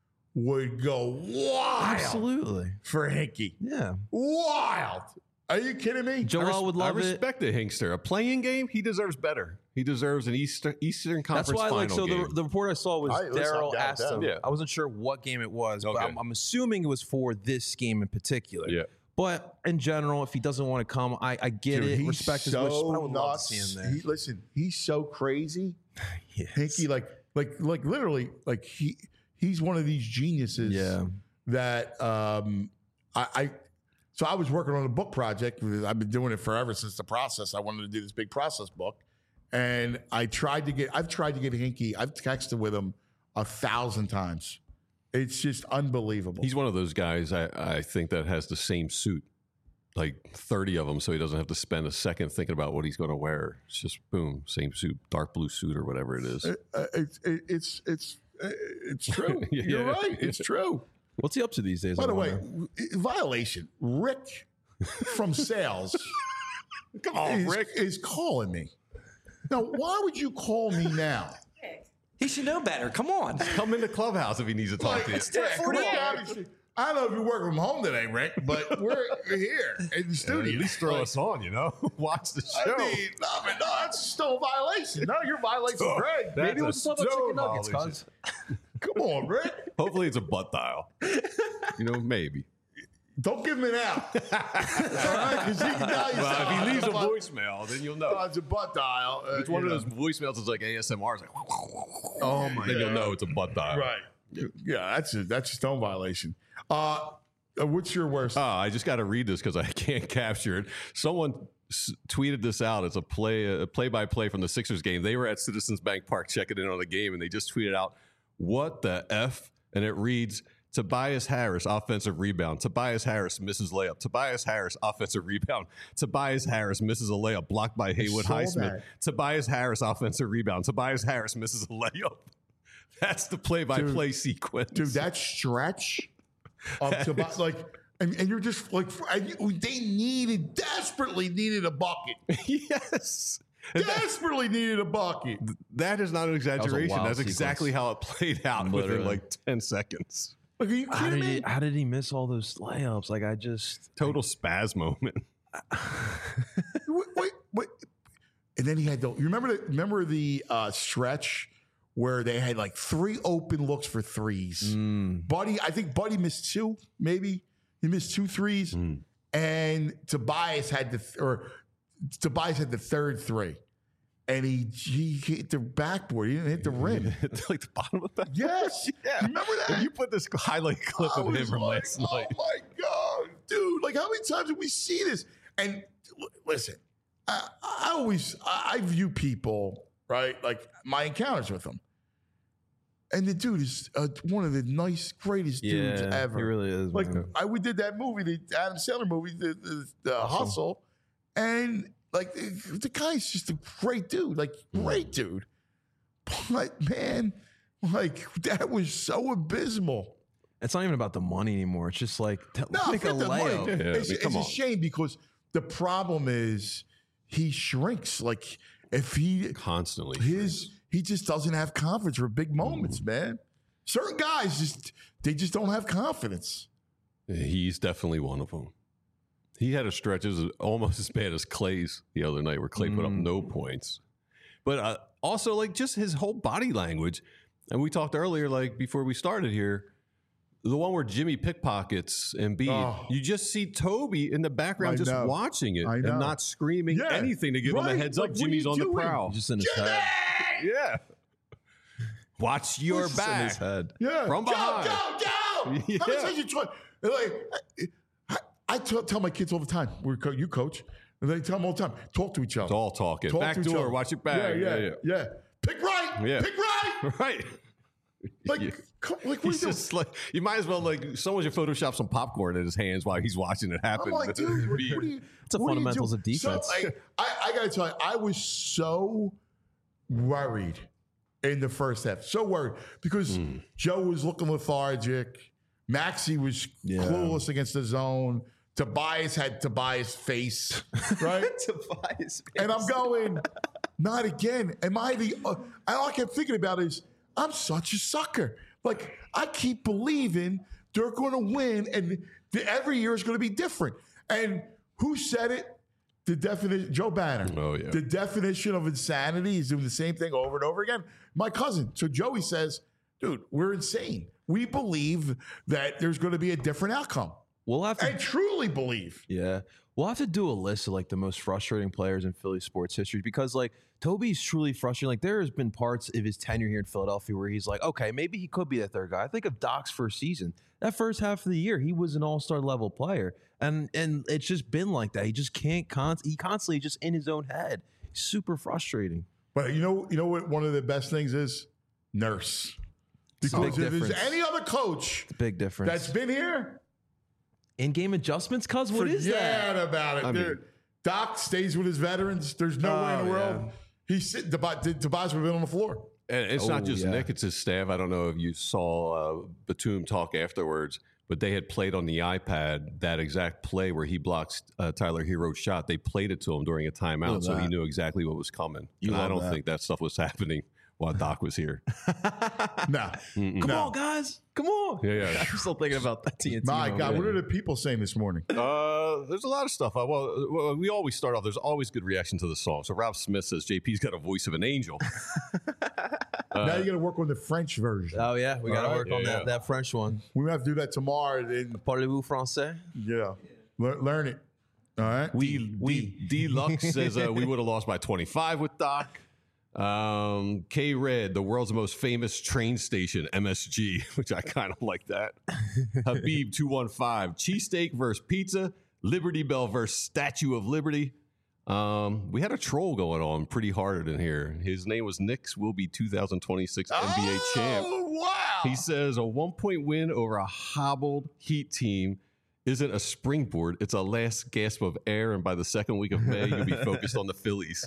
would go wild Absolutely, for Hinkie. yeah. Wild. Are you kidding me? Joel would love I it. respect the Hinkster. A playing game, he deserves better. He deserves an Eastern Eastern Conference That's why, like, final so game. the, the report I saw was I- listen, I'm Daryl down with asked that. him. Yeah. I wasn't sure what game it was, but Okay. I'm, I'm assuming it was for this game in particular. Yeah. But in general, if he doesn't want to come, I, I get Dude, it. he's Respect his so wishes. But I would love to nuts. see him there. He, listen, he's so crazy. Yes. Hinkie, like, like, like, literally, like he, he's one of these geniuses. Yeah. That um, I, I, so I was working on a book project. I've been doing it forever since the process. I wanted to do this big process book, and I tried to get. I've tried to get Hinkie. I've texted with him a thousand times. It's just unbelievable. He's one of those guys I, I think that has the same suit, like thirty of them, so he doesn't have to spend a second thinking about what he's going to wear. It's just boom, same suit, dark blue suit or whatever it is. Uh, uh, it's it, it's it's uh, it's true. Yeah, You're yeah. right. It's true. What's he up to these days? By I the way, wonder? violation. Rick from sales. Come on, is, Rick. is calling me. Now, why would you call me now? He should know better. Come on. Come in the clubhouse if he needs to talk to you. Yeah, come on, obviously. I don't know if you work from home today, Rick, but we're here in the Uh, studio. at least throw Like, us on, you know. Watch the show. I mean, no, I mean, no, that's still a violation. No, you're violating Greg. That's Maybe a we'll talk about stone chicken nuggets, violation. cuz. Come on, Rick. Hopefully it's a butt dial. You know, maybe. Don't give him an out. All right? Because he, now you Well, sound if he like leaves a butt- voicemail, then you'll Oh, know. it's a butt dial. Uh, It's one you of know. those voicemails that's like A S M R. It's like, Oh, my then you'll God. know it's a butt dial. Right. Yeah, that's a, that's a stone violation. Uh, uh, what's your worst? Oh, I just got to read this because I can't capture it. Someone s- tweeted this out. It's a play, a play-by-play from the Sixers game. They were at Citizens Bank Park checking in on the game, and they just tweeted out, "What the f?" And it reads, "Tobias Harris, offensive rebound. Tobias Harris misses layup. Tobias Harris, offensive rebound. Tobias Harris misses a layup blocked by Haywood saw Highsmith. that. Tobias Harris, offensive rebound. Tobias Harris misses a layup." That's the play-by-play sequence. Dude, that stretch up to about, like, and, and you're just like, and you- they needed, desperately needed a bucket. yes. And that- Desperately needed a bucket. That is not an exaggeration. wild That's exactly sequence. how it played out within Literally. like ten seconds. Like, are you How kidding did, me? he, how did he miss all those layups? Like, I just. Total spaz moment. wait, wait, wait. And then he had the. You remember the remember the uh, stretch where they had like three open looks for threes. Buddy, I think Buddy missed two. Maybe he missed two threes, and Tobias had the th- or Tobias had the third three, and he he hit the backboard. He didn't hit the rim. like the bottom of that. Yes, Yeah. You remember that? You put this highlight clip I of him was from like, last oh night. my god, dude! Like, how many times did we see this? And l- listen, I, I always I, I view people right, like my encounters with them. And the dude is uh, one of the nice, greatest dudes Yeah, ever. he really is, Like man. I, we did that movie, the Adam Sandler movie, the, the, the Hustle, and like the, the guy's just a great dude, like great dude. But man, like that was so abysmal. It's not even about the money anymore. It's just like t- No, make a forget the money. layup. Yeah, it's I mean, come it's a on. shame because the problem is he shrinks. Like if he Constantly. his he just doesn't have confidence for big moments, man. Certain guys just they just don't have confidence. He's definitely one of them. He had a stretch that was almost as bad as Clay's the other night, where Clay put up no points. But uh, also, like, just his whole body language. And we talked earlier, like, before we started here, the one where Jimmy pickpockets Embiid. Oh. You just see Toby in the background I just know. watching it I know. and not screaming Yeah, anything to give him right. a heads Like, up. what are Jimmy's you on the doing? prowl. Just in his Jimmy! head. Yeah. Watch your Just in back. his head. Yeah, From go, behind. go, go. Yeah. How many times you try? Like, I, I tell, tell my kids all the time. We're co- you coach, and they tell them all the time. Talk to each other. It's all talking. Talk Back to each door. other. Watch your back. Yeah, yeah, yeah. yeah. Pick right. Yeah. Pick right. Right. Like, Yeah. come, like what He's are you just like, you might as well, like, someone should Photoshop some popcorn in his hands while he's watching it happen. I'm like, dude, what, what are you? It's the what are you fundamentals doing? of defense. So, like, I, I gotta tell you, I was so worried in the first half. So worried because Mm. Joe was looking lethargic. Maxey was Yeah. clueless against the zone. Tobias had Tobias' face, right? Tobias. And I'm going, not again. Am I the? Uh, and all I kept thinking about is, I'm such a sucker. Like I keep believing they're going to win, and the, every year is going to be different. And who said it? The definition, Joe Banner. Oh, yeah. The definition of insanity is doing the same thing over and over again. My cousin. So Joey says, dude, we're insane. We believe that there's going to be a different outcome. We'll have to I truly believe. Yeah. We'll have to do a list of like the most frustrating players in Philly sports history because like Toby's truly frustrating. Like there has been parts of his tenure here in Philadelphia where he's like, okay, maybe he could be the third guy. I think of Doc's first season. That first half of the year, he was an all-star level player. And and it's just been like that. He just can't con he constantly just in his own head. Super frustrating. But you know, you know what one of the best things is? Nurse. It's a Because big if there's difference. any other coach It's a big difference. that's been here, In-game adjustments, cuz what is forget that? about it. I mean- There- Doc stays with his veterans. There's no way in Oh, the world. yeah. He's sitting, Tobias would have been on the floor. And it's Oh, not just yeah. Nick, it's his staff. I don't know if you saw uh, Batum talk afterwards, but they had played on the iPad that exact play where he blocks uh, Tyler Hero's shot. They played it to him during a timeout, Love so he that. knew exactly what was coming. You and I love don't that. think that stuff was happening while Doc was here. No. Come No. on, guys. Come on. Yeah, yeah. I'm still thinking about that T N T. My moment. God, what are the people saying this morning? Uh, there's a lot of stuff. Uh, well, well, we always start off. There's always good reaction to the song. So Ralph Smith says J P's got a voice of an angel. now you got to work on the French version. Oh yeah, we got to All right. work on Yeah, that yeah. that French one. We have to do that tomorrow. And, Parlez-vous français? yeah, learn, learn it. All right. We we Deluxe says uh, we would have lost by twenty-five with Doc. Um, K Red, the world's most famous train station, M S G, which I kind of like that. Habib two one five, cheesesteak versus pizza, Liberty Bell versus Statue of Liberty. Um, we had a troll going on pretty hard in here. His name was Knicks will be two thousand twenty-six N B A champ. Oh, wow. He says a one point win over a hobbled Heat team isn't a springboard. It's a last gasp of air. And by the second week of May, you'll be focused on the Phillies.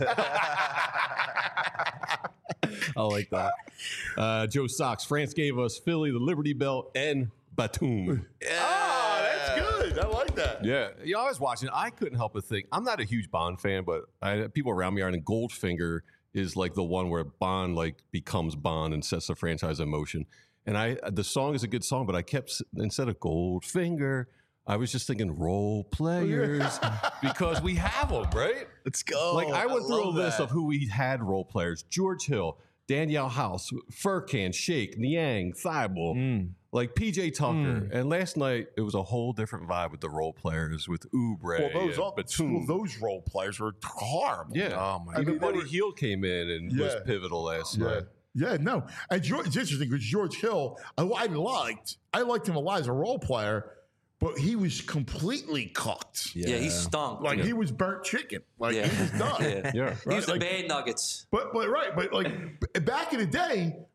I like that. Uh, Joe Sox, France gave us Philly, the Liberty Bell, and Batum. Ah, that's good. I like that. Yeah. You know, I was watching. I couldn't help but think, I'm not a huge Bond fan, but I, people around me are, and Goldfinger is like the one where Bond like becomes Bond and sets the franchise in motion. And I, the song is a good song, but I kept, instead of Goldfinger, I was just thinking role players because we have them, right? Let's go. Like I went through a love list that. of who we had role players: George Hill, Danielle House, Furkan, Shake, Niang, Thibault, Mm. like P J Tucker. And last night it was a whole different vibe with the role players with Oubre Well, those, and all, Batum. those role players were horrible. Yeah. Oh my I Even mean, they Buddy were- Hield came in and was Yeah. pivotal last Yeah. night. Yeah, no. And George, it's interesting because George Hill, I, I liked, I liked him a lot as a role player, but he was completely cooked. Yeah, he stunk. Like Yeah. he was burnt chicken. Like Yeah. he was done. Yeah. Yeah. He was the Like- bad Nuggets. But but right, but like b- back in the day,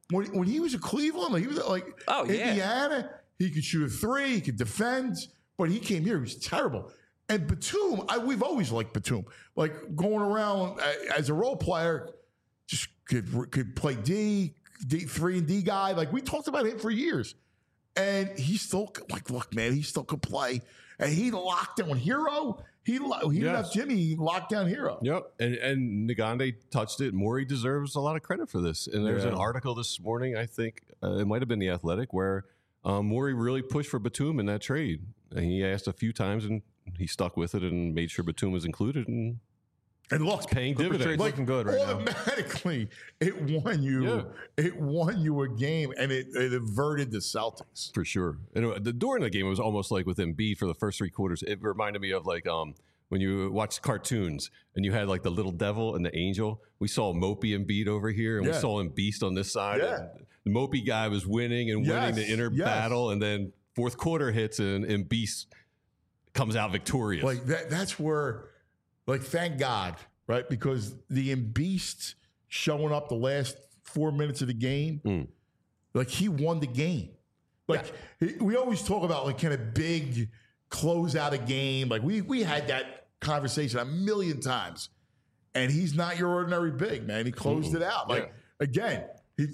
when, when he was at Cleveland, like, he was like Oh, yeah. Indiana, he could shoot a three, he could defend, but he came here, he was terrible. And Batum, I, we've always liked Batum. Like going around uh, as a role player, just could could play D, D three and D guy. Like we talked about him for years. And he still, like, look, man, he still could play. And he locked down Hero. He, lo- he Yes. left Jimmy locked down Hero. Yep, and and Nagande touched it. Morey deserves a lot of credit for this. And there's Yeah. an article this morning, I think uh, it might have been The Athletic, where um, Morey really pushed for Batum in that trade. And he asked a few times, and he stuck with it and made sure Batum was included. And And look, paying Clipper dividends. trade's looking good right now. automatically, it won you. Yeah. It won you a game, and it, it averted the Celtics. For sure. And uh, the, during the game, it was almost like with Embiid for the first three quarters. It reminded me of like um, when you watch cartoons and you had like the little devil and the angel. We saw Mopey Embiid over here, and Yeah. we saw him Beast on this side. Yeah. And the Mopey guy was winning and winning Yes, the inner yes. battle, and then fourth quarter hits, and, and Beast comes out victorious. Like that. That's where, like, thank God, right? Because the Embiid showing up the last four minutes of the game, Mm. like he won the game. Like he- we always talk about, like, kind of big close out a game. Like we we had that conversation a million times, and he's not your ordinary big man. He closed Mm-mm. it out. Like Yeah. again, he.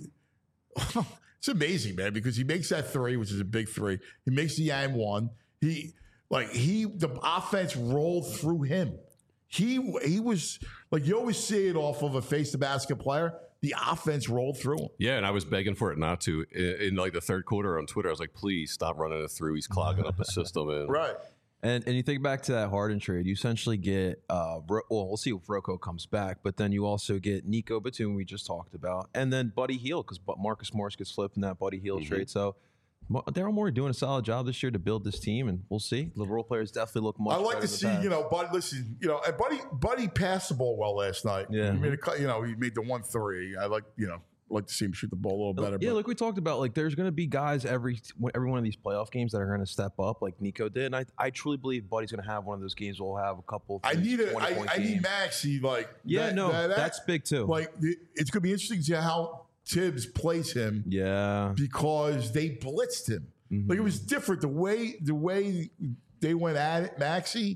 It's amazing, man, because he makes that three, which is a big three. He makes the and one. He like he the offense rolled through him. He he was like, you always see it off of a face the basket player. The offense rolled through him. Yeah, and I was begging for it not to. In, in like the third quarter on Twitter, I was like, please stop running it through. He's clogging up the system. And Right. And and you think back to that Harden trade, you essentially get uh Ro- well, we'll see if Rocco comes back, but then you also get Nico Batum we just talked about, and then Buddy Hield because Marcus Morris gets flipped in that Buddy Hield Mhm. trade. So Mo- Daryl Morey doing a solid job this year to build this team, and we'll see. The role players definitely look much. I like better to than see, the past. you know, Buddy. Listen, you know, and Buddy Buddy passed the ball well last night. Yeah. he made a, cou- you know, he made the one three. I like, you know, like to see him shoot the ball a little better. Yeah, but like we talked about, like there's going to be guys every every one of these playoff games that are going to step up, like Nico did, and I I truly believe Buddy's going to have one of those games. We'll have a couple. I need a, twenty I, point I need games. Maxey. Like, Yeah, that- no, that- that- that's big too. Like, it- it's going to be interesting to see how Tibbs plays him yeah, because they blitzed him. Mhm. Like, it was different. The way the way they went at it, Maxey,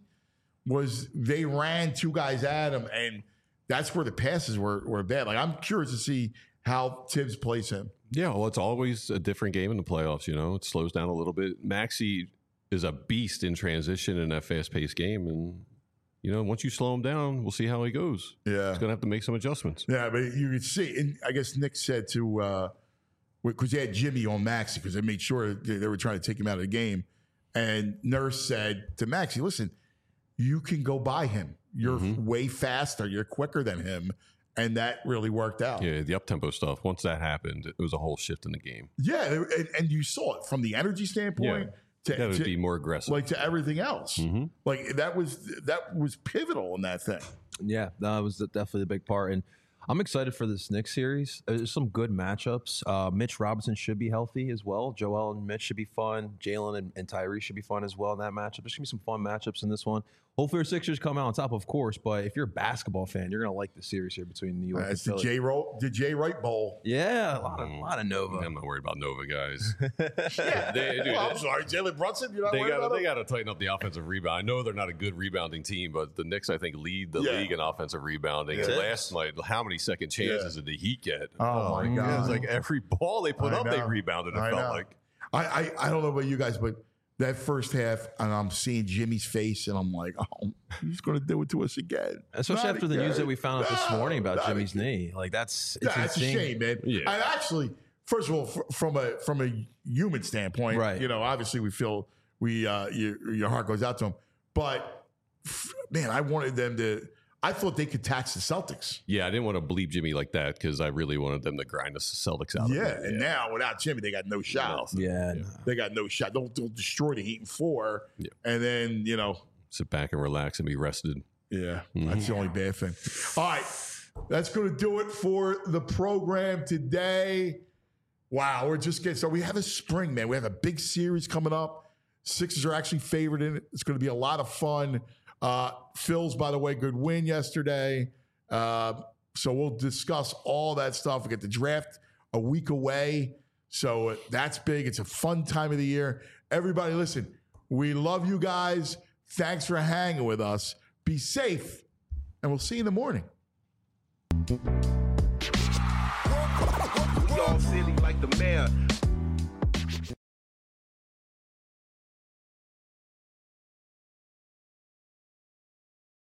was they ran two guys at him, and that's where the passes were were bad. Like, I'm curious to see how Tibbs plays him. Yeah, well, it's always a different game in the playoffs. You know, it slows down a little bit. Maxey is a beast in transition in that fast-paced game, and you know, once you slow him down, we'll see how he goes. Yeah, He's gonna have to make some adjustments. yeah, but you could see, and I guess Nick said to uh because they had Jimmy on Maxey because they made sure they, they were trying to take him out of the game, and Nurse said to Maxey, "Listen, you can go by him. You're Mhm. way faster. You're quicker than him." And that really worked out. Yeah, the up-tempo stuff. Once that happened, it was a whole shift in the game. Yeah, and, and you saw it from the energy standpoint Got to, to to be more aggressive. like to everything else. Mhm. Like that was that was pivotal in that thing. yeah, that was definitely a big part, and I'm excited for this Knicks series. There's some good matchups. Uh, Mitch Robinson should be healthy as well. Joel and Mitch should be fun. Jalen and, and Tyrese should be fun as well in that matchup. There's gonna be some fun matchups in this one. Hopefully, our Sixers come out on top, of course. But if you're a basketball fan, you're gonna like the series here between New York and That's the Philly. J Ro- the J Wright Bowl. Yeah, a lot of, a lot of Nova. I'm not worried about Nova guys. Yeah. They- dude, Well, I'm they- sorry, Jalen Brunson. You're not They worried got about they him? got to tighten up the offensive rebound. I know they're not a good rebounding team, but the Knicks I think lead the Yeah. league in offensive rebounding. Yeah. And last night, how many second chances did the Heat get? Oh, my It God. was like every ball they put I up, they know. rebounded. It I felt know. like. I, I I don't know about you guys, but that first half, and I'm seeing Jimmy's face, and I'm like, oh, he's going to do it to us again. Especially Not after the news again. that we found out this No, morning about not Jimmy's again. knee. Like that's it's Yeah, it's a insane. shame, man. Yeah. And actually, first of all, fr- from a from a human standpoint, Right. You know, obviously, we feel we uh, your your heart goes out to them, but f- man, I wanted them to. I thought they could tax the Celtics. Yeah, I didn't want to bleep Jimmy like that because I really wanted them to grind the Celtics out. Yeah, of it. and now without Jimmy, they got no shot. Nothing. Yeah, Yeah. They got no shot. They'll, they'll destroy the Heat in four, Yeah. and then you know. Sit back and relax and be rested. Yeah, Mhm. that's the only bad thing. All right, that's going to do it for the program today. Wow, we're just getting so we have a spring, man. We have a big series coming up. Sixers are actually favored in it. It's going to be a lot of fun. Uh, Phil's, by the way, good win yesterday. Uh, so we'll discuss all that stuff. We get the draft a week away. So uh, that's big. It's a fun time of the year. Everybody, listen, we love you guys. Thanks for hanging with us. Be safe, and we'll see you in the morning. We all silly like the mayor.